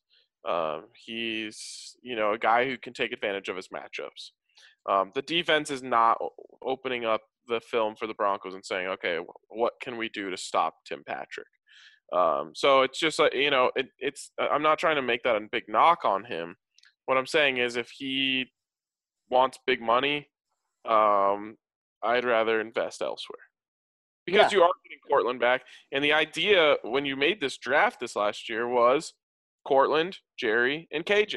He's, a guy who can take advantage of his matchups. The defense is not opening up the film for the Broncos and saying, okay, what can we do to stop Tim Patrick? So it's just I'm not trying to make that a big knock on him. What I'm saying is if he wants big money, I'd rather invest elsewhere. Because you are getting Cortland back. And the idea when you made this draft this last year was Cortland, Jerry, and KJ.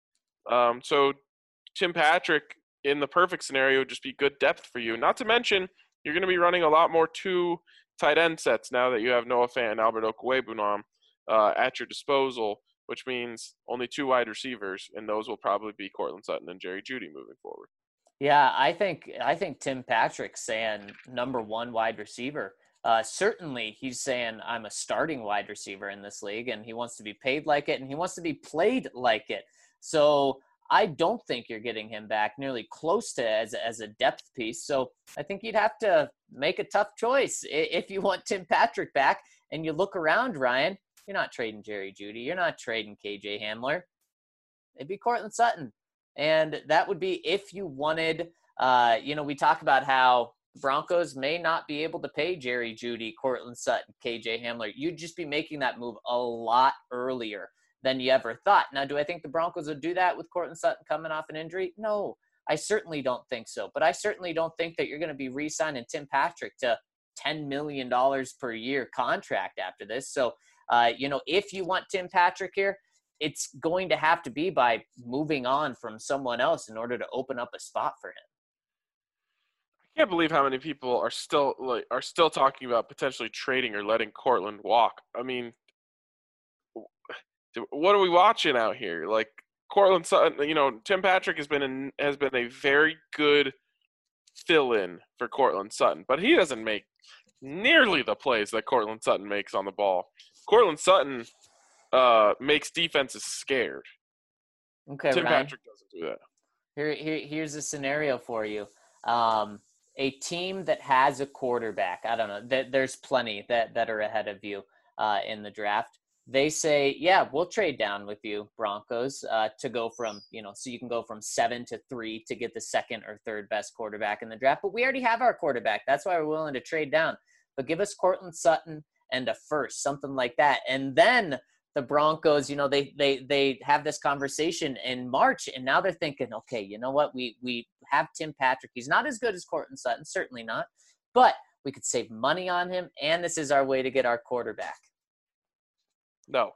So Tim Patrick, in the perfect scenario, would just be good depth for you. Not to mention, you're going to be running a lot more 2 tight end sets now that you have Noah Fant and Albert Okwuegbunam at your disposal, which means only 2 wide receivers, and those will probably be Cortland Sutton and Jerry Jeudy moving forward. Yeah, I think Tim Patrick's saying number 1 wide receiver. Certainly, he's saying I'm a starting wide receiver in this league, and he wants to be paid like it, and he wants to be played like it. So I don't think you're getting him back nearly close to as a depth piece. So I think you'd have to make a tough choice if you want Tim Patrick back. And you look around, Ryan, you're not trading Jerry Jeudy. You're not trading KJ Hamler. It'd be Cortland Sutton. And that would be if you wanted, we talk about how Broncos may not be able to pay Jerry Jeudy, Cortland Sutton, KJ Hamler. You'd just be making that move a lot earlier than you ever thought. Now, do I think the Broncos would do that with Cortland Sutton coming off an injury? No, I certainly don't think so. But I certainly don't think that you're going to be re-signing Tim Patrick to $10 million per year contract after this. So, if you want Tim Patrick here, it's going to have to be by moving on from someone else in order to open up a spot for him. I can't believe how many people are still talking about potentially trading or letting Cortland walk. I mean, what are we watching out here? Like Cortland Sutton, Tim Patrick has been a very good fill-in for Cortland Sutton, but he doesn't make nearly the plays that Cortland Sutton makes on the ball. Cortland Sutton makes defenses scared. Okay, Tim Ryan. Patrick doesn't do that. Here's a scenario for you. A team that has a quarterback, I don't know, there's plenty that are ahead of you in the draft. They say, yeah, we'll trade down with you, Broncos, to go from, so you can go from 7 to 3 to get the second or third best quarterback in the draft. But we already have our quarterback. That's why we're willing to trade down. But give us Cortland Sutton and a first, something like that. And then the Broncos, they have this conversation in March, and now they're thinking, okay, you know what? We have Tim Patrick. He's not as good as Cortland Sutton, certainly not. But we could save money on him, and this is our way to get our quarterback. No.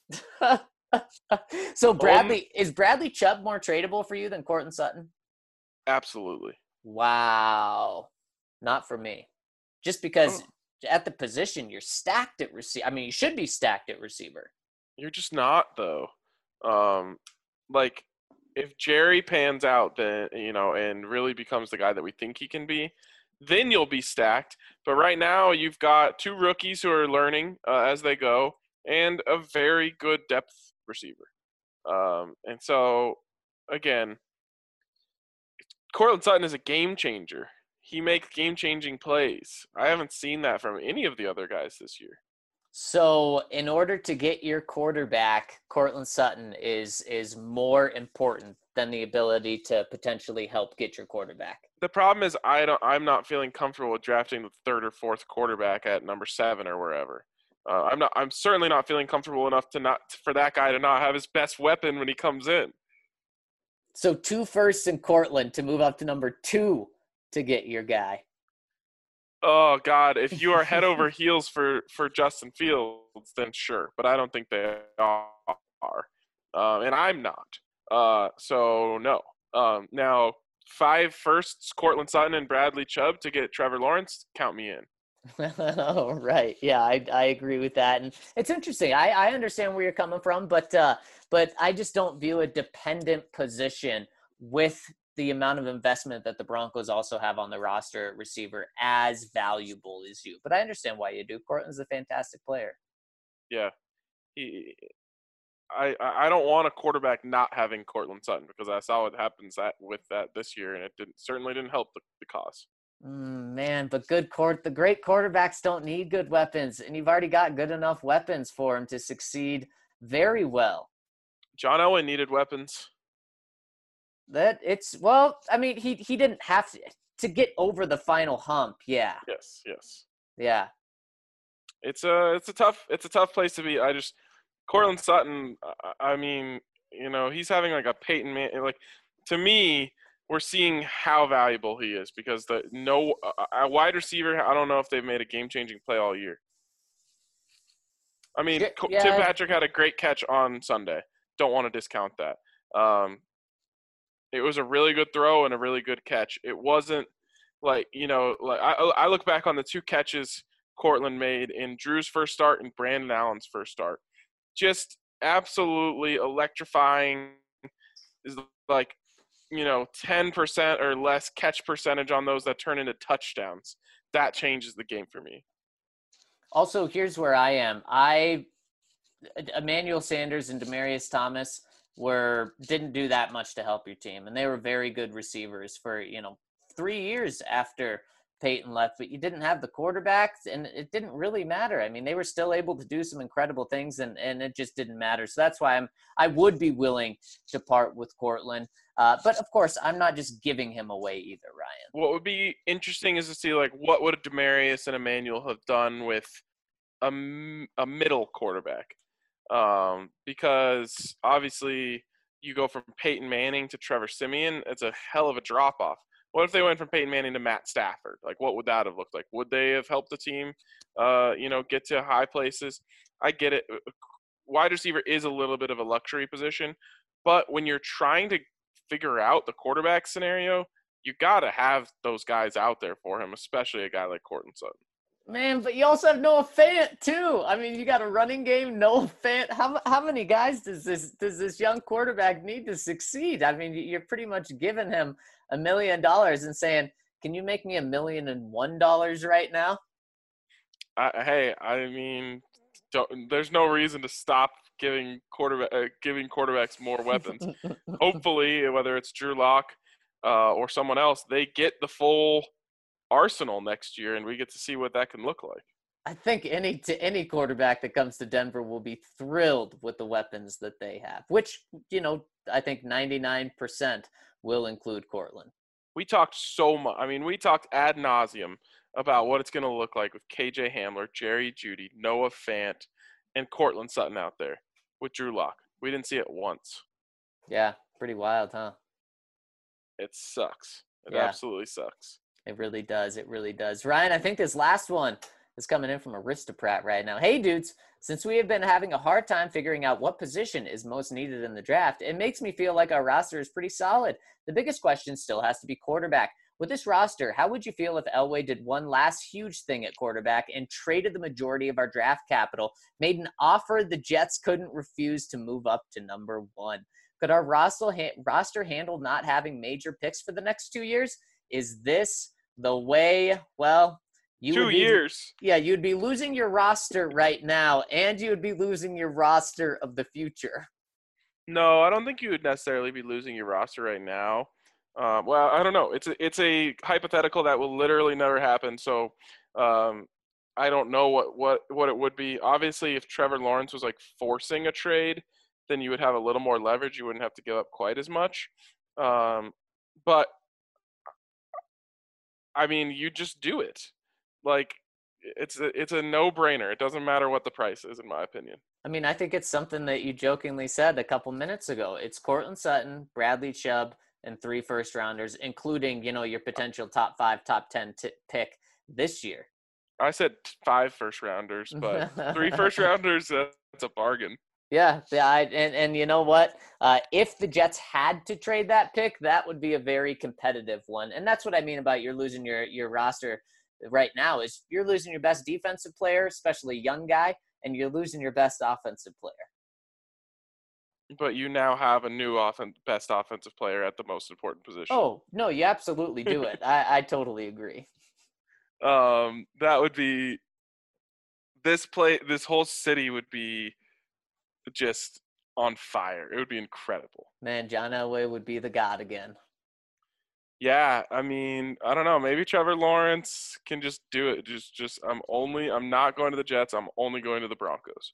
So is Bradley Chubb more tradable for you than Cortland Sutton? Absolutely. Wow. Not for me. Just because at the position you're stacked at receiver. I mean, you should be stacked at receiver. You're just not, though. Like if Jerry pans out, then and really becomes the guy that we think he can be, then you'll be stacked. But right now, you've got 2 rookies who are learning as they go, and a very good depth receiver. And so, again, Cortland Sutton is a game changer. He makes game-changing plays. I haven't seen that from any of the other guys this year. So in order to get your quarterback, Cortland Sutton is more important than the ability to potentially help get your quarterback. The problem is I'm not feeling comfortable with drafting the 3rd or 4th quarterback at number 7 or wherever. I'm certainly not feeling comfortable enough for that guy to not have his best weapon when he comes in. So 2 firsts in Cortland to move up to number 2 to get your guy. Oh God! If you are head over heels for Justin Fields, then sure, but I don't think they are, and I'm not. So no. Now 5 firsts, Cortland Sutton and Bradley Chubb to get Trevor Lawrence. Count me in. Oh, right. Yeah, I agree with that. And it's interesting. I understand where you're coming from, but I just don't view a dependent position with the amount of investment that the Broncos also have on the roster at receiver as valuable as you. But I understand why you do. Cortland's a fantastic player. Yeah. I don't want a quarterback not having Cortland Sutton because I saw what happens with that this year, and it certainly didn't help the cause. Man, but the great quarterbacks don't need good weapons, and you've already got good enough weapons for him to succeed very well. John Elway needed weapons. I mean, he didn't have to get over the final hump. Yeah. Yes. Yeah. It's a tough place to be. Cortland Sutton, I mean, he's having like a Peyton Manning. Like, to me, we're seeing how valuable he is because a wide receiver, I don't know if they've made a game-changing play all year. I mean, yeah. Tim Patrick had a great catch on Sunday. Don't want to discount that. It was a really good throw and a really good catch. It wasn't like, I look back on the 2 catches Cortland made in Drew's first start and Brandon Allen's first start. Just absolutely electrifying. Is like, 10% or less catch percentage on those that turn into touchdowns. That changes the game for me. Also, here's where I am. Emmanuel Sanders and Demaryius Thomas didn't do that much to help your team, and they were very good receivers for 3 years after Peyton left, but you didn't have the quarterbacks, and it didn't really matter. I mean, they were still able to do some incredible things, and it just didn't matter. So that's why I would be willing to part with Cortland. But of course, I'm not just giving him away either, Ryan. What would be interesting is to see what would Demaryius and Emmanuel have done with a middle quarterback. Because obviously you go from Peyton Manning to Trevor Siemian, it's a hell of a drop off. What if they went from Peyton Manning to Matt Stafford? Like, what would that have looked like? Would they have helped the team, get to high places? I get it. Wide receiver is a little bit of a luxury position, but when you're trying to figure out the quarterback scenario, you got to have those guys out there for him, especially a guy like Cortland Sutton. Man, but you also have Noah Fant too. I mean, you got a running game, Noah Fant. How many guys does this young quarterback need to succeed? I mean, you're pretty much giving him $1 million and saying, "Can you make me $1,001 right now?" I mean, there's no reason to stop giving quarterbacks more weapons. Hopefully, whether it's Drew Lock or someone else, they get the full arsenal next year, and we get to see what that can look like. I think any quarterback that comes to Denver will be thrilled with the weapons that they have, which, I think 99% will include Cortland. We talked so much. I mean, we talked ad nauseum about what it's going to look like with KJ Hamler, Jerry Jeudy, Noah Fant, and Cortland Sutton out there with Drew Lock. We didn't see it once. Yeah, pretty wild, huh? It sucks. It absolutely sucks. It really does. It really does. Ryan, I think this last one is coming in from Aristocrat right now. Hey, dudes, since we have been having a hard time figuring out what position is most needed in the draft, it makes me feel like our roster is pretty solid. The biggest question still has to be quarterback. With this roster, how would you feel if Elway did one last huge thing at quarterback and traded the majority of our draft capital, made an offer the Jets couldn't refuse to move up to number 1? Could our roster handle not having major picks for the next 2 years? Is this the way? Well, you 2 years. Yeah, you'd be losing your roster right now, and you would be losing your roster of the future. No, I don't think you would necessarily be losing your roster right now. Well, I don't know. It's a hypothetical that will literally never happen. So I don't know what it would be. Obviously, if Trevor Lawrence was like forcing a trade, then you would have a little more leverage. You wouldn't have to give up quite as much. But I mean, you just do it. Like, it's a no-brainer. It doesn't matter what the price is, in my opinion. I mean, I think it's something that you jokingly said a couple minutes ago. It's Cortland Sutton, Bradley Chubb, and 3 first-rounders, including, your potential top 5, top 10 pick this year. I said 5 first-rounders, but 3 first-rounders, that's a bargain. Yeah, and you know what? If the Jets had to trade that pick, that would be a very competitive one. And that's what I mean about you're losing your roster right now is you're losing your best defensive player, especially young guy, and you're losing your best offensive player. But you now have a new best offensive player at the most important position. Oh, no, you absolutely do it. I totally agree. That would be this whole city would be just on fire. It would be incredible. Man, John Elway would be the god again. Yeah, I mean, I don't know. Maybe Trevor Lawrence can just do it. Just I'm not going to the Jets. I'm only going to the Broncos.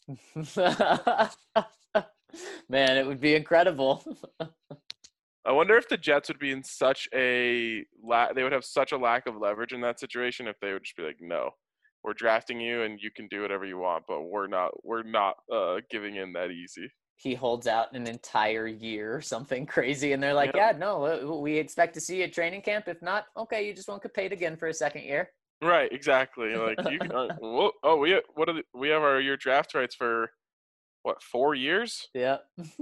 Man, it would be incredible. I wonder if the Jets would be in such they would have such a lack of leverage in that situation if they would just be like, no, we're drafting you and you can do whatever you want, but we're not giving in that easy. He holds out an entire year or something crazy, and they're like, yeah, no, we expect to see you at training camp. If not, okay, you just won't get paid again for a second year. Right, exactly. Like you can, we have your draft rights for 4 years? Yeah.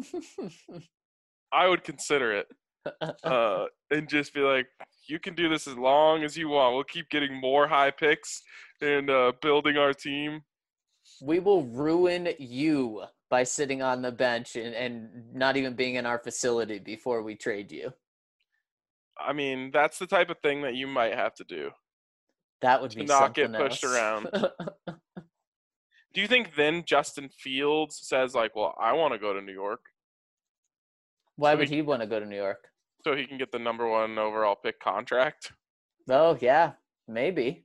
I would consider it. And just be like, you can do this as long as you want. We'll keep getting more high picks and building our team. We will ruin you by sitting on the bench and not even being in our facility before we trade you. I mean, that's the type of thing that you might have to do. That would be not get pushed around. Do you think then Justin Fields says like, well, I want to go to New York? Why would he want to go to New York? So he can get the number 1 overall pick contract? Oh, yeah, maybe.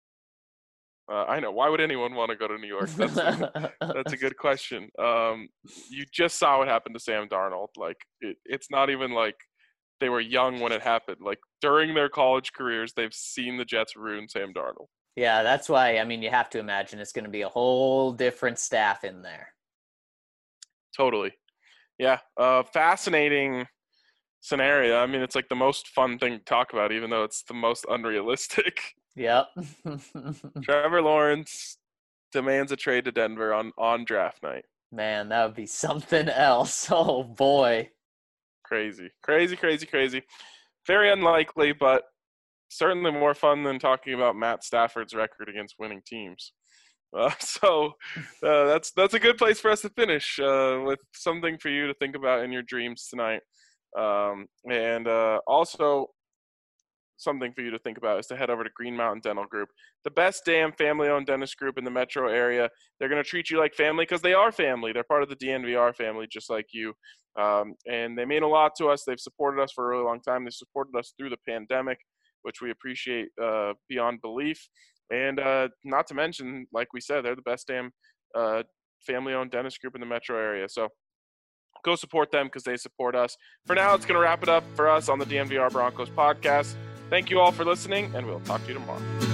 I know. Why would anyone want to go to New York? That's a good question. You just saw what happened to Sam Darnold. Like, it's not even like they were young when it happened. Like, during their college careers, they've seen the Jets ruin Sam Darnold. Yeah, that's why, I mean, you have to imagine it's going to be a whole different staff in there. Totally. Yeah. Fascinating scenario. I mean, it's like the most fun thing to talk about, even though it's the most unrealistic. Yep. Trevor Lawrence demands a trade to Denver on draft night. Man, that would be something else. Oh, boy. Crazy. Very unlikely, but certainly more fun than talking about Matt Stafford's record against winning teams. So that's a good place for us to finish with something for you to think about in your dreams tonight. And also something for you to think about is to head over to Green Mountain Dental Group, the best damn family-owned dentist group in the metro area. They're going to treat you like family because they are family. They're part of the DNVR family, just like you. And they mean a lot to us. They've supported us for a really long time. They supported us through the pandemic, which we appreciate beyond belief. And not to mention, like we said, they're the best damn family-owned dentist group in the metro area. So go support them because they support us. For now, it's going to wrap it up for us on the DNVR Broncos podcast. Thank you all for listening, and we'll talk to you tomorrow.